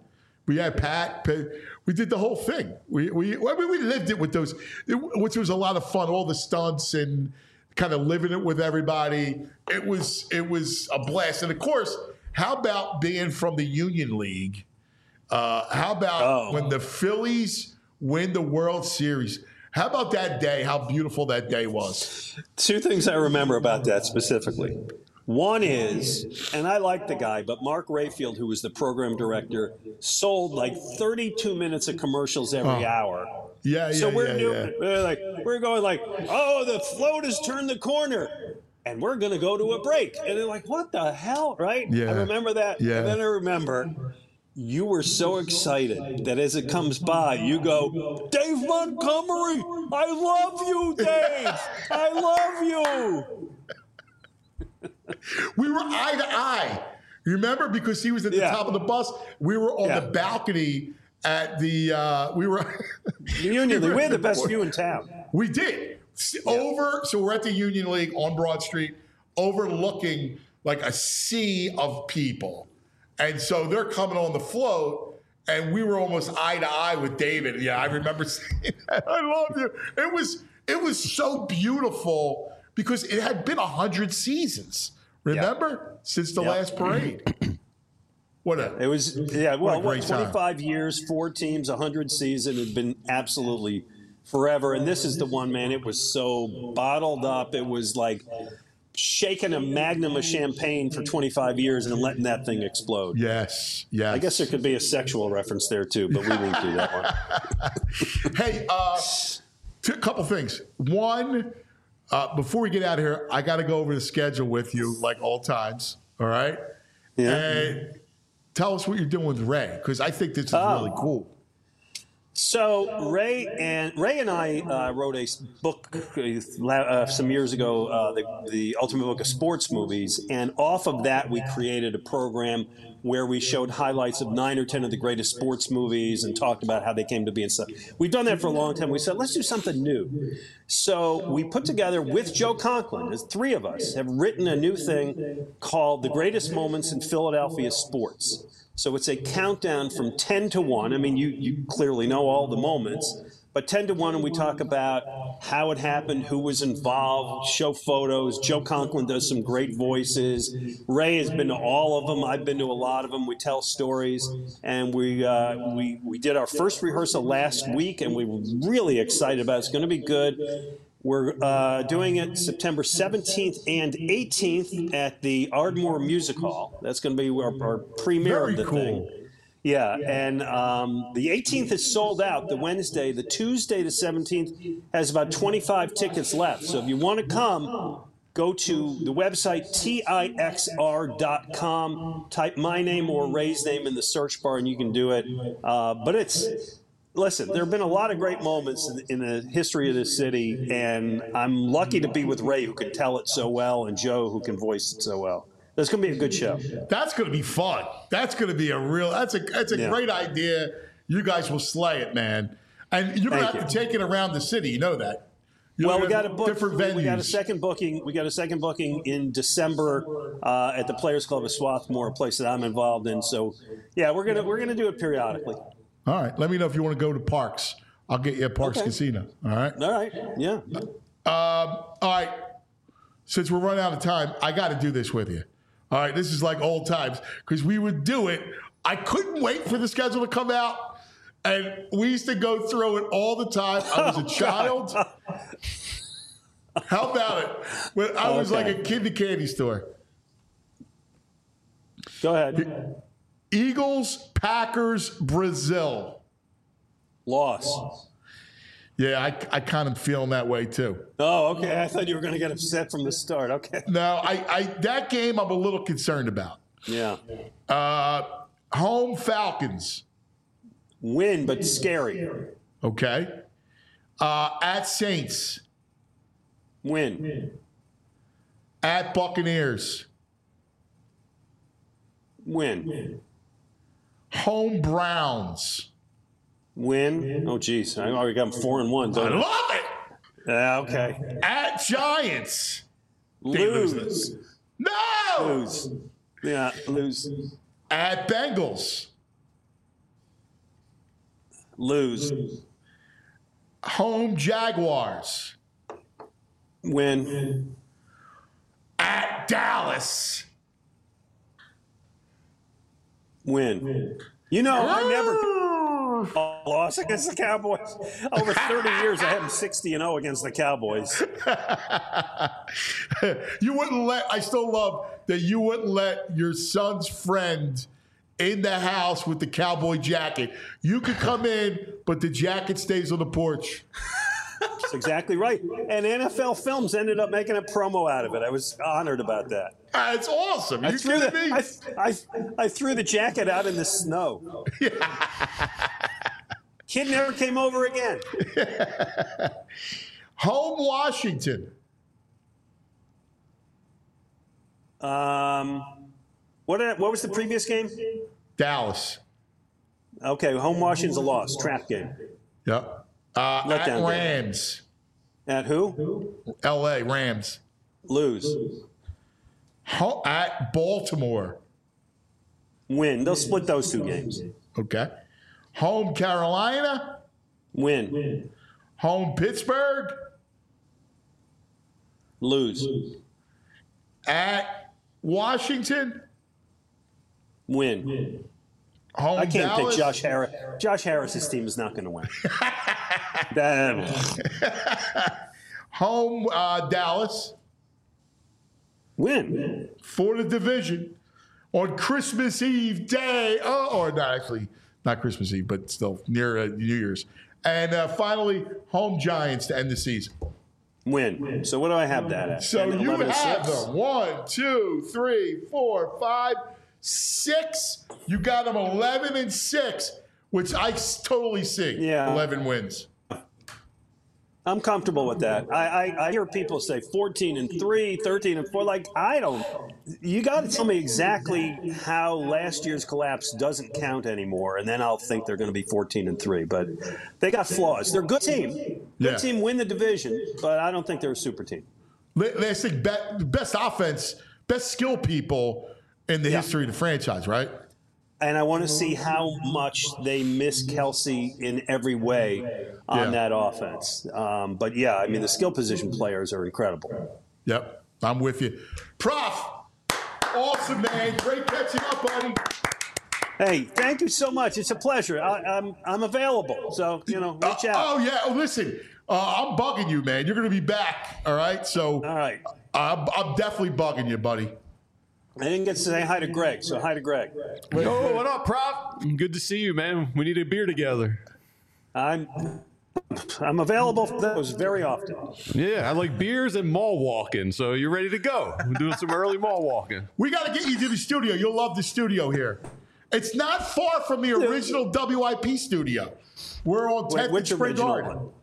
[SPEAKER 2] We had Pat. Pat we did the whole thing. We we I mean, we lived it with those, it, which was a lot of fun. All the stunts and kind of living it with everybody. It was it was a blast. And of course, how about being from the Union League? Uh, how about
[SPEAKER 8] Oh.
[SPEAKER 2] when the Phillies win the World Series? How about that day? How beautiful that day was.
[SPEAKER 8] Two things I remember about that specifically. One is, and I like the guy, but Mark Rayfield, who was the program director, sold like thirty-two minutes of commercials every
[SPEAKER 2] Oh.
[SPEAKER 8] hour.
[SPEAKER 2] Yeah, yeah,
[SPEAKER 8] So we're
[SPEAKER 2] yeah,
[SPEAKER 8] doing,
[SPEAKER 2] yeah.
[SPEAKER 8] we're like, we're going like, oh, the float has turned the corner, and we're going to go to a break. And they're like, what the hell, right?
[SPEAKER 2] Yeah.
[SPEAKER 8] I remember that.
[SPEAKER 2] Yeah.
[SPEAKER 8] And then I remember you were so excited that as it comes by, you go, Dave Montgomery, I love you, Dave. I love you.
[SPEAKER 2] We were eye to eye. You remember? Because he was at the
[SPEAKER 8] Yeah.
[SPEAKER 2] top of the bus. We were on
[SPEAKER 8] Yeah.
[SPEAKER 2] the balcony at the, uh, we were.
[SPEAKER 8] The Union League, we had the best view in town.
[SPEAKER 2] We did. S- Over, so we're at the Union League on Broad Street, overlooking like a sea of people. And so they're coming on the float, and we were almost eye to eye with David. Yeah, I remember saying that. I love you. It was it was so beautiful because it had been a hundred seasons. Remember? Since the
[SPEAKER 8] Yeah.
[SPEAKER 2] last parade. What a
[SPEAKER 8] It was, yeah,
[SPEAKER 2] What a
[SPEAKER 8] well, what,
[SPEAKER 2] great time.
[SPEAKER 8] twenty-five years, four teams, one hundred season. It had been absolutely forever. And this is the one, man, it was so bottled up. It was like shaking a magnum of champagne for twenty-five years and letting that thing explode.
[SPEAKER 2] yes, yes.
[SPEAKER 8] I guess there could be a sexual reference there, too, but we won't do that one.
[SPEAKER 2] Hey, uh, a couple things. One, uh, before we get out of here, I got to go over the schedule with you, like all times. All right.
[SPEAKER 8] Yeah.
[SPEAKER 2] And tell us what you're doing with Ray, because I think this is
[SPEAKER 8] Oh.
[SPEAKER 2] really cool.
[SPEAKER 8] So Ray and Ray and I uh, wrote a s- book uh, uh, some years ago, uh, the, the Ultimate Book of Sports Movies, and off of that we created a program where we showed highlights of nine or ten of the greatest sports movies and talked about how they came to be and stuff. We've done that for a long time. We said, let's do something new. So we put together with Joe Conklin, there's three of us, have written a new thing called The Greatest Moments in Philadelphia Sports. So it's a countdown from ten to one. I mean, you, you clearly know all the moments, but ten to one, and we talk about how it happened, who was involved, show photos. Joe Conklin does some great voices. Ray has been to all of them. I've been to a lot of them. We tell stories, and we uh, we we did our first rehearsal last week, and we were really excited about it. It's going to be good. We're uh, doing it September seventeenth and eighteenth at the Ardmore Music Hall. That's going to be our, our premiere
[SPEAKER 2] Very
[SPEAKER 8] of the
[SPEAKER 2] cool.
[SPEAKER 8] thing. Yeah, and um, the eighteenth is sold out. The Wednesday, the Tuesday, the seventeenth has about twenty-five tickets left. So if you want to come, go to the website T I X R dot com, type my name or Ray's name in the search bar, and you can do it. Uh, but it's Listen, there have been a lot of great moments in, in the history of this city, and I'm lucky to be with Ray, who can tell it so well, and Joe, who can voice it so well. It's going to be a good show.
[SPEAKER 2] That's going to be fun. That's going to be a real. That's a that's a
[SPEAKER 8] Yeah.
[SPEAKER 2] great idea. You guys will slay it, man. And you're going to
[SPEAKER 8] Thank
[SPEAKER 2] have
[SPEAKER 8] you.
[SPEAKER 2] to take it around the city. You know that. You're
[SPEAKER 8] Well, we
[SPEAKER 2] gonna
[SPEAKER 8] got a
[SPEAKER 2] have
[SPEAKER 8] book.
[SPEAKER 2] different
[SPEAKER 8] we-
[SPEAKER 2] venues.
[SPEAKER 8] We got a second booking. We got a second booking in December uh, at the Players Club of Swarthmore, a place that I'm involved in. So, yeah, we're gonna we're gonna do it periodically.
[SPEAKER 2] All right. Let me know if you want to go to Parks. I'll get you at Parks
[SPEAKER 8] Okay.
[SPEAKER 2] Casino. All right.
[SPEAKER 8] All right. Yeah.
[SPEAKER 2] Um, all right. Since we're running out of time, I got to do this with you. All right. This is like old times because we would do it. I couldn't wait for the schedule to come out. And we used to go through it all the time. I was a child. How about it? When I was
[SPEAKER 8] Okay.
[SPEAKER 2] like a kid in the candy store.
[SPEAKER 8] Go ahead.
[SPEAKER 2] Eagles, Packers, Brazil.
[SPEAKER 8] Loss.
[SPEAKER 2] Yeah, I, I kind of feeling that way too.
[SPEAKER 8] Oh, okay. I thought you were going to get upset from the start. Okay.
[SPEAKER 2] No, I, I that game I'm a little concerned about.
[SPEAKER 8] Yeah.
[SPEAKER 2] Uh, home Falcons.
[SPEAKER 8] Win, but scary.
[SPEAKER 2] Okay. Uh, at Saints.
[SPEAKER 8] Win.
[SPEAKER 2] At Buccaneers.
[SPEAKER 8] Win.
[SPEAKER 2] Home Browns.
[SPEAKER 8] Win. Oh, geez. I already got them four and one.
[SPEAKER 2] I
[SPEAKER 8] Don't I?
[SPEAKER 2] love it.
[SPEAKER 8] Yeah, okay.
[SPEAKER 2] At Giants. They lose
[SPEAKER 8] Lose.
[SPEAKER 2] this. No.
[SPEAKER 8] Lose. Yeah, lose.
[SPEAKER 2] At Bengals.
[SPEAKER 8] Lose.
[SPEAKER 2] Home Jaguars.
[SPEAKER 8] Win.
[SPEAKER 2] At Dallas.
[SPEAKER 8] Win. You know, I never lost against the Cowboys. Over thirty years, I have them sixty and oh against the Cowboys.
[SPEAKER 2] You wouldn't let, I still love that you wouldn't let your son's friend in the house with the cowboy jacket. You could come in, but the jacket stays on the porch.
[SPEAKER 8] That's exactly right. And N F L Films ended up making a promo out of it. I was honored about that.
[SPEAKER 2] Uh, it's awesome.
[SPEAKER 8] I
[SPEAKER 2] You
[SPEAKER 8] threw,
[SPEAKER 2] kidding
[SPEAKER 8] the,
[SPEAKER 2] me?
[SPEAKER 8] I, I, I threw the jacket out in the snow. Kid never came over again.
[SPEAKER 2] Home Washington.
[SPEAKER 8] Um, what what was the previous game?
[SPEAKER 2] Dallas.
[SPEAKER 8] Okay, home Washington's a loss. Trap game.
[SPEAKER 2] Yep. Uh,
[SPEAKER 8] Letdown
[SPEAKER 2] at
[SPEAKER 8] game.
[SPEAKER 2] Rams.
[SPEAKER 8] At who?
[SPEAKER 2] L A, Rams.
[SPEAKER 8] Lose.
[SPEAKER 2] Ho- at Baltimore.
[SPEAKER 8] Win. They'll split those two games.
[SPEAKER 2] Okay. Home Carolina.
[SPEAKER 8] Win.
[SPEAKER 2] Home Pittsburgh.
[SPEAKER 8] Lose.
[SPEAKER 2] At Washington.
[SPEAKER 8] Win.
[SPEAKER 2] Home
[SPEAKER 8] I can't
[SPEAKER 2] Dallas.
[SPEAKER 8] pick Josh Harris. Josh Harris's team is not going to win. That-
[SPEAKER 2] Home uh, Dallas.
[SPEAKER 8] Win.
[SPEAKER 2] For the division on Christmas Eve day. Oh, or not actually, not Christmas Eve, but still near uh, New Year's. And uh, finally, home Giants to end the season.
[SPEAKER 8] Win. So what do I have that at?
[SPEAKER 2] So
[SPEAKER 8] ten,
[SPEAKER 2] you
[SPEAKER 8] eleven,
[SPEAKER 2] have
[SPEAKER 8] six?
[SPEAKER 2] them one, two, three, four, five, six. You got them eleven and six, which I s- totally see.
[SPEAKER 8] Yeah.
[SPEAKER 2] eleven wins.
[SPEAKER 8] I'm comfortable with that. I, I, I hear people say fourteen and three, thirteen and four. Like, I don't. You got to tell me exactly how last year's collapse doesn't count anymore, and then I'll think they're going to be fourteen and three. But they got flaws. They're a good team. Good
[SPEAKER 2] Yeah.
[SPEAKER 8] team win the division, but I don't think they're a super team.
[SPEAKER 2] La- Last thing, be- best offense, best skill people in the
[SPEAKER 8] Yeah.
[SPEAKER 2] history of the franchise, right?
[SPEAKER 8] And I want to see how much they miss Kelsey in every way on
[SPEAKER 2] Yeah.
[SPEAKER 8] that offense. Um, but yeah, I mean, the skill position players are incredible.
[SPEAKER 2] Yep, I'm with you. Prof, awesome, man. Great catching up, buddy.
[SPEAKER 8] Hey, thank you so much. It's a pleasure. I, I'm I'm available. So, you know, reach
[SPEAKER 2] Uh,
[SPEAKER 8] out.
[SPEAKER 2] oh, yeah. Oh, listen, uh, I'm bugging you, man. You're going to be back, all right? So
[SPEAKER 8] All right.
[SPEAKER 2] I'm, I'm definitely bugging you, buddy.
[SPEAKER 8] I didn't get to say hi to Greg, so hi to Greg.
[SPEAKER 3] Oh, what up, Prop? Good to see you, man. We need a beer together.
[SPEAKER 8] I'm I'm available for those very often.
[SPEAKER 3] Yeah, I like beers and mall walking, so you're ready to go. We're doing some early mall walking.
[SPEAKER 2] We got to get you to the studio. You'll love the studio here. It's not far from the original W I P studio. We're on
[SPEAKER 8] Wait,
[SPEAKER 2] tenth and
[SPEAKER 8] which
[SPEAKER 2] Spring
[SPEAKER 8] original
[SPEAKER 2] Garden.
[SPEAKER 8] one?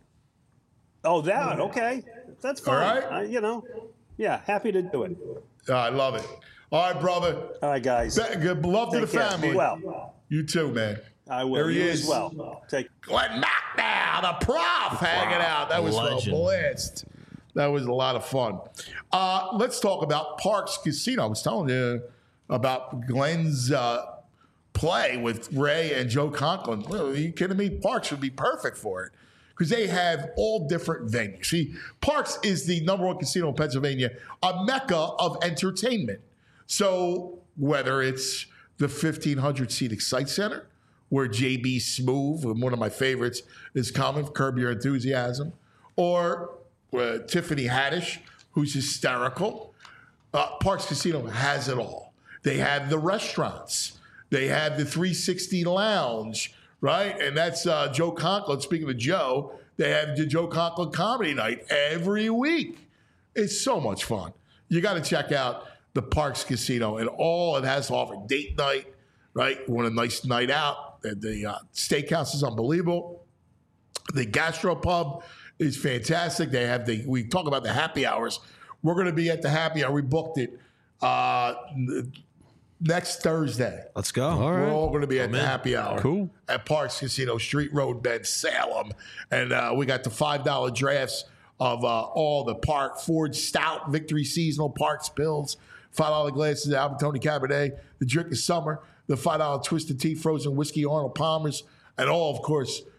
[SPEAKER 8] Oh, that. Okay. That's fine.
[SPEAKER 2] All right.
[SPEAKER 8] I, you know, yeah, happy to do it.
[SPEAKER 2] Uh, I love it. All right, brother.
[SPEAKER 8] All right, guys.
[SPEAKER 2] Be- good love to the
[SPEAKER 8] Take care.
[SPEAKER 2] family.
[SPEAKER 8] Be well.
[SPEAKER 2] You too, man.
[SPEAKER 8] I will.
[SPEAKER 2] There he
[SPEAKER 8] You
[SPEAKER 2] is.
[SPEAKER 8] as well. Take
[SPEAKER 2] Glenn Macnow, the prof, hanging out. That was
[SPEAKER 9] Legend.
[SPEAKER 2] a blast. That was a lot of fun. Uh, let's talk about Parks Casino. I was telling you about Glenn's uh, play with Ray and Joe Conklin. Well, are you kidding me? Parks would be perfect for it because they have all different venues. See, Parks is the number one casino in Pennsylvania, a mecca of entertainment. So whether it's the fifteen hundred seat Excite Center, where J B Smoove, one of my favorites, is coming, Curb Your Enthusiasm, or uh, Tiffany Haddish, who's hysterical. Uh, Parks Casino has it all. They have the restaurants. They have the three sixty Lounge, right? And that's uh, Joe Conklin. Speaking of Joe, they have the Joe Conklin Comedy Night every week. It's so much fun. You got to check out the Parks Casino and all it has to offer. Date night, right? You want a nice night out. The, the uh, steakhouse is unbelievable. The gastropub is fantastic. They have the, we talk about the happy hours. We're going to be at the happy hour. We booked it uh, next Thursday.
[SPEAKER 4] Let's go.
[SPEAKER 3] All
[SPEAKER 2] We're
[SPEAKER 3] right.
[SPEAKER 2] all going to be at the happy hour.
[SPEAKER 3] Cool.
[SPEAKER 2] At Parks Casino, Street Road, Bend, Salem. And uh, we got the five dollar drafts of uh, all the Park, Ford Stout, Victory Seasonal, Parks Pills, five dollar glasses of Albertoni Cabernet, the Drink of Summer, the five dollar Twisted Tea, Frozen Whiskey, Arnold Palmer's, and all, of course,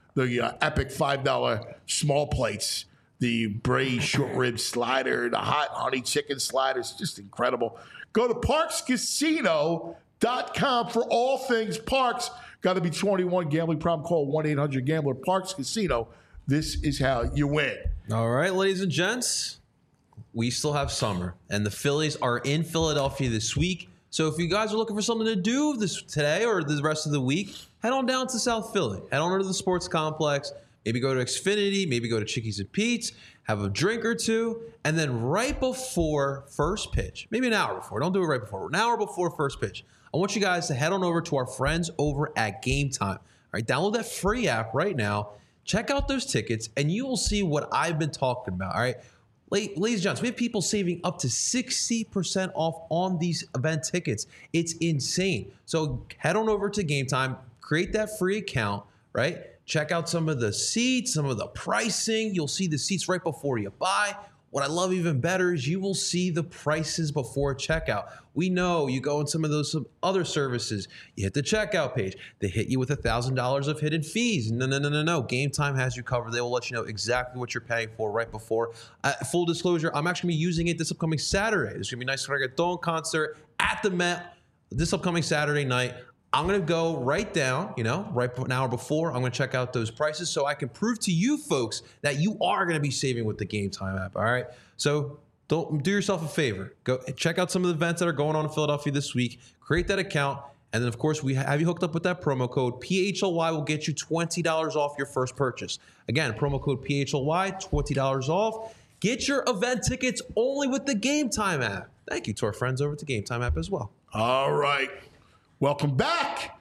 [SPEAKER 2] the uh, epic five dollar small plates, the braised short rib slider, the hot honey chicken sliders, just incredible. Go to parks casino dot com for all things Parks. Got to be twenty-one. Gambling problem, call one eight hundred gambler. Parks Casino. This is how you win.
[SPEAKER 4] All right, ladies and gents, we still have summer, and the Phillies are in Philadelphia this week. So if you guys are looking for something to do this today or the rest of the week, head on down to South Philly. Head on over to the sports complex. Maybe go to Xfinity. Maybe go to Chickies and Pete's. Have a drink or two. And then right before first pitch, maybe an hour before. Don't do it right before. An hour before first pitch. I want you guys to head on over to our friends over at Game Time. All right, download that free app right now. Check out those tickets, and you will see what I've been talking about. All right, ladies and gents, we have people saving up to sixty percent off on these event tickets. It's insane. So head on over to Game Time, create that free account, right? Check out some of the seats, some of the pricing. You'll see the seats right before you buy. What I love even better is you will see the prices before checkout. We know you go in some of those some other services, you hit the checkout page, they hit you with one thousand dollars of hidden fees. No, no, no, no, no. Game Time has you covered. They will let you know exactly what you're paying for right before. Uh, full disclosure, I'm actually going to be using it this upcoming Saturday. There's going to be a nice reggaeton concert at the Met this upcoming Saturday night. I'm going to go right down, you know, right an hour before. I'm going to check out those prices so I can prove to you folks that you are going to be saving with the Game Time app. All right. So don't do yourself a favor. Go check out some of the events that are going on in Philadelphia this week. Create that account. And then, of course, we have you hooked up with that promo code. P H L Y will get you twenty dollars off your first purchase. Again, promo code P H L Y, twenty dollars off. Get your event tickets only with the Game Time app. Thank you to our friends over at the Game Time app as well.
[SPEAKER 2] All right. Welcome back.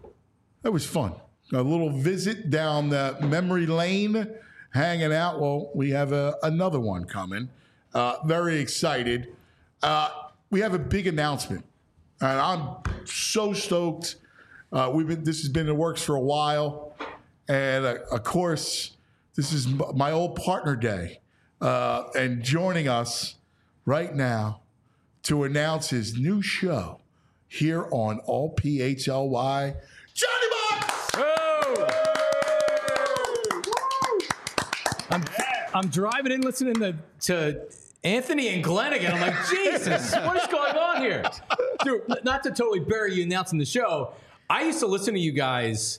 [SPEAKER 2] That was fun. A little visit down the memory lane, hanging out. Well, we have a, another one coming. Uh, very excited. Uh, we have a big announcement, and I'm so stoked. Uh, we've been. This has been in the works for a while, and uh, of course, this is my old partner day, uh, and joining us right now to announce his new show here on all P H L Y, Johnny Box!
[SPEAKER 9] Oh! I'm, I'm driving in listening to, to Anthony and Glenn again. I'm like, Jesus, what is going on here? Dude, not to totally bury you announcing the show. I used to listen to you guys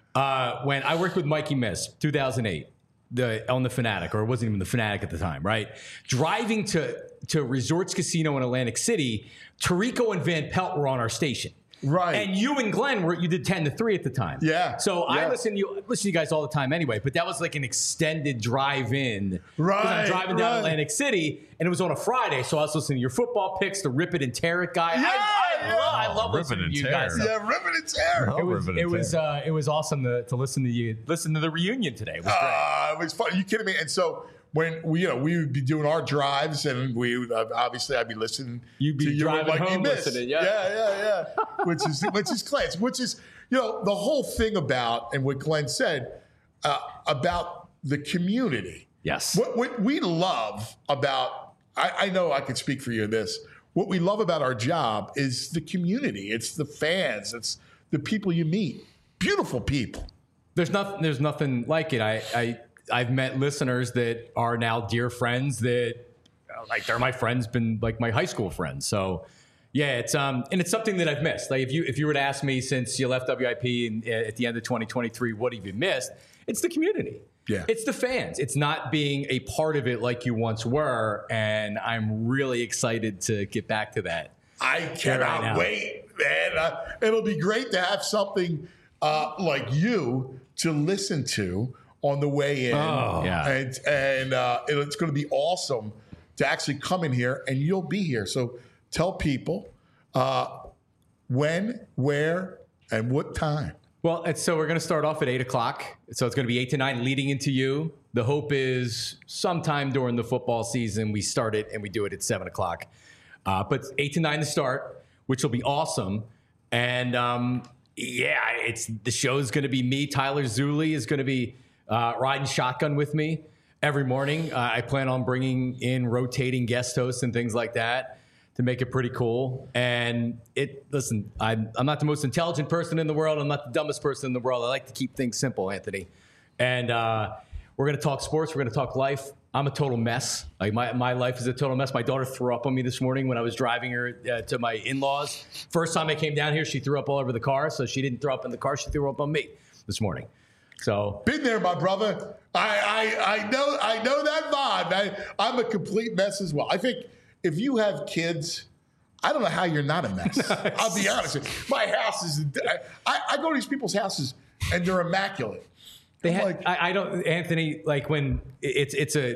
[SPEAKER 9] uh, when I worked with Mikey Miss, two thousand eight, the, on the Fanatic, or it wasn't even the Fanatic at the time, right? Driving to, to Resorts Casino in Atlantic City, Tirico and Van Pelt were on our station.
[SPEAKER 2] Right.
[SPEAKER 9] And you and Glenn were, you did ten to three at the time.
[SPEAKER 2] Yeah.
[SPEAKER 9] So
[SPEAKER 2] yeah.
[SPEAKER 9] I listen to you, listen to you guys all the time anyway, but that was like an extended drive in.
[SPEAKER 2] Right.
[SPEAKER 9] I'm driving down
[SPEAKER 2] right.
[SPEAKER 9] Atlantic City, and it was on a Friday, so I was listening to your football picks, the Rip It and Tear It guy.
[SPEAKER 2] Yeah,
[SPEAKER 9] I, I,
[SPEAKER 2] yeah.
[SPEAKER 9] love, I love
[SPEAKER 3] Rip
[SPEAKER 9] listening
[SPEAKER 3] It
[SPEAKER 9] to
[SPEAKER 3] and
[SPEAKER 9] you
[SPEAKER 3] Tear.
[SPEAKER 9] guys.
[SPEAKER 2] Yeah, ripping and tear.
[SPEAKER 3] Oh,
[SPEAKER 9] It was,
[SPEAKER 3] Rip It
[SPEAKER 9] it
[SPEAKER 3] and
[SPEAKER 9] was,
[SPEAKER 3] Tear.
[SPEAKER 9] uh, it was awesome to, to listen to you, listen to the reunion today. It was great.
[SPEAKER 2] Uh, it was fun. Are you kidding me? And so when we, you know, we would be doing our drives, and we would, uh, obviously I'd be listening.
[SPEAKER 9] You'd be
[SPEAKER 2] to you
[SPEAKER 9] driving
[SPEAKER 2] and Mikey
[SPEAKER 9] home
[SPEAKER 2] Miss.
[SPEAKER 9] listening, yeah.
[SPEAKER 2] yeah, yeah, yeah. which is which is class. Which is you know the whole thing about and what Glenn said uh, about the community.
[SPEAKER 9] Yes.
[SPEAKER 2] What, what we love about I, I know I can speak for you in this. What we love about our job is the community. It's the fans. It's the people you meet. Beautiful people.
[SPEAKER 9] There's nothing. There's nothing like it. I, I I've met listeners that are now dear friends that uh, like they're my friends, been like my high school friends. So yeah, it's um and it's something that I've missed. Like if you if you were to ask me since you left W I P and, uh, at the end of twenty twenty-three, what have you missed? It's the community.
[SPEAKER 2] Yeah.
[SPEAKER 9] It's the fans. It's not being a part of it like you once were, and I'm really excited to get back to that.
[SPEAKER 2] I cannot
[SPEAKER 9] right
[SPEAKER 2] wait, man. Uh, it'll be great to have something uh, like you to listen to on the way in.
[SPEAKER 9] Oh, yeah.
[SPEAKER 2] And, and uh, it- it's going to be awesome to actually come in here, and you'll be here. So tell people uh, when, where, and what time.
[SPEAKER 9] Well, it's, so we're going to start off at eight o'clock. So it's going to be eight to nine leading into you. The hope is sometime during the football season, we start it and we do it at seven o'clock. Uh, but eight to nine to start, which will be awesome. And um, yeah, it's the show's going to be me. Tyler Zulli is going to be uh, riding shotgun with me every morning. Uh, I plan on bringing in rotating guest hosts and things like that to make it pretty cool. And it, listen, I'm, I'm not the most intelligent person in the world. I'm not the dumbest person in the world. I like to keep things simple, Anthony. And uh, we're going to talk sports. We're going to talk life. I'm a total mess. Like my, my life is a total mess. My daughter threw up on me this morning when I was driving her uh, to my in-laws. First time I came down here, she threw up all over the car. So she didn't throw up in the car. She threw up on me this morning. So
[SPEAKER 2] been there, my brother. I I, I know I know that vibe. I, I'm a complete mess as well. I think if you have kids, I don't know how you're not a mess. I'll be honest. My house is. I, I go to these people's houses and they're immaculate.
[SPEAKER 9] They had,
[SPEAKER 2] like,
[SPEAKER 9] I, I don't, Anthony. Like when it's it's a.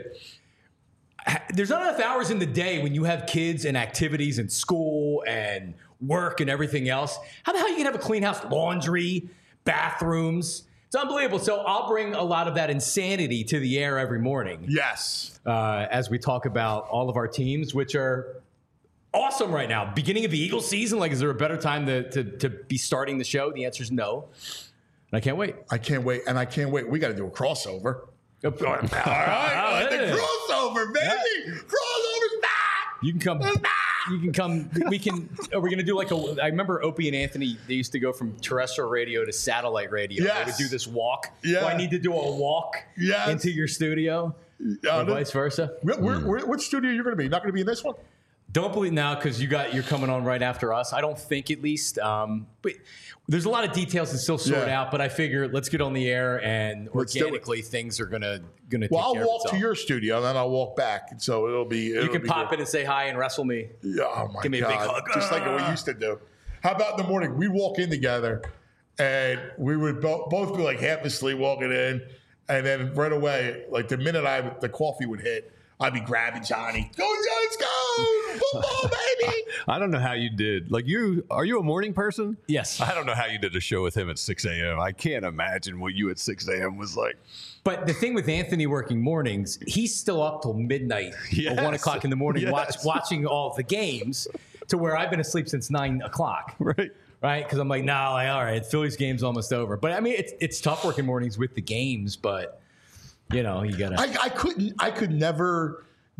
[SPEAKER 9] There's not enough hours in the day when you have kids and activities and school and work and everything else. How the hell you can have a clean house, laundry, bathrooms? It's unbelievable. So I'll bring a lot of that insanity to the air every morning.
[SPEAKER 2] Yes.
[SPEAKER 9] Uh, as we talk about all of our teams, which are awesome right now. Beginning of the Eagles season. Like, is there a better time to to, to be starting the show? The answer is no. And I can't wait.
[SPEAKER 2] I can't wait. And I can't wait. We got to do a crossover.
[SPEAKER 9] All right.
[SPEAKER 2] All right. The crossover, baby. Yeah. Crossover's back.
[SPEAKER 9] You can come. You can come. We can. Are we going to do like a? I remember Opie and Anthony. They used to go from terrestrial radio to satellite radio.
[SPEAKER 2] Yes.
[SPEAKER 9] They would do this walk.
[SPEAKER 2] Yeah.
[SPEAKER 9] Do I need to do a walk
[SPEAKER 2] yes.
[SPEAKER 9] into your studio,
[SPEAKER 2] uh,
[SPEAKER 9] or vice versa?
[SPEAKER 2] Where, where, where, what studio are you going to be? Not going to be in this one?
[SPEAKER 9] Don't believe now because you got you're coming on right after us. I don't think at least. Um, but there's a lot of details to still sort
[SPEAKER 2] yeah.
[SPEAKER 9] out. But I figure let's get on the air and
[SPEAKER 2] Let's
[SPEAKER 9] organically things are gonna gonna.
[SPEAKER 2] Well,
[SPEAKER 9] take
[SPEAKER 2] I'll
[SPEAKER 9] care
[SPEAKER 2] walk
[SPEAKER 9] of
[SPEAKER 2] to your studio and then I'll walk back, and so it'll be. It'll
[SPEAKER 9] you can
[SPEAKER 2] be
[SPEAKER 9] pop
[SPEAKER 2] good.
[SPEAKER 9] in and say hi and wrestle me.
[SPEAKER 2] Yeah, oh my
[SPEAKER 9] Give me
[SPEAKER 2] God.
[SPEAKER 9] a big hug.
[SPEAKER 2] Just like we used to do. How about in the morning? We'd walk in together, and we would bo- both be like half asleep walking in, and then right away, like the minute I the coffee would hit, I'd be grabbing Johnny. Go, Giants, go! Football, baby!
[SPEAKER 3] I don't know how you did. Like, you are you a morning person?
[SPEAKER 9] Yes.
[SPEAKER 3] I don't know how you did a show with him at six a.m. I can't imagine what you at six a.m. was like.
[SPEAKER 9] But the thing with Anthony working mornings, he's still up till midnight
[SPEAKER 3] Yes.
[SPEAKER 9] or one o'clock in the morning
[SPEAKER 3] Yes.
[SPEAKER 9] watch, watching all the games to where I've been asleep since nine o'clock.
[SPEAKER 3] Right.
[SPEAKER 9] Right? Because I'm like, no, nah, like, all right, Philly's game's almost over. But I mean, it's it's tough working mornings with the games, but you know, you gotta.
[SPEAKER 2] I, I couldn't. I could never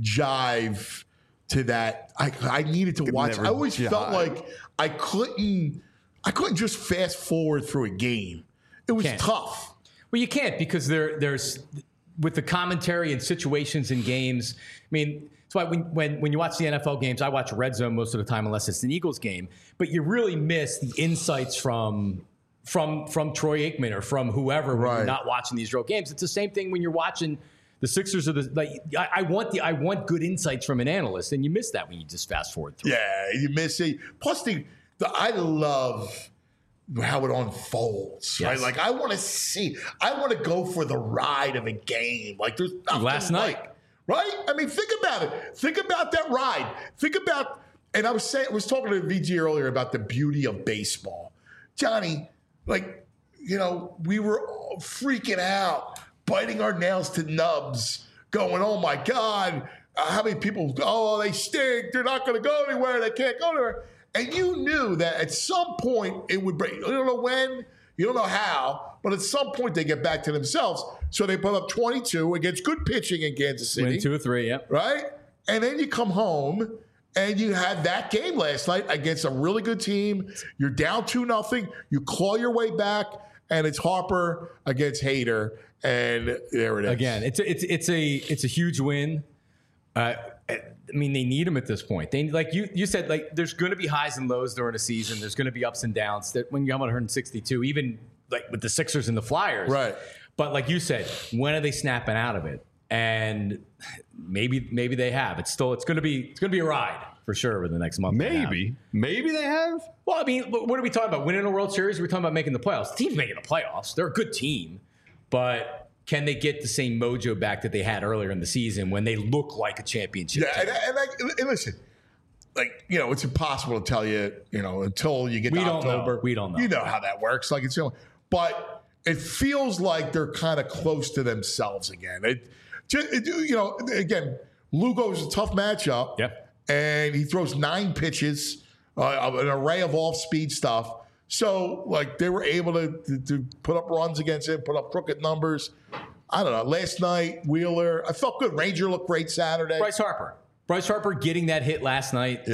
[SPEAKER 2] jive to that. I I needed to watch.
[SPEAKER 3] never
[SPEAKER 2] I always
[SPEAKER 3] jive.
[SPEAKER 2] felt like I couldn't. I couldn't just fast forward through a game. It was
[SPEAKER 9] Can't.
[SPEAKER 2] tough.
[SPEAKER 9] Well, you can't because there there's with the commentary and situations in games. I mean, that's why when, when when you watch the N F L games, I watch Red Zone most of the time unless it's an Eagles game. But you really miss the insights from from from Troy Aikman or from whoever when
[SPEAKER 2] Right.
[SPEAKER 9] you're not watching these real games. It's the same thing when you're watching the Sixers or the like. I, I want the I want good insights from an analyst, and you miss that when you just fast forward through.
[SPEAKER 2] Yeah, you miss it. Plus, the, the I love how it unfolds. Right,
[SPEAKER 9] Yes.
[SPEAKER 2] like I want to see. I want to go for the ride of a game. Like there's nothing
[SPEAKER 9] Last night.
[SPEAKER 2] like- right? I mean, think about it. Think about that ride. Think about. And I was saying, I was talking to V G earlier about the beauty of baseball, Johnny. Like, you know, we were all freaking out, biting our nails to nubs, going, "Oh my God, uh, how many people? Oh, they stink. They're not going to go anywhere. They can't go anywhere." And you knew that at some point it would break. You don't know when, you don't know how, but at some point they get back to themselves. So they put up twenty-two against good pitching in Kansas City.
[SPEAKER 9] Win two or three, yeah.
[SPEAKER 2] Right? And then you come home and you had that game last night against a really good team. You're down two nothing. You claw your way back, and it's Harper against Hader, and there it is.
[SPEAKER 9] Again, it's a, it's it's a it's a huge win. Uh, I mean, they need him at this point. They like you you said, like there's going to be highs and lows during a season. There's going to be ups and downs. That when you have one hundred sixty-two, even like with the Sixers and the Flyers,
[SPEAKER 2] Right.
[SPEAKER 9] But like you said, when are they snapping out of it? And maybe maybe they have. It's still it's going to be it's going to be a ride for sure over the next month. and a half.
[SPEAKER 3] Maybe. Maybe they have.
[SPEAKER 9] Well, I mean, what are we talking about? Winning a World Series? We're talking about making the playoffs. The team's making the playoffs. They're a good team, but can they get the same mojo back that they had earlier in the season when they look like a championship
[SPEAKER 2] Yeah,
[SPEAKER 9] team?
[SPEAKER 2] and, and, I, and listen, like, you know, it's impossible to tell you, you know, until you get
[SPEAKER 9] We
[SPEAKER 2] to
[SPEAKER 9] don't know.
[SPEAKER 2] October.
[SPEAKER 9] We don't know.
[SPEAKER 2] You know how that works. Like, it's, you know, but it feels like they're kind of close to themselves again. It, just, it, you know, again, Lugo's a tough matchup.
[SPEAKER 9] Yep.
[SPEAKER 2] And he throws nine pitches, uh, an array of off-speed stuff. So, like, they were able to, to, to put up runs against him, put up crooked numbers. I don't know. Last night, Wheeler, I felt good. Ranger looked great Saturday.
[SPEAKER 9] Bryce Harper. Bryce Harper getting that hit last night.
[SPEAKER 2] Yeah.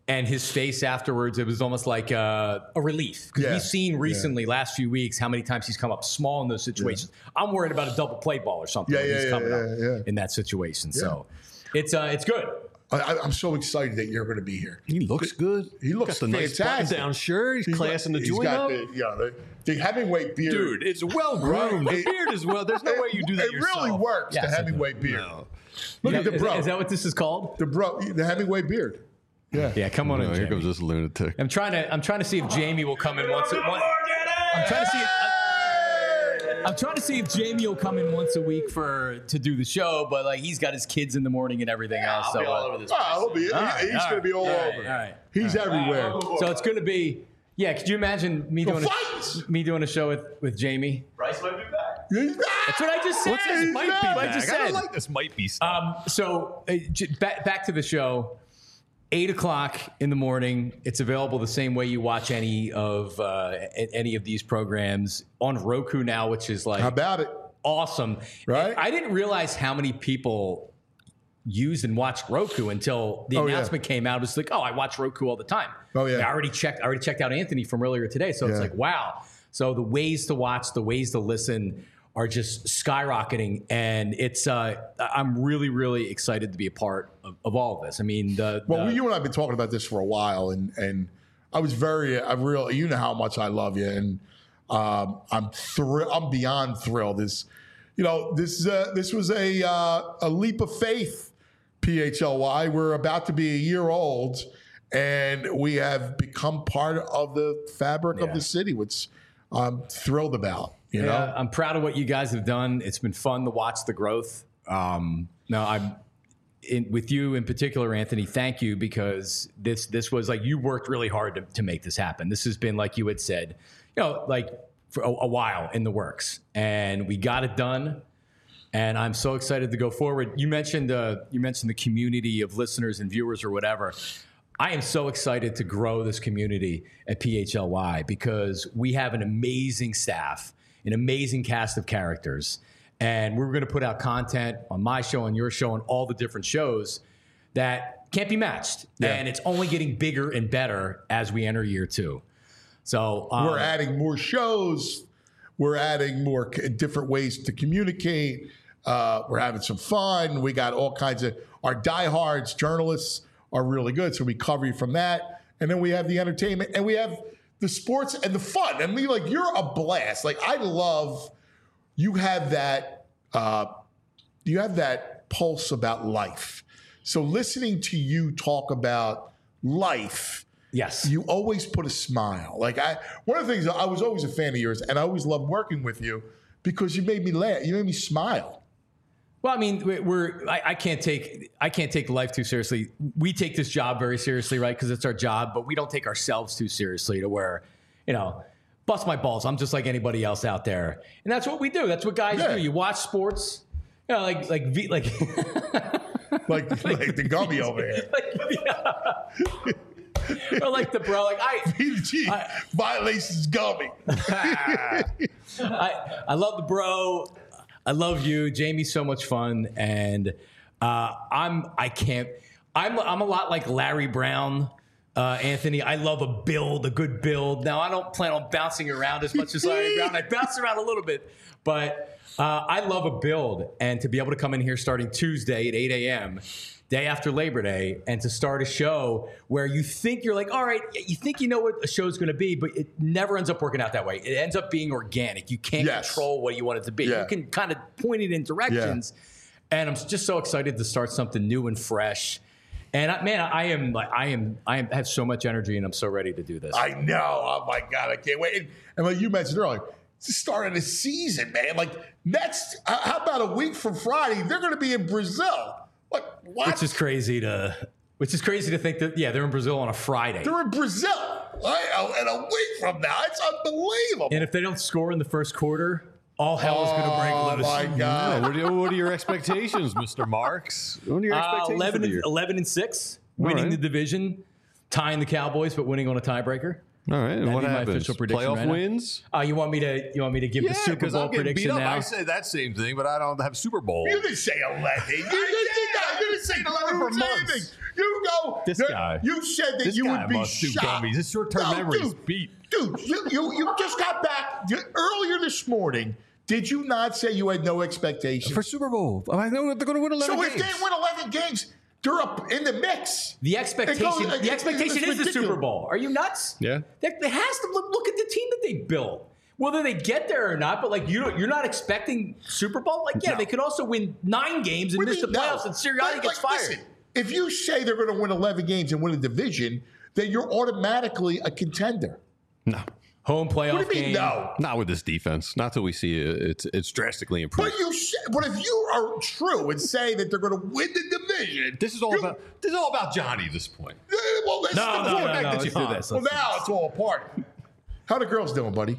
[SPEAKER 9] And his face afterwards, it was almost like uh, a relief. Because
[SPEAKER 2] Yeah.
[SPEAKER 9] we've seen recently, last few weeks, how many times he's come up small in those situations. I'm worried about a double play ball or something
[SPEAKER 2] Yeah,
[SPEAKER 9] when
[SPEAKER 2] yeah,
[SPEAKER 9] he's
[SPEAKER 2] yeah,
[SPEAKER 9] coming
[SPEAKER 2] yeah,
[SPEAKER 9] up
[SPEAKER 2] yeah.
[SPEAKER 9] in that situation. So it's uh, it's good.
[SPEAKER 2] I, I'm so excited that you're going to be here.
[SPEAKER 3] He looks good.
[SPEAKER 2] He looks
[SPEAKER 3] got the nice
[SPEAKER 2] fantastic.
[SPEAKER 3] button-down shirt. He's, classing the
[SPEAKER 2] he's
[SPEAKER 3] joint
[SPEAKER 2] got
[SPEAKER 3] up.
[SPEAKER 2] The, yeah, the, the Hemingway beard.
[SPEAKER 3] Dude, it's well groomed.
[SPEAKER 2] Right.
[SPEAKER 3] The beard is well. There's no way you do that
[SPEAKER 2] It
[SPEAKER 3] yourself.
[SPEAKER 2] really works,
[SPEAKER 9] Yes,
[SPEAKER 2] the
[SPEAKER 9] it
[SPEAKER 2] Hemingway
[SPEAKER 9] does.
[SPEAKER 2] beard.
[SPEAKER 3] No.
[SPEAKER 2] Look at the
[SPEAKER 9] Is,
[SPEAKER 2] bro.
[SPEAKER 9] is that what this is called?
[SPEAKER 2] the bro, the Hemingway beard. Yeah.
[SPEAKER 9] Yeah, come on
[SPEAKER 3] No,
[SPEAKER 9] in,
[SPEAKER 3] here
[SPEAKER 9] Jamie.
[SPEAKER 3] comes this lunatic.
[SPEAKER 9] I'm trying to I'm trying to see if Jamie will come in once. A, one, I'm trying to see. If, I'm trying to see if Jamie will come in once a week for to do the show, but like he's got his kids in the morning and everything else.
[SPEAKER 6] I'll
[SPEAKER 9] So,
[SPEAKER 6] be all
[SPEAKER 9] uh,
[SPEAKER 6] over this.
[SPEAKER 2] Oh, he'll be, he-
[SPEAKER 9] All right,
[SPEAKER 2] he's
[SPEAKER 9] all
[SPEAKER 2] going to
[SPEAKER 9] right,
[SPEAKER 2] be all,
[SPEAKER 9] all right,
[SPEAKER 2] over.
[SPEAKER 9] all right.
[SPEAKER 2] He's everywhere.
[SPEAKER 9] so it's going to be. Yeah, could you imagine me
[SPEAKER 2] Go
[SPEAKER 9] doing
[SPEAKER 2] fight!
[SPEAKER 9] a, me doing a show with, with Jamie?
[SPEAKER 6] Bryce might be back.
[SPEAKER 2] He's back.
[SPEAKER 9] That's what I just said.
[SPEAKER 3] What's this
[SPEAKER 2] He's
[SPEAKER 3] might
[SPEAKER 2] back.
[SPEAKER 3] be
[SPEAKER 9] I
[SPEAKER 3] back?
[SPEAKER 9] just
[SPEAKER 3] I don't
[SPEAKER 9] said.
[SPEAKER 3] like this might be stuff.
[SPEAKER 9] Um, so uh, j- back back to the show. Eight o'clock in the morning. It's available the same way you watch any of uh, a- any of these programs on Roku now, which is like
[SPEAKER 2] How about it?
[SPEAKER 9] awesome.
[SPEAKER 2] Right?
[SPEAKER 9] I didn't realize how many people use and watch Roku until the
[SPEAKER 2] Oh, yeah.
[SPEAKER 9] announcement came out. It was like, oh, I watch Roku all the time.
[SPEAKER 2] Oh, yeah.
[SPEAKER 9] I already checked. I already checked out Anthony from earlier today. So it's
[SPEAKER 2] Yeah.
[SPEAKER 9] like, wow. So the ways to watch, the ways to listen are just skyrocketing, and it's. Uh, I'm really, really excited to be a part of, of all of this. I mean, the,
[SPEAKER 2] Well,
[SPEAKER 9] the
[SPEAKER 2] you and I have been talking about this for a while, and and I was very, I really, you know how much I love you, and um, I'm thrilled. I'm beyond thrilled. This, you know, this uh, this was a uh, a leap of faith. P H L Y. We're about to be a year old, and we have become part of the fabric of
[SPEAKER 9] Yeah.
[SPEAKER 2] the city, which I'm thrilled about. You
[SPEAKER 9] Yeah,
[SPEAKER 2] know,
[SPEAKER 9] I'm proud of what you guys have done. It's been fun to watch the growth. Um, no, I'm in, with you in particular, Anthony. Thank you, because this this was like you worked really hard to, to make this happen. This has been, like you had said, you know, like for a, a while in the works, and we got it done. And I'm so excited to go forward. You mentioned uh, you mentioned the community of listeners and viewers or whatever. I am so excited to grow this community at P H L Y because we have an amazing staff, an amazing cast of characters, and we're going to put out content on my show, on your show, on all the different shows that can't be matched.
[SPEAKER 2] Yeah.
[SPEAKER 9] And it's only getting bigger and better as we enter year two. So um,
[SPEAKER 2] we're adding more shows. We're adding more c- different ways to communicate. Uh, we're having some fun. We got all kinds of our diehards journalists are really good, so we cover you from that. And then we have the entertainment, and we have the sports and the fun. I mean, like you're a blast. Like I love you have that. Uh, you have that pulse about life. So listening to you talk about life.
[SPEAKER 9] yes,
[SPEAKER 2] You always put a smile. Like I, one of the things I was always a fan of yours, and I always loved working with you because you made me laugh. You made me smile.
[SPEAKER 9] Well, I mean, we- we're I, I can't take I can't take life too seriously. We take this job very seriously, right? Because it's our job, but we don't take ourselves too seriously to where, you know, bust my balls. I'm just like anybody else out there, and that's what we do. That's what guys
[SPEAKER 2] Yeah.
[SPEAKER 9] do. You watch sports, you know, like like V- like
[SPEAKER 2] Like, like the gummy over here.
[SPEAKER 9] or like the bro. Like I
[SPEAKER 2] V G
[SPEAKER 9] I-
[SPEAKER 2] violations gummy.
[SPEAKER 9] I I love the bro. I love you, Jamie's so much fun, and uh, I'm I can't. I'm I'm a lot like Larry Brown, uh, Anthony. I love a build, a good build. Now I don't plan on bouncing around as much as Larry Brown. I bounce around a little bit, but uh, I love a build, and to be able to come in here starting Tuesday at eight a.m. day after Labor Day, and to start a show where you think you're like, all right, you think you know what a show's going to be, but it never ends up working out that way. It ends up being organic. You can't
[SPEAKER 2] Yes.
[SPEAKER 9] control what you want it to be.
[SPEAKER 2] Yeah.
[SPEAKER 9] You can kind of point it in directions. And I'm just so excited to start something new and fresh. And I, man, I am like, I am, I am, have so much energy, and I'm so ready to do this.
[SPEAKER 2] I know. Oh my God, I can't wait. And, and like you mentioned earlier, it's the start of the season, man. Like next, uh, how about a week from Friday? They're going to be in Brazil. What? What?
[SPEAKER 9] which is crazy to, which is crazy to think that, yeah, they're in Brazil on a Friday.
[SPEAKER 2] They're in Brazil. Right? And a week from now, it's unbelievable.
[SPEAKER 9] And if they don't score in the first quarter, all hell is going to break
[SPEAKER 2] Oh
[SPEAKER 9] loose.
[SPEAKER 2] my
[SPEAKER 3] Yeah,
[SPEAKER 2] God.
[SPEAKER 3] what, are, what are your expectations, Mister Marks? What are your
[SPEAKER 9] Uh,
[SPEAKER 3] expectations
[SPEAKER 9] eleven,
[SPEAKER 3] for the
[SPEAKER 9] and,
[SPEAKER 3] year?
[SPEAKER 9] eleven and six, winning
[SPEAKER 3] right.
[SPEAKER 9] the division, tying the Cowboys, but winning on a tiebreaker.
[SPEAKER 3] All right, and
[SPEAKER 9] That'd
[SPEAKER 3] what
[SPEAKER 9] be my
[SPEAKER 3] happens?
[SPEAKER 9] official prediction
[SPEAKER 3] Playoff
[SPEAKER 9] right now.
[SPEAKER 3] wins?
[SPEAKER 9] Uh, you want me to? You want me to give the Super
[SPEAKER 3] because
[SPEAKER 9] Bowl
[SPEAKER 3] I'm getting beat
[SPEAKER 9] prediction
[SPEAKER 3] up.
[SPEAKER 9] now?
[SPEAKER 3] I said that same thing, but I don't have Super Bowl.
[SPEAKER 2] You didn't say eleven. You didn't, you didn't saying
[SPEAKER 3] eleven for months.
[SPEAKER 2] You go.
[SPEAKER 3] This
[SPEAKER 2] there-
[SPEAKER 3] guy.
[SPEAKER 2] You said that
[SPEAKER 3] This
[SPEAKER 2] you
[SPEAKER 3] guy
[SPEAKER 2] would be
[SPEAKER 3] must do
[SPEAKER 2] shocked.
[SPEAKER 3] gummies. His short-term
[SPEAKER 2] No,
[SPEAKER 3] memory is
[SPEAKER 2] dude,
[SPEAKER 3] beat.
[SPEAKER 2] Dude, you, you, you just got back you- earlier this morning. Did you not say you had no expectations?
[SPEAKER 3] For Super Bowl. I know they're going to win eleven
[SPEAKER 2] so
[SPEAKER 3] games.
[SPEAKER 2] if they win eleven games, they're up in the mix.
[SPEAKER 9] The expectation,
[SPEAKER 2] It goes-
[SPEAKER 9] the expectation
[SPEAKER 2] it's
[SPEAKER 9] is the
[SPEAKER 2] ridiculous.
[SPEAKER 9] Super Bowl. Are you nuts?
[SPEAKER 3] Yeah.
[SPEAKER 9] There, there has to look, look at the team that they built. Whether they get there or not, but like you, don't, you're not expecting Super Bowl. Like, yeah,
[SPEAKER 2] No.
[SPEAKER 9] they could also win nine games and
[SPEAKER 2] What do
[SPEAKER 9] miss
[SPEAKER 2] you
[SPEAKER 9] the
[SPEAKER 2] mean, no?
[SPEAKER 9] playoffs, and Sirianni
[SPEAKER 2] Like-
[SPEAKER 9] gets
[SPEAKER 2] like,
[SPEAKER 9] fired.
[SPEAKER 2] listen, if you say they're going to win eleven games and win a division, then you're automatically a contender.
[SPEAKER 3] No.
[SPEAKER 9] Home playoff
[SPEAKER 2] What do you mean,
[SPEAKER 9] game.
[SPEAKER 2] no?
[SPEAKER 3] Not with this defense. Not till we see it. It's, it's drastically improved.
[SPEAKER 2] But you, sh- but if you are true and say that they're going to win the division,
[SPEAKER 3] This is all
[SPEAKER 2] you-
[SPEAKER 3] about this is all about Johnny at this point.
[SPEAKER 2] Eh, well, that's
[SPEAKER 9] No,
[SPEAKER 2] the
[SPEAKER 9] no,
[SPEAKER 2] point.
[SPEAKER 9] no, no.
[SPEAKER 3] that
[SPEAKER 9] Let's
[SPEAKER 3] you
[SPEAKER 9] do
[SPEAKER 3] on.
[SPEAKER 9] this.
[SPEAKER 2] Well,
[SPEAKER 9] Let's do
[SPEAKER 2] now it's all apart. How the girls doing, buddy?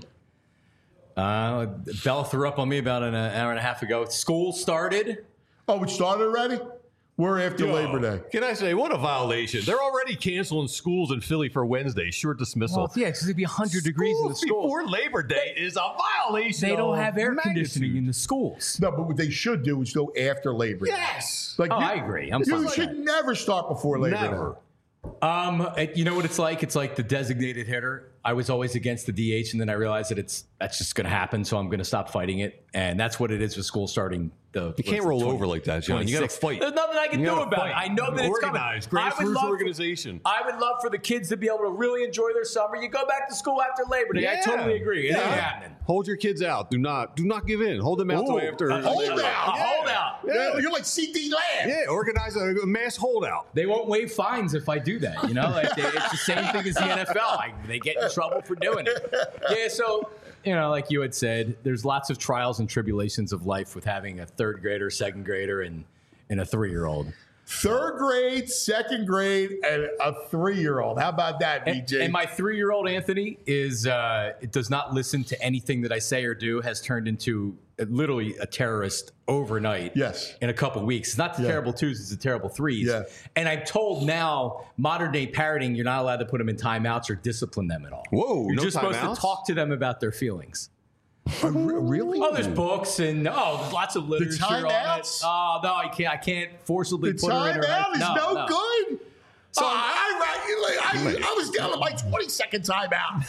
[SPEAKER 9] Uh, Bella threw up on me about an hour and a half ago. School started.
[SPEAKER 2] Oh, it started already? We're after Labor Day.
[SPEAKER 3] Can I say, what a violation. They're already canceling schools in Philly for Wednesday, short dismissal.
[SPEAKER 9] Well, yeah, because it'd be one hundred degrees in the
[SPEAKER 3] Schools
[SPEAKER 9] school.
[SPEAKER 3] before Labor Day is a violation.
[SPEAKER 9] They don't
[SPEAKER 3] of
[SPEAKER 9] have air
[SPEAKER 3] magnitude.
[SPEAKER 9] conditioning in the schools.
[SPEAKER 2] No, but what they should do is go after Labor Day.
[SPEAKER 3] Yes.
[SPEAKER 2] Like
[SPEAKER 9] Oh,
[SPEAKER 2] you,
[SPEAKER 9] I agree. I'm
[SPEAKER 2] you
[SPEAKER 9] fine with
[SPEAKER 2] should
[SPEAKER 9] that.
[SPEAKER 2] never start before Labor
[SPEAKER 3] Never.
[SPEAKER 2] Day.
[SPEAKER 9] Um, it- you know what it's like? It's like the designated hitter. I was always against the D H, and then I realized that it's that's just going to happen, so I'm going to stop fighting it. And that's what it is with school starting. The
[SPEAKER 3] You can't roll over like that, John. You gotta fight.
[SPEAKER 9] There's nothing I can
[SPEAKER 3] You
[SPEAKER 9] do
[SPEAKER 3] gotta
[SPEAKER 9] about it.
[SPEAKER 3] fight.
[SPEAKER 9] I know that it's coming.
[SPEAKER 3] Organized,
[SPEAKER 9] I would
[SPEAKER 3] grassroots
[SPEAKER 9] love for-
[SPEAKER 3] organization.
[SPEAKER 9] I would love for the kids to be able to really enjoy their summer. You go back to school after Labor Day. I
[SPEAKER 3] Yeah.
[SPEAKER 9] totally agree. It ain't happening.
[SPEAKER 3] Hold your kids out. Do not do not give in. Hold them out till
[SPEAKER 9] Ooh.
[SPEAKER 3] after.
[SPEAKER 9] Uh,
[SPEAKER 2] Hold
[SPEAKER 3] Labor Day.
[SPEAKER 2] out.
[SPEAKER 9] A holdout.
[SPEAKER 2] Yeah, you're like C D Lamb.
[SPEAKER 3] Yeah, organize a, a mass holdout.
[SPEAKER 9] They won't waive fines if I do that. You know, like they, it's the same thing as the N F L. Like, they get in trouble for doing it. Yeah, so you know, like you had said, there's lots of trials and tribulations of life with having a third grader, second grader, and and a three year old.
[SPEAKER 2] Third grade, second grade, and a three-year-old. How about that, B
[SPEAKER 9] And,
[SPEAKER 2] J?
[SPEAKER 9] and my three year old Anthony is uh, it does not listen to anything that I say or do. Has turned into uh, literally a terrorist overnight.
[SPEAKER 2] Yes.
[SPEAKER 9] in a couple weeks. It's not the
[SPEAKER 2] Yeah.
[SPEAKER 9] terrible twos; it's the terrible threes.
[SPEAKER 2] Yeah.
[SPEAKER 9] And I'm told now, modern day parenting, you're not allowed to put them in timeouts or discipline them at all.
[SPEAKER 3] Whoa,
[SPEAKER 9] You're
[SPEAKER 3] no
[SPEAKER 9] just supposed
[SPEAKER 3] timeouts?
[SPEAKER 9] to talk to them about their feelings.
[SPEAKER 2] Uh, re- really?
[SPEAKER 9] Oh, there's books and oh, there's lots of literature on it.
[SPEAKER 2] timeouts?
[SPEAKER 9] Oh no, I can't. I can't forcibly
[SPEAKER 2] The
[SPEAKER 9] put her in her.
[SPEAKER 2] timeout is
[SPEAKER 9] no,
[SPEAKER 2] no,
[SPEAKER 9] no.
[SPEAKER 2] good. So I, I, I, I was down to my twenty-second timeout.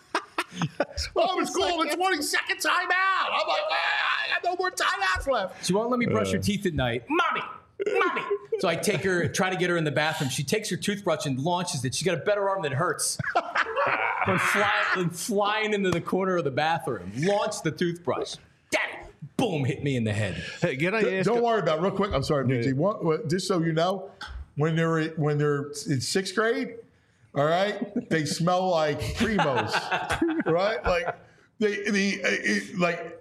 [SPEAKER 2] I was calling the twenty-second timeout. I'm like, I got no more timeouts left.
[SPEAKER 9] She won't let me brush her teeth at night. Mommy, mommy. So I take her, try to get her in the bathroom. She takes her toothbrush and launches it. She's got a better arm than hurts. Went flying, went flying into the corner of the bathroom. Launched the toothbrush. Daddy, boom, hit me in the head.
[SPEAKER 3] Hey, can I ask?
[SPEAKER 2] Don't worry about it. Real quick. I'm sorry, B G. What, what, just so you know, when they're when they're in sixth grade, all right, they smell like Primos, right? Like they the uh, it, like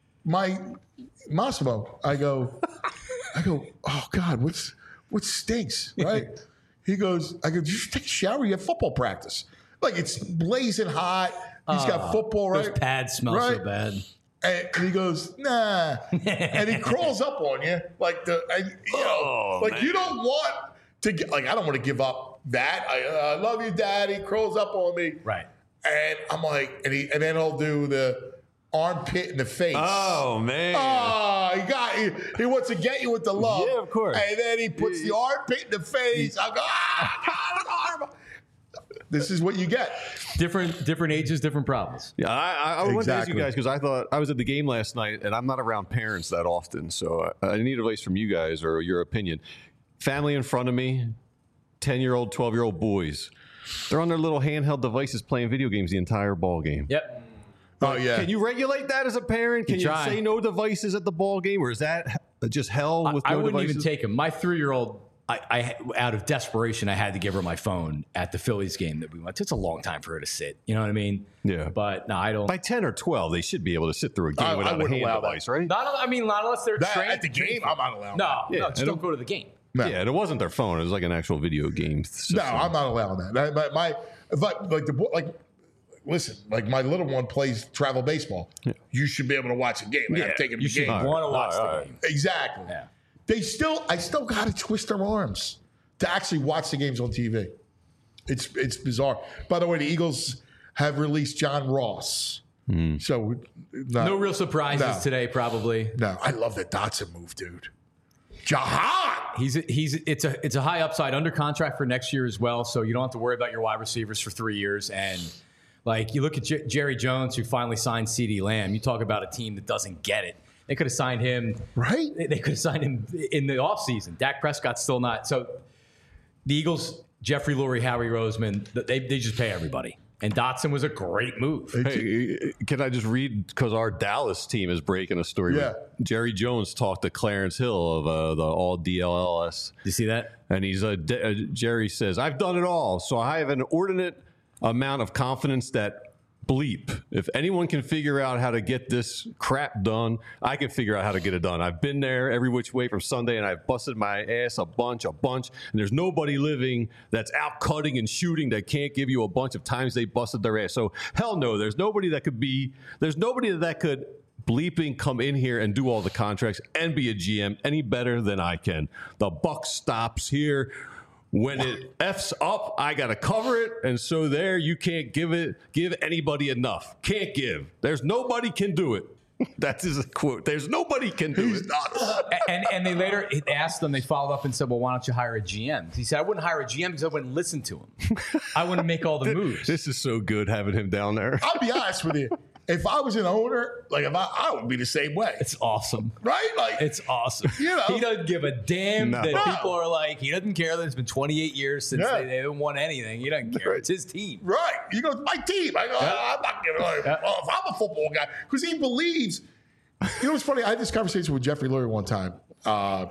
[SPEAKER 2] my Massimo. I go, I go. Oh God, what's what stinks, right? He goes. I go. Did you take a shower? You have football practice. Like it's blazing hot. He's got football, right?
[SPEAKER 9] Those pads smell
[SPEAKER 2] Right?
[SPEAKER 9] so bad.
[SPEAKER 2] And, and he goes, nah. And he crawls up on you. Like, the, and, you know,
[SPEAKER 3] Oh,
[SPEAKER 2] like
[SPEAKER 3] man.
[SPEAKER 2] you don't want to get, like, I don't want to give up that. I, uh, I love you, Daddy. Crawls up on me.
[SPEAKER 9] Right.
[SPEAKER 2] And I'm like, and, he, and then he'll do the armpit in the face.
[SPEAKER 3] Oh man.
[SPEAKER 2] Oh, he got he, he wants to get you with the love.
[SPEAKER 3] Yeah, of course.
[SPEAKER 2] And then he puts the armpit in the face. I go, ah, God, arm. This is what you get.
[SPEAKER 9] Different, different ages, different problems.
[SPEAKER 3] Yeah, I, I, I wanted to ask you
[SPEAKER 2] Exactly.
[SPEAKER 3] guys because I thought I was at the game last night, and I'm not around parents that often, so I, I need advice from you guys or your opinion. Family in front of me, ten-year-old, twelve-year-old boys, they're on their little handheld devices playing video games the entire ball game.
[SPEAKER 9] Yep.
[SPEAKER 2] Oh, yeah.
[SPEAKER 3] Can you regulate that as a parent? Can
[SPEAKER 9] You
[SPEAKER 3] you,
[SPEAKER 9] try.
[SPEAKER 3] say no devices at the ball game, or is that just hell with
[SPEAKER 9] I
[SPEAKER 3] no
[SPEAKER 9] wouldn't
[SPEAKER 3] devices?
[SPEAKER 9] even take him. My three-year-old, I, I, out of desperation, I had to give her my phone at the Phillies game that we went to. It's a long time for her to sit. You know what I mean?
[SPEAKER 3] Yeah.
[SPEAKER 9] But no, I don't.
[SPEAKER 3] By ten or twelve, they should be able to sit through a game
[SPEAKER 2] I- I
[SPEAKER 3] without a
[SPEAKER 2] wouldn't
[SPEAKER 3] hand
[SPEAKER 2] allow that.
[SPEAKER 3] device, right?
[SPEAKER 9] Not, I mean, not unless they're
[SPEAKER 2] That,
[SPEAKER 9] trained.
[SPEAKER 2] at the game, I'm not allowed.
[SPEAKER 9] No,
[SPEAKER 3] Yeah,
[SPEAKER 9] no, just
[SPEAKER 3] and
[SPEAKER 9] don't
[SPEAKER 3] it-
[SPEAKER 9] go to the game.
[SPEAKER 2] No.
[SPEAKER 3] Yeah, and it wasn't their phone; it was like an actual video game system.
[SPEAKER 2] No, I'm not allowing that. that my, my if I, like the boy, like listen, like my little one plays travel baseball. You should be able to watch a game. I
[SPEAKER 9] Yeah,
[SPEAKER 2] gotta take him to
[SPEAKER 9] you
[SPEAKER 2] the
[SPEAKER 9] should
[SPEAKER 2] game.
[SPEAKER 9] want to watch
[SPEAKER 3] All right, all
[SPEAKER 9] the
[SPEAKER 3] right.
[SPEAKER 9] game.
[SPEAKER 2] Exactly.
[SPEAKER 9] Yeah.
[SPEAKER 2] They still, I still got to twist their arms to actually watch the games on T V. It's it's bizarre. By the way, the Eagles have released John Ross. So no,
[SPEAKER 9] No real surprises
[SPEAKER 2] No.
[SPEAKER 9] today, probably.
[SPEAKER 2] No, I love the Dotson move, dude. Jahan.
[SPEAKER 9] He's a, he's it's a it's a high upside, under contract for next year as well. So you don't have to worry about your wide receivers for three years. And like you look at J- Jerry Jones, who finally signed CeeDee Lamb. You talk about a team that doesn't get it. They could have signed him.
[SPEAKER 2] Right.
[SPEAKER 9] They, they could have signed him in the offseason. Dak Prescott's still not. So the Eagles, Jeffrey Lurie, Howie Roseman, they they just pay everybody. And Dotson was a great move.
[SPEAKER 3] Hey, can I just read, because our Dallas team is breaking a story.
[SPEAKER 2] Yeah.
[SPEAKER 3] Jerry Jones talked to Clarence Hill of uh, the all D L L S.
[SPEAKER 9] You see that?
[SPEAKER 3] And he's uh, D- uh, Jerry says, I've done it all, so I have an inordinate amount of confidence that bleep. If anyone can figure out how to get this crap done, I can figure out how to get it done. I've been there every which way from Sunday, and I've busted my ass a bunch, a bunch. And there's nobody living that's out cutting and shooting that can't give you a bunch of times they busted their ass. So hell no, there's nobody that could be, there's nobody that could bleeping come in here and do all the contracts and be a G M any better than I can. The buck stops here. When it F's up, I got to cover it. And so there, you can't give it, give anybody enough. Can't give. There's nobody can do it. That's his quote. There's nobody can do it.
[SPEAKER 9] and and they later asked them, they followed up and said, well, why don't you hire a G M? He said, I wouldn't hire a G M because I wouldn't listen to him. I wouldn't make all the moves.
[SPEAKER 3] This is so good having him down there.
[SPEAKER 2] I'll be honest with you. If I was an owner, like if I, I would be the same way.
[SPEAKER 9] It's awesome.
[SPEAKER 2] Right? Like
[SPEAKER 9] it's awesome.
[SPEAKER 2] You know,
[SPEAKER 9] he doesn't give a damn
[SPEAKER 3] No.
[SPEAKER 9] that
[SPEAKER 2] No.
[SPEAKER 9] people are like, he doesn't care that it's been twenty-eight years since
[SPEAKER 2] Yeah.
[SPEAKER 9] they, they haven't won anything. He doesn't care. It's his team.
[SPEAKER 2] Right. You go, my team. I go, I'm not giving like,
[SPEAKER 9] Yeah.
[SPEAKER 2] well, if I'm a football guy, because he believes. You know what's funny? I had this conversation with Jeffrey Lurie one time. Uh,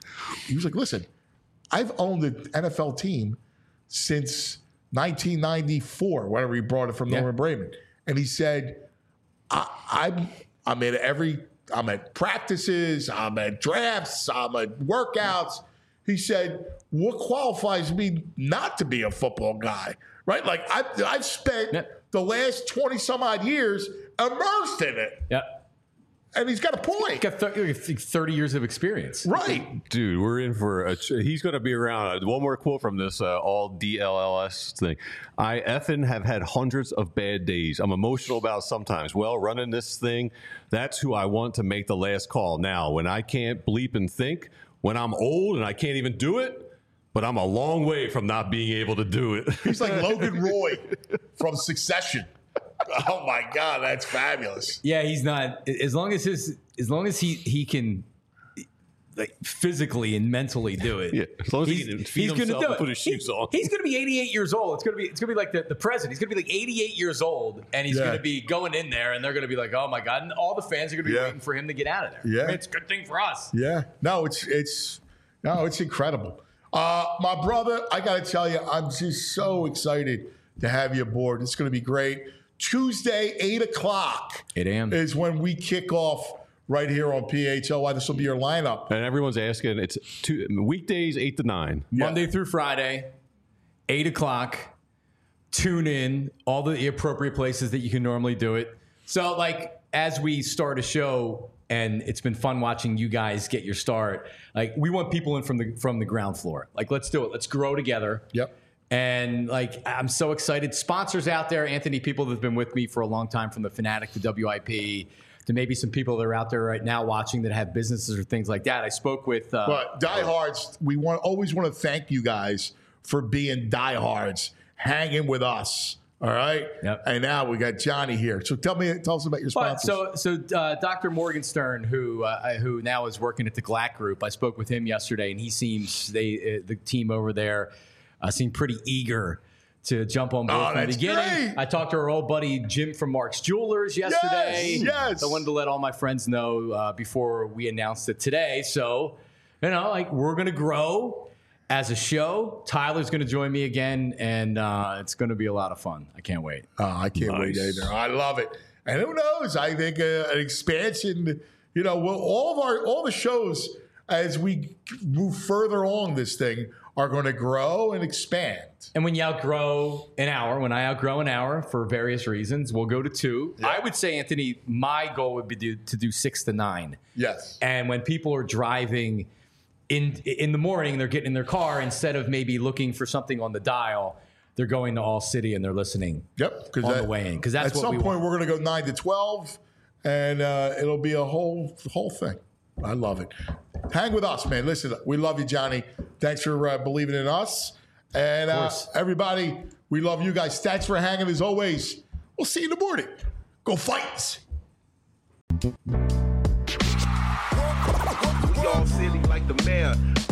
[SPEAKER 2] he was like, listen, I've owned an N F L team since nineteen ninety-four, whenever he brought it from
[SPEAKER 9] Yeah.
[SPEAKER 2] Norman Braman. And he said, I, I'm I'm at every I'm at practices, I'm at drafts, I'm at workouts. He said, what qualifies me not to be a football guy? Right? Like I've I've spent
[SPEAKER 9] Yeah.
[SPEAKER 2] the last twenty some odd years immersed in it.
[SPEAKER 9] Yeah.
[SPEAKER 2] And he's got a point.
[SPEAKER 9] He's got thirty, thirty years of experience.
[SPEAKER 2] Right.
[SPEAKER 3] Dude, we're in for a. He's going to be around. One more quote from this uh, all D L L S thing. I effing have had hundreds of bad days. I'm emotional about sometimes. Well, running this thing, that's who I want to make the last call. Now, when I can't bleep and think, when I'm old and I can't even do it, but I'm a long way from not being able to do it.
[SPEAKER 2] He's like Logan Roy from Succession. Oh my God, that's fabulous.
[SPEAKER 9] Yeah, he's not. As long as his, as long as he he can, like physically and mentally do it.
[SPEAKER 3] Yeah, as long as he
[SPEAKER 9] he's,
[SPEAKER 3] can feed
[SPEAKER 9] he's gonna
[SPEAKER 3] himself
[SPEAKER 9] do
[SPEAKER 3] and
[SPEAKER 9] it.
[SPEAKER 3] put his shoes
[SPEAKER 9] He-
[SPEAKER 3] on.
[SPEAKER 9] He's going to be eighty-eight years old. It's going to be it's going to be like the, the president. He's going to be like eighty-eight years old, and he's
[SPEAKER 2] Yeah.
[SPEAKER 9] going to be going in there, and they're going to be like, oh my God, and all the fans are going to be
[SPEAKER 2] Yeah.
[SPEAKER 9] waiting for him to get out of there.
[SPEAKER 2] Yeah.
[SPEAKER 9] I mean, it's a good thing for us.
[SPEAKER 2] Yeah. No, it's it's no, it's incredible. Uh, my brother, I got to tell you, I'm just so excited to have you aboard. It's going to be great. Tuesday, eight o'clock
[SPEAKER 9] eight a.m.
[SPEAKER 2] is when we kick off right here on P H L Y. This will be your lineup.
[SPEAKER 3] And everyone's asking. It's two, weekdays eight to nine.
[SPEAKER 9] Monday through Friday, eight o'clock. Tune in, all the appropriate places that you can normally do it. So, like, as we start a show, and it's been fun watching you guys get your start. Like, we want people in from the from the ground floor. Like, let's do it. Let's grow together.
[SPEAKER 2] Yep.
[SPEAKER 9] And like, I'm so excited. Sponsors out there, Anthony, people that have been with me for a long time, from the Fanatic to W I P to maybe some people that are out there right now watching that have businesses or things like that. I spoke with. Uh,
[SPEAKER 2] But diehards, we want always want to thank you guys for being diehards, hanging with us. All right.
[SPEAKER 9] Yep.
[SPEAKER 2] And now we got Johnny here. So tell me, tell us about your
[SPEAKER 9] But
[SPEAKER 2] sponsors.
[SPEAKER 9] so, so uh, Doctor Morgenstern, who uh, who now is working at the Glack Group, I spoke with him yesterday, and he seems they uh, the team over there uh, seemed pretty eager to jump on board
[SPEAKER 2] Oh,
[SPEAKER 9] from the
[SPEAKER 2] that's
[SPEAKER 9] beginning.
[SPEAKER 2] great.
[SPEAKER 9] I talked to our old buddy Jim from Mark's Jewelers yesterday.
[SPEAKER 2] Yes, yes.
[SPEAKER 9] I wanted to let all my friends know uh, before we announced it today. So, you know, like, we're going to grow as a show. Tyler's going to join me again, and uh, it's going to be a lot of fun. I can't wait.
[SPEAKER 2] Oh, I can't wait
[SPEAKER 3] Nice.
[SPEAKER 2] either. I love it. And who knows? I think uh, an expansion, you know, well, all of our, all the shows as we move further along this thing are going to grow and expand.
[SPEAKER 9] And when you outgrow an hour, when I outgrow an hour for various reasons, we'll go to two. I would say, Anthony, my goal would be to, to do six to nine.
[SPEAKER 2] Yes.
[SPEAKER 9] And when people are driving in in the morning, they're getting in their car, instead of maybe looking for something on the dial, they're going to All City and they're listening.
[SPEAKER 2] Yep.
[SPEAKER 9] on the way in, because that's
[SPEAKER 2] at
[SPEAKER 9] what
[SPEAKER 2] some
[SPEAKER 9] we
[SPEAKER 2] point
[SPEAKER 9] want.
[SPEAKER 2] we're going to go nine to twelve, and uh, it'll be a whole whole thing. I love it. Hang with us, man. Listen, we love you, Johnny. Thanks for uh, believing in us. And uh, everybody, we love you guys. Thanks for hanging as always. We'll see you in the morning. Go Fights.
[SPEAKER 10] We all silly like the mayor.